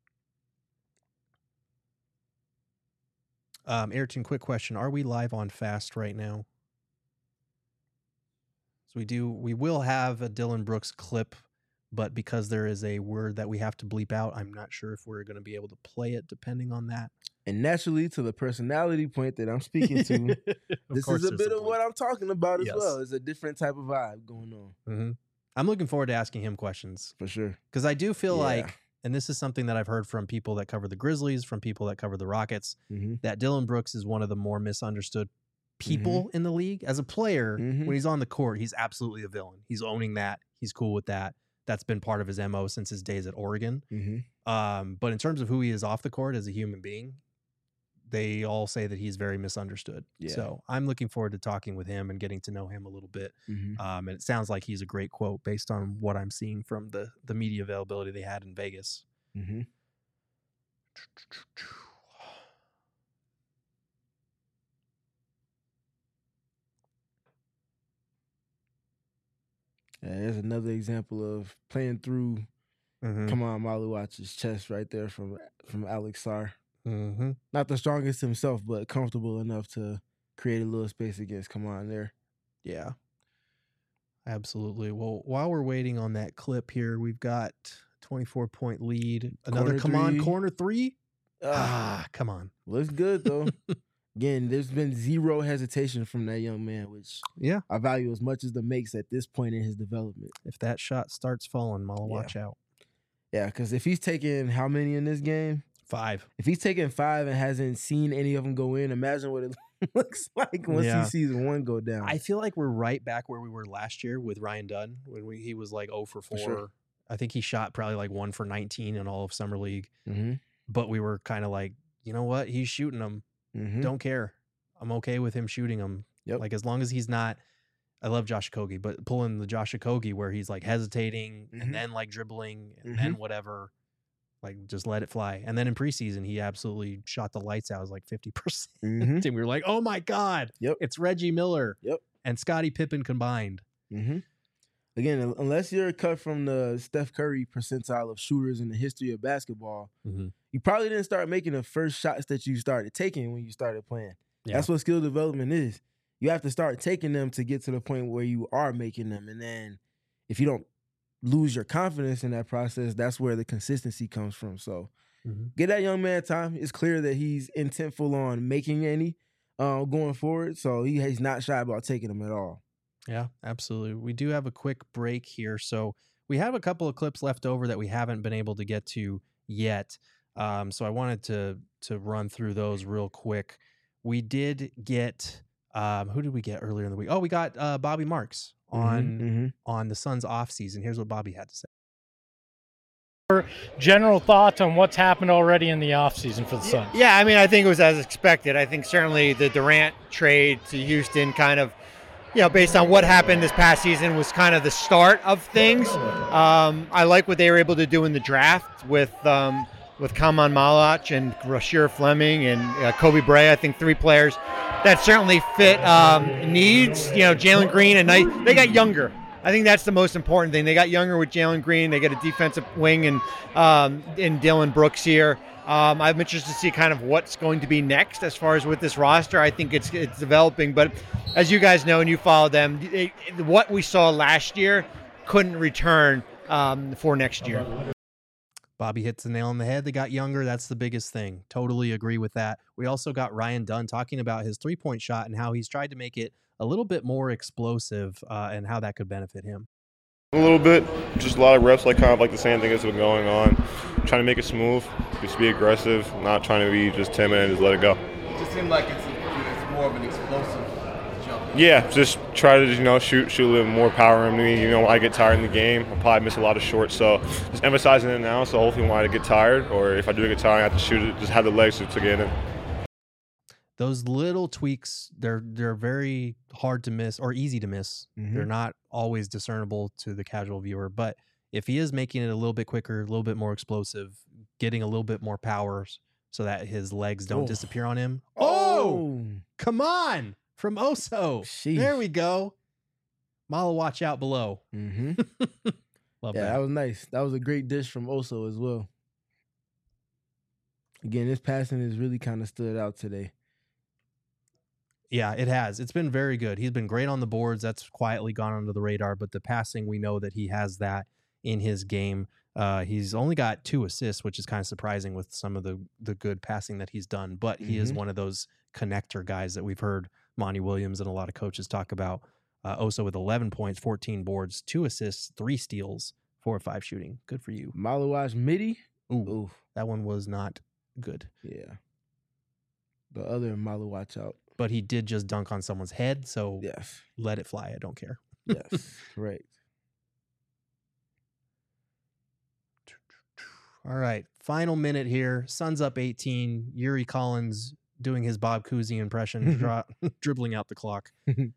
A: Ayrton, quick question. Are we live on Fast right now? So we will have a Dylan Brooks clip, but because there is a word that we have to bleep out, I'm not sure if we're going to be able to play it depending on that.
B: And naturally, to the personality point that I'm speaking to, this is a bit of what I'm talking about as well. It's a different type of vibe going on.
A: Mm-hmm. I'm looking forward to asking him questions.
B: For sure.
A: Because I do feel like, and this is something that I've heard from people that cover the Grizzlies, from people that cover the Rockets, that Dylan Brooks is one of the more misunderstood people in the league. As a player, when he's on the court, he's absolutely a villain. He's owning that. He's cool with that. That's been part of his MO since his days at Oregon. But in terms of who he is off the court as a human being, they all say that he's very misunderstood.
B: Yeah.
A: So I'm looking forward to talking with him and getting to know him a little bit. And it sounds like he's a great quote based on what I'm seeing from the media availability they had in Vegas.
B: Yeah, there's another example of playing through Kamal Malwatch's chest right there from Alex Sarr. Not the strongest himself, but comfortable enough to create a little space against Kamal there.
A: Yeah, absolutely. Well, while we're waiting on that clip here, we've got 24-point lead. Another corner three. Come on.
B: Looks good, though. Again, there's been zero hesitation from that young man, which I value as much as the makes at this point in his development.
A: If that shot starts falling, Mala, watch out.
B: Yeah, because if he's taking how many in this game?
A: 5.
B: If he's taking 5 and hasn't seen any of them go in, imagine what it looks like once he sees one go down.
A: I feel like we're right back where we were last year with Ryan Dunn when he was like 0 for 4.
B: sure.
A: I think he shot probably like 1 for 19 in all of Summer League.
B: Mm-hmm.
A: But we were kind of like, you know what? He's shooting them.
B: Mm-hmm.
A: Don't care. I'm okay with him shooting them.
B: Yep.
A: Like as long as he's not, I love Josh Okogie, but pulling the Josh Okogie where he's like hesitating and then like dribbling and then whatever, like just let it fly. And then in preseason, he absolutely shot the lights out. It was like 50%. And we were like, oh my God, it's Reggie Miller and Scottie Pippen combined.
B: Again, unless you're cut from the Steph Curry percentile of shooters in the history of basketball, you probably didn't start making the first shots that you started taking when you started playing. That's what skill development is. You have to start taking them to get to the point where you are making them. And then if you don't lose your confidence in that process, that's where the consistency comes from. So get that young man time. It's clear that he's intentful on making any going forward. So he's not shy about taking them at all.
A: Yeah, absolutely. We do have a quick break here. So we have a couple of clips left over that we haven't been able to get to yet. So I wanted to run through those real quick. We did get, who did we get earlier in the week? Oh, we got Bobby Marks on the Suns off season. Here's what Bobby had to say.
F: General thoughts on what's happened already in the offseason for the Suns?
K: Yeah, I mean, I think it was as expected. I think certainly the Durant trade to Houston kind of, based on what happened this past season was kind of the start of things. I like what they were able to do in the draft with Kaman Malach and Rasheer Fleming and Kobe Bray. I think 3 players that certainly fit needs. Jalen Green and they got younger. I think that's the most important thing. They got younger with Jalen Green. They got a defensive wing and Dylan Brooks here. I'm interested to see kind of what's going to be next as far as with this roster. I think it's developing, but as you guys know and you follow them, what we saw last year couldn't return for next year.
A: Bobby hits the nail on the head. They got younger. That's the biggest thing. Totally agree with that. We also got Ryan Dunn talking about his 3-point shot and how he's tried to make it a little bit more explosive and how that could benefit him.
D: A little bit, just a lot of reps, kind of like the same thing that's been going on. Trying to make it smooth, just be aggressive, not trying to be just timid and just let it go.
L: It just seemed like it's more of an explosive jump.
D: Yeah, just try to shoot a little more power in me. When I get tired in the game, I'll probably miss a lot of shots. So just emphasizing it now. So hopefully when I get tired, or if I do get tired, I have to shoot it. Just have the legs to get in.
A: Those little tweaks, they're very hard to miss or easy to miss. They're not always discernible to the casual viewer. But if he is making it a little bit quicker, a little bit more explosive, getting a little bit more power so that his legs don't disappear on him. Oh, come on. From Oso.
B: Sheesh.
A: There we go. Mala, watch out below. Love that.
B: That was nice. That was a great dish from Oso as well. Again, his passing has really kind of stood out today.
A: Yeah, it has. It's been very good. He's been great on the boards. That's quietly gone under the radar, but the passing, we know that he has that in his game. He's only got 2 assists, which is kind of surprising with some of the good passing that he's done, but he is one of those connector guys that we've heard Monty Williams and a lot of coaches talk about. Oso with 11 points, 14 boards, 2 assists, 3 steals, 4 or 5 shooting. Good for you.
B: Malawash Midi?
A: Ooh, that one was not good.
B: Yeah. The other Malawash out.
A: But he did just dunk on someone's head, so
B: yes,
A: let it fly. I don't care.
B: Yes, correct.
A: All right, final minute here. Suns up 18. Yuri Collins doing his Bob Cousy impression, dribbling out the clock. We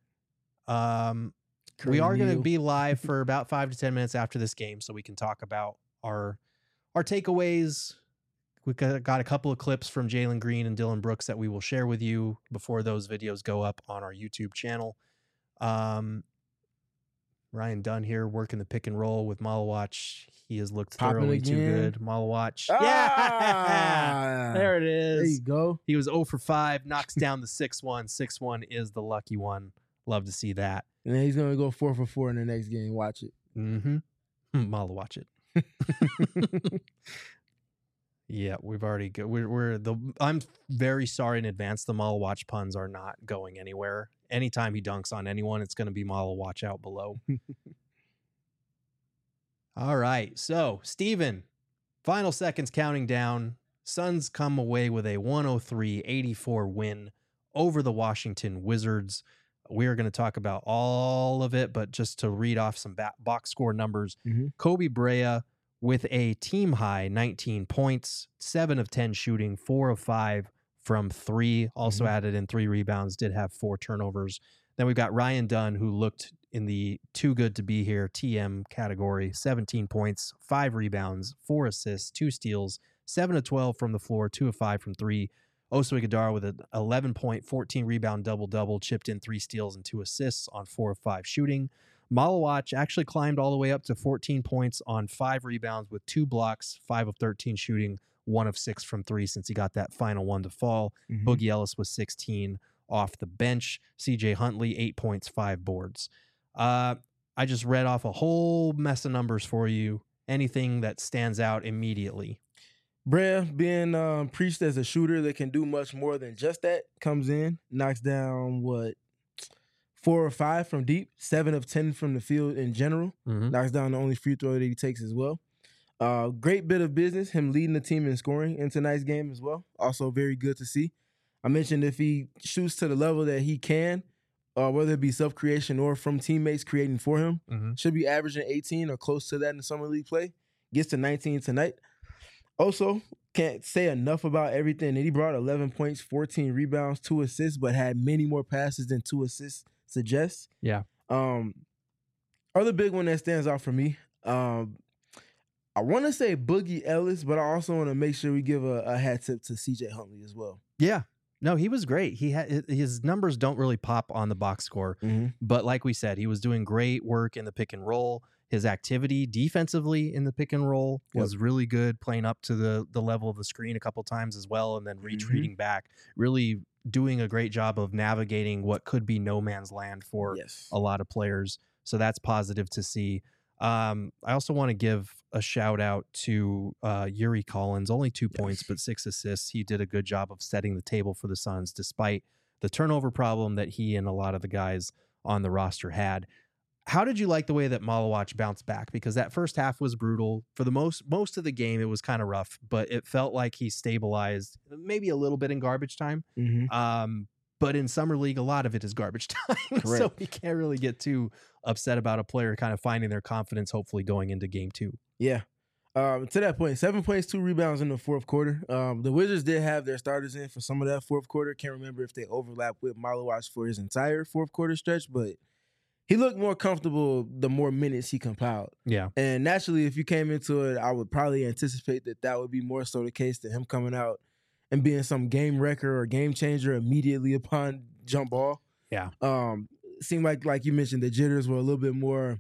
A: are going to be live for about 5 to 10 minutes after this game, so we can talk about our takeaways. We've got a couple of clips from Jalen Green and Dylan Brooks that we will share with you before those videos go up on our YouTube channel. Ryan Dunn here working the pick and roll with Malawach. He has looked thoroughly too good. Malawach. Yeah! There it is.
B: There you go.
A: He was 0 for 5, knocks down the 6-1. 6-1 is the lucky one. Love to see that.
B: And then he's going to go 4 for 4 in the next game. Watch it.
A: Malawach it. Yeah, we've already I'm very sorry in advance. The Malawach puns are not going anywhere. Anytime he dunks on anyone, it's going to be Malawach out below. All right. So, Steven, final seconds counting down. Suns come away with a 103-84 win over the Washington Wizards. We're going to talk about all of it, but just to read off some box score numbers. Kobe Brea with a team high 19 points, 7 of 10 shooting, 4 of 5 from 3. Also added in 3 rebounds, did have 4 turnovers. Then we've got Ryan Dunn, who looked in the too good to be here TM category, 17 points, 5 rebounds, 4 assists, 2 steals, 7 of 12 from the floor, 2 of 5 from 3. Oso Ighodaro with an 11-point, 14-rebound double-double, chipped in 3 steals and 2 assists on 4 of 5 shooting. Malawach actually climbed all the way up to 14 points on 5 rebounds with 2 blocks, 5 of 13 shooting, 1 of 6 from 3 since he got that final one to fall. Boogie Ellis was 16 off the bench. CJ Huntley, 8 points, 5 boards. I just read off a whole mess of numbers for you. Anything that stands out immediately?
B: Brea being preached as a shooter that can do much more than just that, comes in, knocks down 4 or 5 from deep, 7 of 10 from the field in general, knocks down the only free throw that he takes as well. Great bit of business, him leading the team in scoring in tonight's game as well. Also very good to see. I mentioned if he shoots to the level that he can, whether it be self-creation or from teammates creating for him, should be averaging 18 or close to that in the summer league play. Gets to 19 tonight. Also, can't say enough about everything that he brought. 11 points, 14 rebounds, 2 assists, but had many more passes than 2 assists suggests.
A: Yeah.
B: Other big one that stands out for me, I want to say Boogie Ellis, but I also want to make sure we give a hat tip to CJ Huntley as well.
A: Yeah. No, he was great. He had his numbers don't really pop on the box score, but like we said, he was doing great work in the pick and roll. His activity defensively in the pick and roll was really good, playing up to the level of the screen a couple times as well, and then retreating back. Really doing a great job of navigating what could be no man's land for a lot of players. So that's positive to see. I also want to give a shout out to Yuri Collins. Only 2 points, but 6 assists. He did a good job of setting the table for the Suns, despite the turnover problem that he and a lot of the guys on the roster had. How did you like the way that Malawach bounced back? Because that first half was brutal. For the most of the game, it was kind of rough, but it felt like he stabilized maybe a little bit in garbage time. But in Summer League, a lot of it is garbage time. So we can't really get too upset about a player kind of finding their confidence, hopefully going into game 2.
B: Yeah. To that point, 7 points, 2 rebounds in the fourth quarter. The Wizards did have their starters in for some of that fourth quarter. Can't remember if they overlapped with Malawach for his entire fourth quarter stretch, but he looked more comfortable the more minutes he compiled.
A: Yeah.
B: And naturally, if you came into it, I would probably anticipate that would be more so the case than him coming out and being some game wrecker or game changer immediately upon jump ball.
A: Yeah.
B: Seemed like you mentioned, the jitters were a little bit more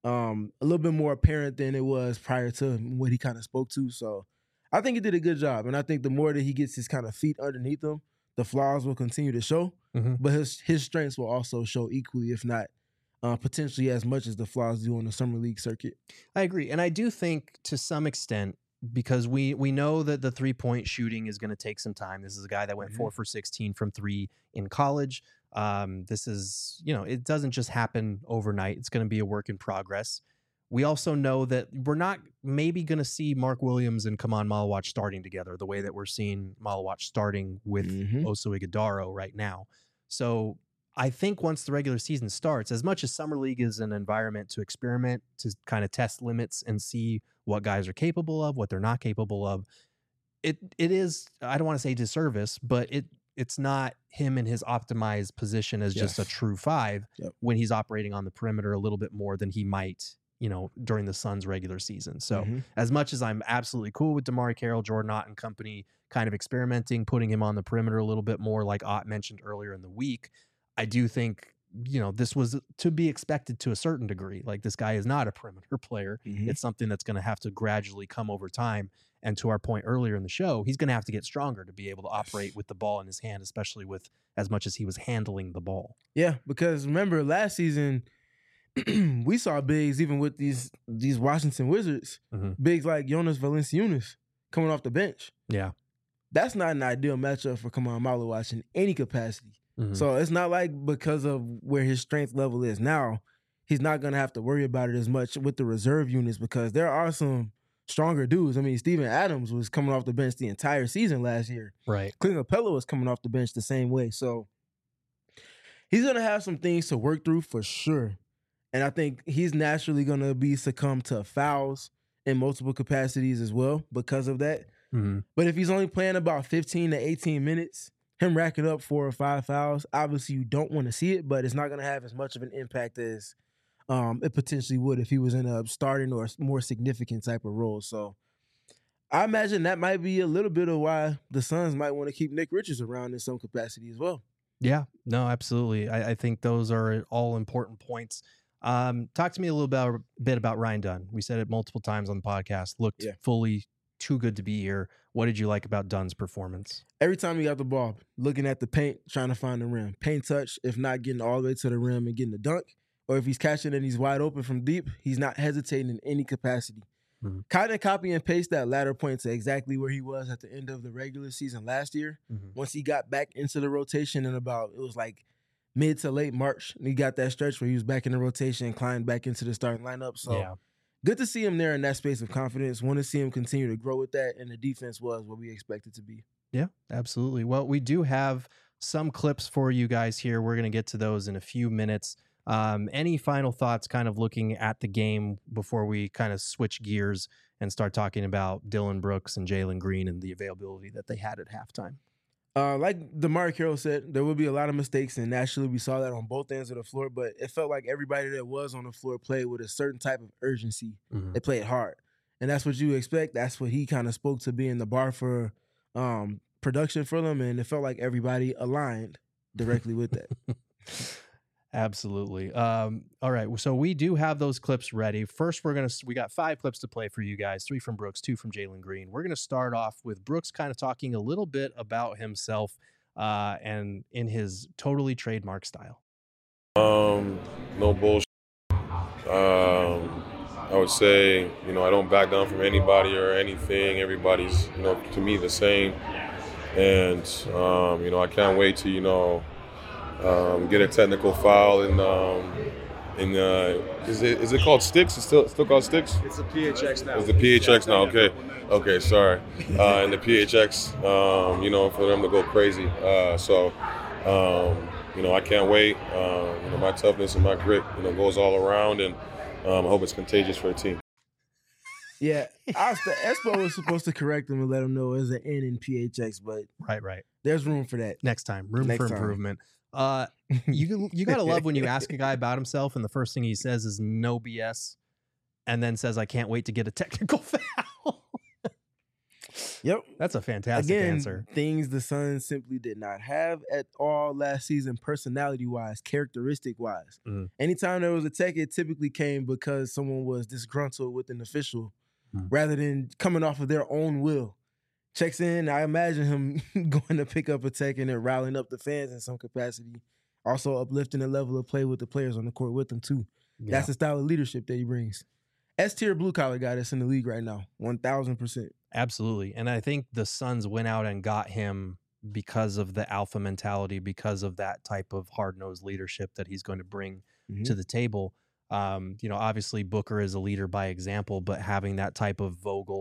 B: apparent than it was prior to what he kind of spoke to. So I think he did a good job. And I think the more that he gets his kind of feet underneath him, the flaws will continue to show. But his strengths will also show equally, if not potentially as much as the flaws do on the Summer League circuit.
A: I agree. And I do think to some extent, because we know that the 3-point shooting is going to take some time. This is a guy that went 4 for 16 from 3 in college. This is, it doesn't just happen overnight. It's going to be a work in progress. We also know that we're not maybe going to see Mark Williams and Kaman Malawach starting together the way that we're seeing Malawach starting with Oso Ighodaro right now. So I think once the regular season starts, as much as Summer League is an environment to experiment, to kind of test limits and see what guys are capable of, what they're not capable of, it is, I don't want to say disservice, but it's not him in his optimized position as just a true 5 when he's operating on the perimeter a little bit more than he might, during the Suns regular season. So as much as I'm absolutely cool with DeMarre Carroll, Jordan Ott and company kind of experimenting, putting him on the perimeter a little bit more, like Ott mentioned earlier in the week, I do think, this was to be expected to a certain degree. Like, this guy is not a perimeter player. It's something that's going to have to gradually come over time. And to our point earlier in the show, he's going to have to get stronger to be able to operate with the ball in his hand, especially with as much as he was handling the ball.
B: Yeah, because remember last season, we saw bigs even with these Washington Wizards, bigs like Jonas Valanciunas coming off the bench.
A: Yeah.
B: That's not an ideal matchup for Kamon Malawash in any capacity.
A: Mhm.
B: So it's not like because of where his strength level is now, he's not going to have to worry about it as much with the reserve units because there are some stronger dudes. I mean, Steven Adams was coming off the bench the entire season last year.
A: Right.
B: Clint Capella was coming off the bench the same way. So he's going to have some things to work through for sure. And I think he's naturally going to be succumb to fouls in multiple capacities as well because of that.
A: Mhm.
B: But if he's only playing about 15 to 18 minutes, him racking up 4 or 5 fouls, obviously you don't want to see it, but it's not going to have as much of an impact as it potentially would if he was in a starting or more significant type of role. So I imagine that might be a little bit of why the Suns might want to keep Nick Richards around in some capacity as well.
A: Yeah, no, absolutely. I think those are all important points. Talk to me a little bit about Ryan Dunn. We said it multiple times on the podcast. Looked fully too good to be here. What did you like about Dunn's performance?
B: Every time he got the ball, looking at the paint, trying to find the rim. Paint touch, if not getting all the way to the rim and getting the dunk, or if he's catching and he's wide open from deep, he's not hesitating in any capacity.
A: Mhm.
B: Kind of copy and paste that latter point to exactly where he was at the end of the regular season last year.
A: Mhm.
B: Once he got back into the rotation in about, it was like mid to late March, and he got that stretch where he was back in the rotation and climbed back into the starting lineup. So
A: Yeah.
B: good to see him there in that space of confidence. Want to see him continue to grow with that, and the defense was what we expected to be.
A: Yeah, absolutely. Well, we do have some clips for you guys here. We're going to get to those in a few minutes. Any final thoughts kind of looking at the game before we kind of switch gears and start talking about Dillon Brooks and Jalen Green and the availability that they had at halftime?
B: Like DeMar Carroll said, there will be a lot of mistakes, and naturally we saw that on both ends of the floor, but it felt like everybody that was on the floor played with a certain type of urgency.
A: Mhm.
B: They played hard. And that's what you expect. That's what he kind of spoke to being the bar for production for them, and it felt like everybody aligned directly with that.
A: Absolutely. All right. So we do have those clips ready. First, we got 5 clips to play for you guys, 3 from Brooks, 2 from Jalen Green. We're going to start off with Brooks kind of talking a little bit about himself and in his totally trademark style.
J: No bullshit. I would say, I don't back down from anybody or anything. Everybody's, to me the same. And, I can't wait to, get a technical foul is it called sticks? It's still called sticks?
M: It's the PHX now.
J: It's the PHX now. Okay, sorry. And the PHX, for them to go crazy. I can't wait. My toughness and my grit, goes all around, and I hope it's contagious for the team.
B: Yeah, Espo was supposed to correct him and let him know it was an N in PHX, but
A: Right.
B: there's room for that.
A: Next time, room for improvement. You gotta love when you ask a guy about himself and the first thing he says is no BS, and then says, "I can't wait to get a technical foul."
B: Yep,
A: that's a fantastic answer.
B: Things the Suns simply did not have at all last season, personality-wise, characteristic-wise. Anytime there was a tech, it typically came because someone was disgruntled with an official, rather than coming off of their own will. Checks in, I imagine him going to pick up a tech and then rallying up the fans in some capacity. Also uplifting the level of play with the players on the court with him too.
A: Yeah.
B: That's the style of leadership that he brings. S-tier blue-collar guy that's in the league right now, 1,000%.
A: Absolutely. And I think the Suns went out and got him because of the alpha mentality, because of that type of hard-nosed leadership that he's going to bring to the table. Obviously Booker is a leader by example, but having that type of vocal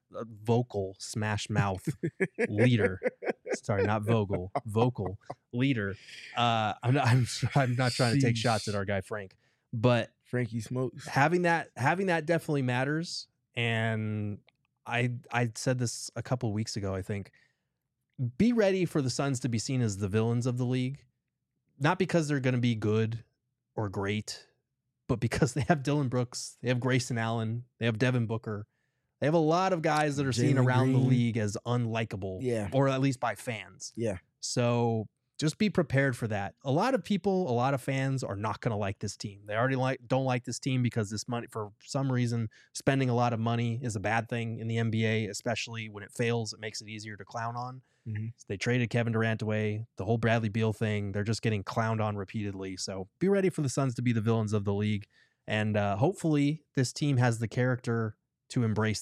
A: smash mouth leader, sorry, not vocal leader. I'm not trying to take shots at our guy Frank, but
B: Frankie Smokes.
A: Having that definitely matters. And I said this a couple of weeks ago, I think. Be ready for the Suns to be seen as the villains of the league. Not because they're going to be good or great, but because they have Dillon Brooks, they have Grayson Allen, they have Devin Booker. They have a lot of guys that are seen around the league as unlikable, or at least by fans.
B: Yeah.
A: So just be prepared for that. A lot of people, a lot of fans are not going to like this team. They already don't like this team because this money, for some reason, spending a lot of money is a bad thing in the NBA, especially when it fails. It makes it easier to clown on. So they traded Kevin Durant away, the whole Bradley Beal thing. They're just getting clowned on repeatedly. So be ready for the Suns to be the villains of the league. And hopefully this team has the character to embrace that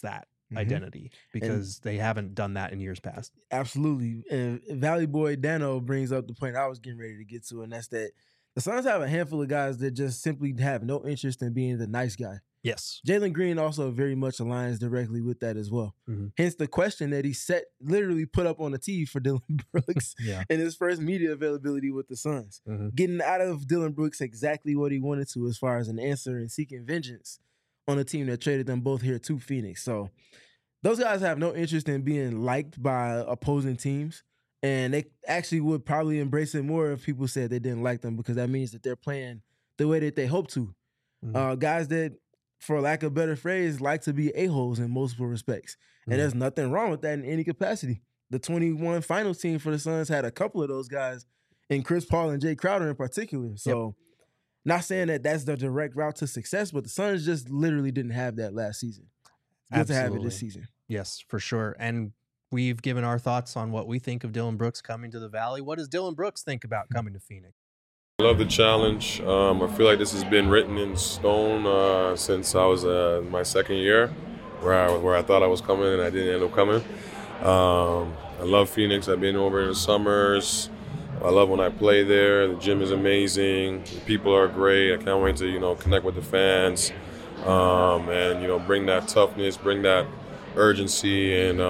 A: identity because they haven't done that in years past.
B: Absolutely. And Valley Boy Dano brings up the point I was getting ready to get to, and that's that the Suns have a handful of guys that just simply have no interest in being the nice guy.
A: Yes.
B: Jalen Green also very much aligns directly with that as well. Hence the question that he literally put up on the tee for Dylan Brooks in his first media availability with the Suns. Getting out of Dylan Brooks exactly what he wanted to as far as an answer and seeking vengeance on a team that traded them both here to Phoenix. So those guys have no interest in being liked by opposing teams. And they actually would probably embrace it more if people said they didn't like them because that means that they're playing the way that they hope to. Guys that, for lack of a better phrase, like to be a-holes in multiple respects. And there's nothing wrong with that in any capacity. The 21 finals team for the Suns had a couple of those guys, and Chris Paul and Jay Crowder in particular. So not saying that that's the direct route to success, but the Suns just literally didn't have that last season. Good to have it this season.
A: Yes, for sure. And we've given our thoughts on what we think of Dylan Brooks coming to the Valley. What does Dylan Brooks think about coming to Phoenix?
J: I love the challenge. I feel like this has been written in stone since I was my second year, where I thought I was coming and I didn't end up coming. I love Phoenix. I've been over in the summers. I love when I play there. The gym is amazing. The people are great. I can't wait to connect with the fans and bring that toughness, bring that urgency, and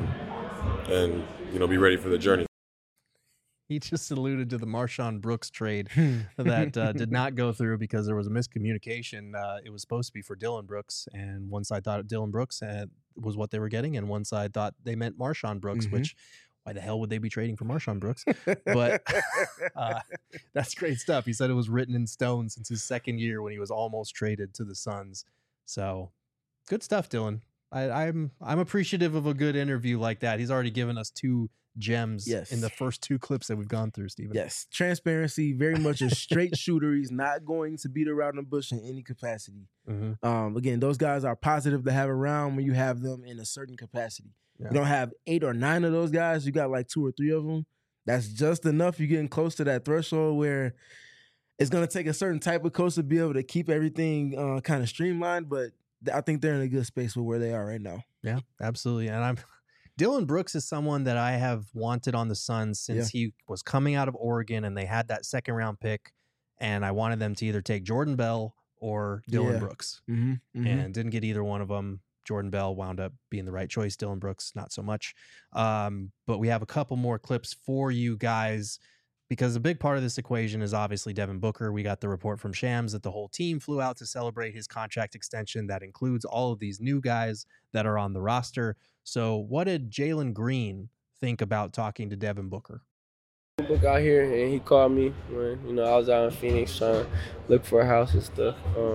J: be ready for the journey.
A: He just alluded to the Marshawn Brooks trade that did not go through because there was a miscommunication. It was supposed to be for Dylan Brooks, and one side thought Dylan Brooks was what they were getting, and one side thought they meant Marshawn Brooks, which why the hell would they be trading for Marshawn Brooks? But that's great stuff. He said it was written in stone since his second year when he was almost traded to the Suns. So good stuff, Dylan. I'm appreciative of a good interview like that. He's already given us 2 gems in the first 2 clips that we've gone through, Stephen.
B: Yes. Transparency, very much a straight shooter. He's not going to beat around the bush in any capacity. Again, those guys are positive to have around when you have them in a certain capacity. You don't have 8 or 9 of those guys. You got like 2 or 3 of them. That's just enough. You're getting close to that threshold where it's going to take a certain type of coach to be able to keep everything kind of streamlined, but I think they're in a good space with where they are right now.
A: Yeah, absolutely. And Dylan Brooks is someone that I have wanted on the Suns since he was coming out of Oregon and they had that second round pick, and I wanted them to either take Jordan Bell or Dylan Brooks and didn't get either one of them. Jordan Bell wound up being the right choice. Dylan Brooks, not so much. But we have a couple more clips for you guys because a big part of this equation is obviously Devin Booker. We got the report from Shams that the whole team flew out to celebrate his contract extension. That includes all of these new guys that are on the roster. So what did Jalen Green think about talking to Devin Booker?
I: Book out here, and he called me when I was out in Phoenix trying to look for a house and stuff.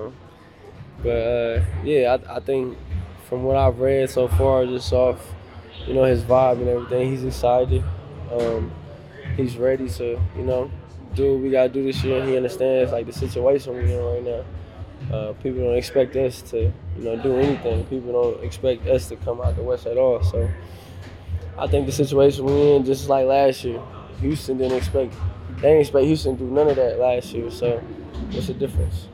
I: I think from what I've read so far, just off his vibe and everything, he's excited. He's ready to do what we gotta do this year. He understands the situation we're in right now. People don't expect us to do anything. People don't expect us to come out the West at all. So I think the situation we're in, just like last year, Houston didn't expect Houston to do none of that last year. So what's the difference?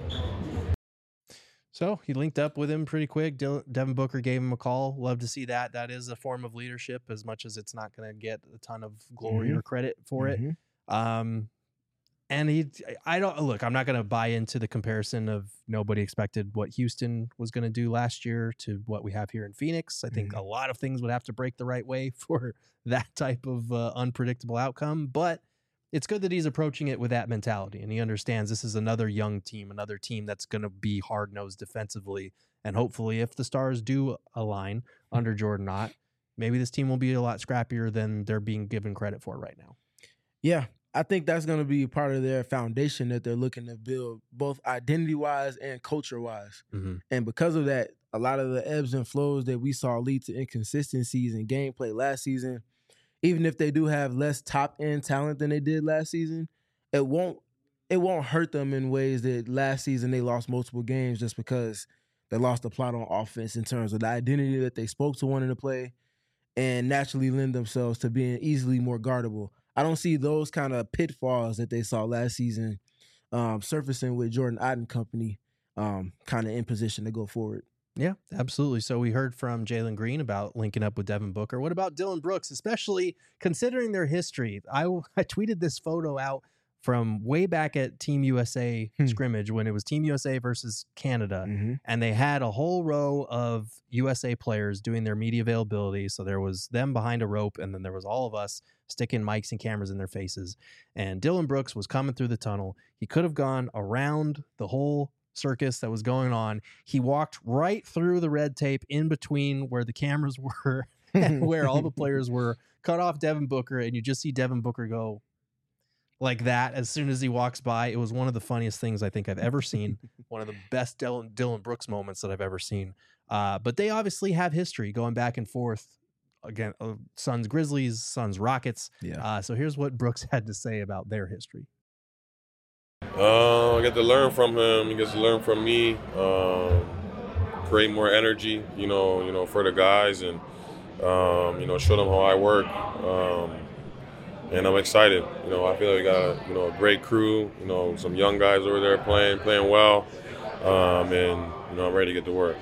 A: So he linked up with him pretty quick. Devin Booker gave him a call. Love to see that. That is a form of leadership, as much as it's not going to get a ton of glory or credit for it. And I'm not going to buy into the comparison of nobody expected what Houston was going to do last year to what we have here in Phoenix. I think a lot of things would have to break the right way for that type of unpredictable outcome, but it's good that he's approaching it with that mentality, and he understands this is another young team, another team that's going to be hard-nosed defensively, and hopefully if the stars do align under Jordan Knott, maybe this team will be a lot scrappier than they're being given credit for right now.
B: Yeah, I think that's going to be part of their foundation that they're looking to build, both identity-wise and culture-wise. And because of that, a lot of the ebbs and flows that we saw lead to inconsistencies in gameplay last season, even if they do have less top-end talent than they did last season, it won't hurt them in ways that last season they lost multiple games just because they lost the plot on offense in terms of the identity that they spoke to wanting to play and naturally lend themselves to being easily more guardable. I don't see those kind of pitfalls that they saw last season surfacing with Jordan Ott and company kind of in position to go forward.
A: Yeah, absolutely. So we heard from Jalen Green about linking up with Devin Booker. What about Dylan Brooks, especially considering their history? I tweeted this photo out from way back at Team USA scrimmage when it was Team USA versus Canada, and they had a whole row of USA players doing their media availability. So there was them behind a rope, and then there was all of us sticking mics and cameras in their faces. And Dylan Brooks was coming through the tunnel. He could have gone around the whole circus that was going on. He walked right through the red tape in between where the cameras were and where all the players were, cut off Devin Booker, and you just see Devin Booker go like that as soon as he walks by. It was one of the funniest things I think I've ever seen. One of the best Dylan Brooks moments that I've ever seen. But they obviously have history going back and forth. Again, Suns Grizzlies, Suns Rockets.
B: Yeah.
A: So here's what Brooks had to say about their history.
J: I get to learn from him. He gets to learn from me. Create more energy, for the guys, and show them how I work. And I'm excited. I feel like we got a great crew. Some young guys over there playing well, and I'm ready to get to work.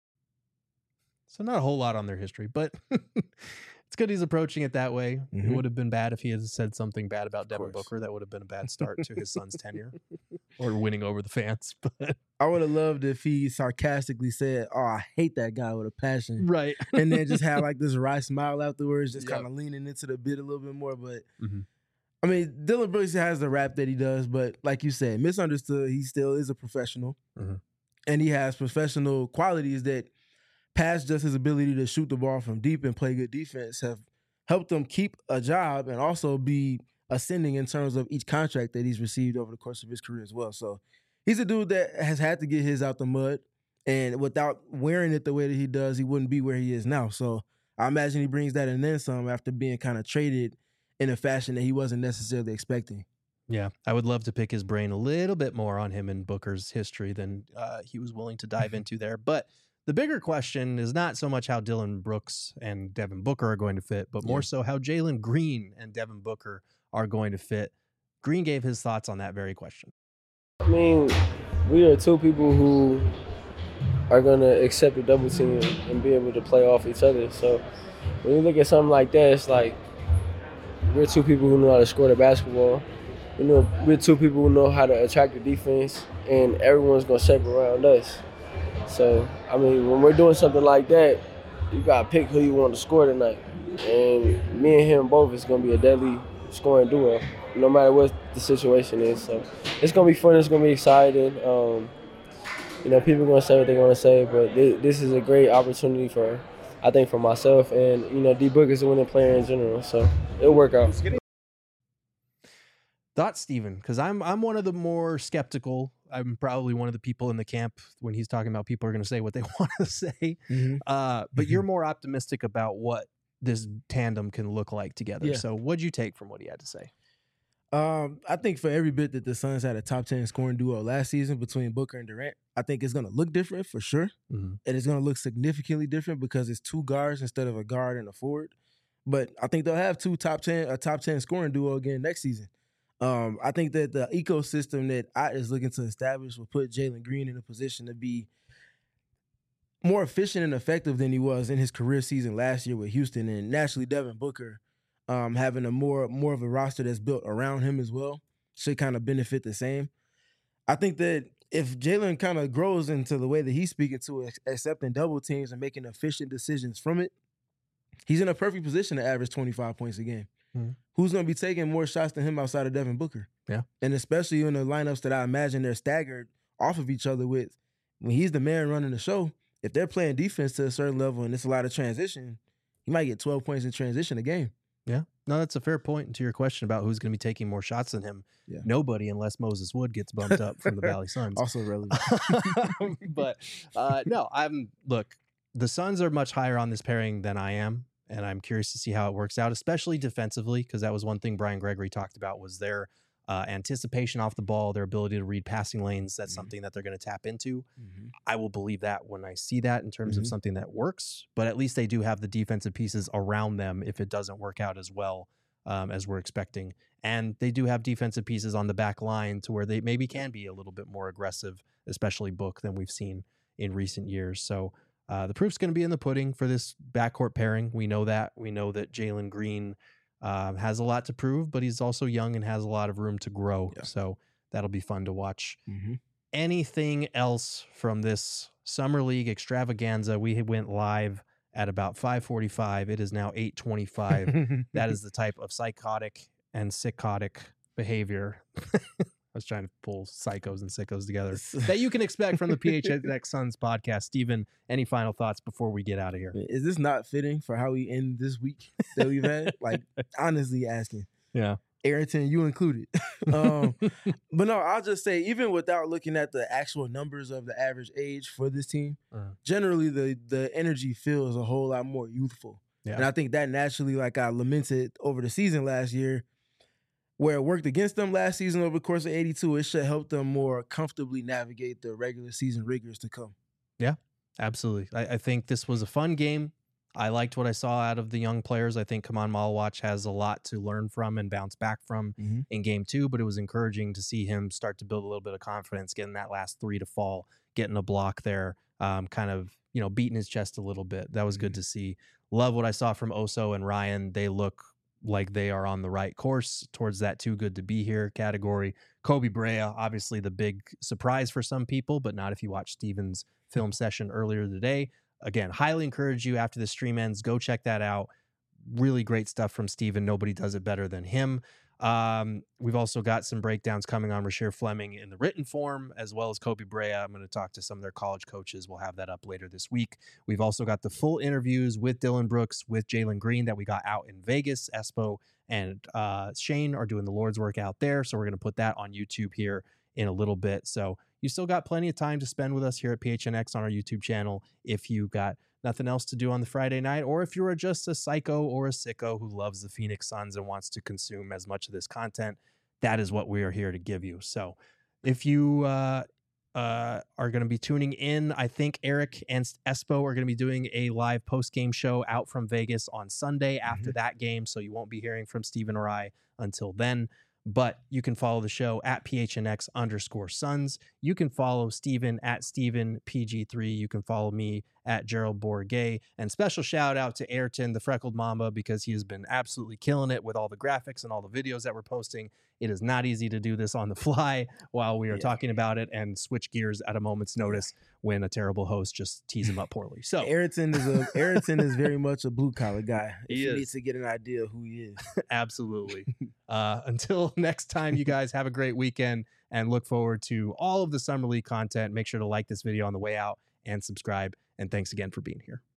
A: So not a whole lot on their history, but it's good he's approaching it that way. It would have been bad if he had said something bad about Devin Booker. That would have been a bad start to his son's tenure or winning over the fans. But
B: I would have loved if he sarcastically said, "Oh, I hate that guy with a passion."
A: Right.
B: And then just have like this wry smile afterwards, just kind of leaning into the bit a little bit more. But I mean, Dylan Brooks has the rap that he does, but like you said, misunderstood, he still is a professional. And he has professional qualities that, past just his ability to shoot the ball from deep and play good defense, have helped him keep a job and also be ascending in terms of each contract that he's received over the course of his career as well. So he's a dude that has had to get his out the mud, and without wearing it the way that he does, he wouldn't be where he is now. So I imagine he brings that and then some after being kind of traded in a fashion that he wasn't necessarily expecting.
A: yeah, I would love to pick his brain a little bit more on him and Booker's history than he was willing to dive into there. But the bigger question is not so much how Dylan Brooks and Devin Booker are going to fit, but more so how Jalen Green and Devin Booker are going to fit. Green gave his thoughts on that very question.
I: I mean, we are two people who are going to accept a double team and be able to play off each other. So when you look at something like that, it's like we're two people who know how to score the basketball. We're two people who know how to attract the defense, and everyone's going to shape around us. So, I mean, when we're doing something like that, you got to pick who you want to score tonight. And me and him both is going to be a deadly scoring duo, no matter what the situation is. So it's going to be fun. It's going to be exciting. People are going to say what they're going to say, but this is a great opportunity for myself. And, D Book is a winning player in general, so it'll work out.
A: Thoughts, Steven? Because I'm one of the more skeptical. I'm probably one of the people in the camp when he's talking about people are going to say what they want to say. But you're more optimistic about what this tandem can look like together.
B: Yeah.
A: So what'd you take from what he had to say?
B: I think for every bit that the Suns had a top 10 scoring duo last season between Booker and Durant, I think it's going to look different for sure. And it's going to look significantly different because it's two guards instead of a guard and a forward. But I think they'll have a top 10 scoring duo again next season. I think that the ecosystem that Ott is looking to establish will put Jalen Green in a position to be more efficient and effective than he was in his career season last year with Houston. And naturally, Devin Booker having a more of a roster that's built around him as well should kind of benefit the same. I think that if Jalen kind of grows into the way that he's speaking to accepting double teams and making efficient decisions from it, he's in a perfect position to average 25 points a game. Who's going to be taking more shots than him outside of Devin Booker?
A: Yeah.
B: And especially in the lineups that I imagine they're staggered off of each other with, when he's the man running the show, if they're playing defense to a certain level and it's a lot of transition, he might get 12 points in transition a game.
A: Yeah. No, that's a fair point to your question about who's going to be taking more shots than him. Yeah. Nobody, unless Moses Wood gets bumped up from the Valley Suns.
B: Also relevant.
A: But no, look, the Suns are much higher on this pairing than I am. And I'm curious to see how it works out, especially defensively, because that was one thing Brian Gregory talked about was their anticipation off the ball, their ability to read passing lanes. That's something that they're going to tap into. I will believe that when I see that in terms of something that works, but at least they do have the defensive pieces around them if it doesn't work out as well as we're expecting. And they do have defensive pieces on the back line to where they maybe can be a little bit more aggressive, especially Book, than we've seen in recent years. So the proof's going to be in the pudding for this backcourt pairing. We know that. We know that Jalen Green has a lot to prove, but he's also young and has a lot of room to grow. Yeah. So that'll be fun to watch. Mm-hmm. Anything else from this Summer League extravaganza? We went live at about 5:45. It is now 8:25. That is the type of psychotic and sickotic behavior. I was trying to pull psychos and sickos together that you can expect from the PHNX Suns podcast. Steven, any final thoughts before we get out of here?
B: Is this not fitting for how we end this week that we've had? Like, honestly asking.
A: Yeah.
B: Ayrton, you included. But no, I'll just say, even without looking at the actual numbers of the average age for this team, generally the energy feels a whole lot more youthful. Yeah. And I think that naturally, like I lamented over the season last year, where it worked against them last season over the course of 82, it should help them more comfortably navigate the regular season rigors to come.
A: Yeah, absolutely. I think this was a fun game. I liked what I saw out of the young players. I think Kaman Malawach has a lot to learn from and bounce back from in game 2, but it was encouraging to see him start to build a little bit of confidence, getting that last 3 to fall, getting a block there, kind of, beating his chest a little bit. That was good to see. Love what I saw from Oso and Ryan. They look like they are on the right course towards that too good to be here category. Kobe Brea, obviously the big surprise for some people, but not if you watch Steven's film session earlier today. Again, highly encourage you after the stream ends, go check that out. Really great stuff from Steven. Nobody does it better than him. We've also got some breakdowns coming on Rasheer Fleming in the written form, as well as Kobe Brea. I'm going to talk to some of their college coaches. We'll have that up later this week. We've also got the full interviews with Dylan Brooks, with Jalen Green that we got out in Vegas. Espo and Shane are doing the Lord's work out there. So we're going to put that on YouTube here in a little bit. So you still got plenty of time to spend with us here at PHNX on our YouTube channel if you got nothing else to do on the Friday night, or if you're just a psycho or a sicko who loves the Phoenix Suns and wants to consume as much of this content. That is what we are here to give you. So if you are going to be tuning in, I think Eric and Espo are going to be doing a live post-game show out from Vegas on Sunday after that game, so you won't be hearing from Steven or I until then. But you can follow the show at PHNX_Suns. You can follow Steven at StevenPG3. You can follow me at Gerald Bourget. And special shout out to Ayrton, the Freckled Mamba, because he has been absolutely killing it with all the graphics and all the videos that we're posting. It is not easy to do this on the fly while we are talking about it and switch gears at a moment's notice when a terrible host just tees him up poorly. So
B: Ayrton is very much a blue collar guy.
A: He
B: needs to get an idea of who he is.
A: Absolutely. Until next time, you guys have a great weekend and look forward to all of the Summer League content. Make sure to like this video on the way out and subscribe. And thanks again for being here.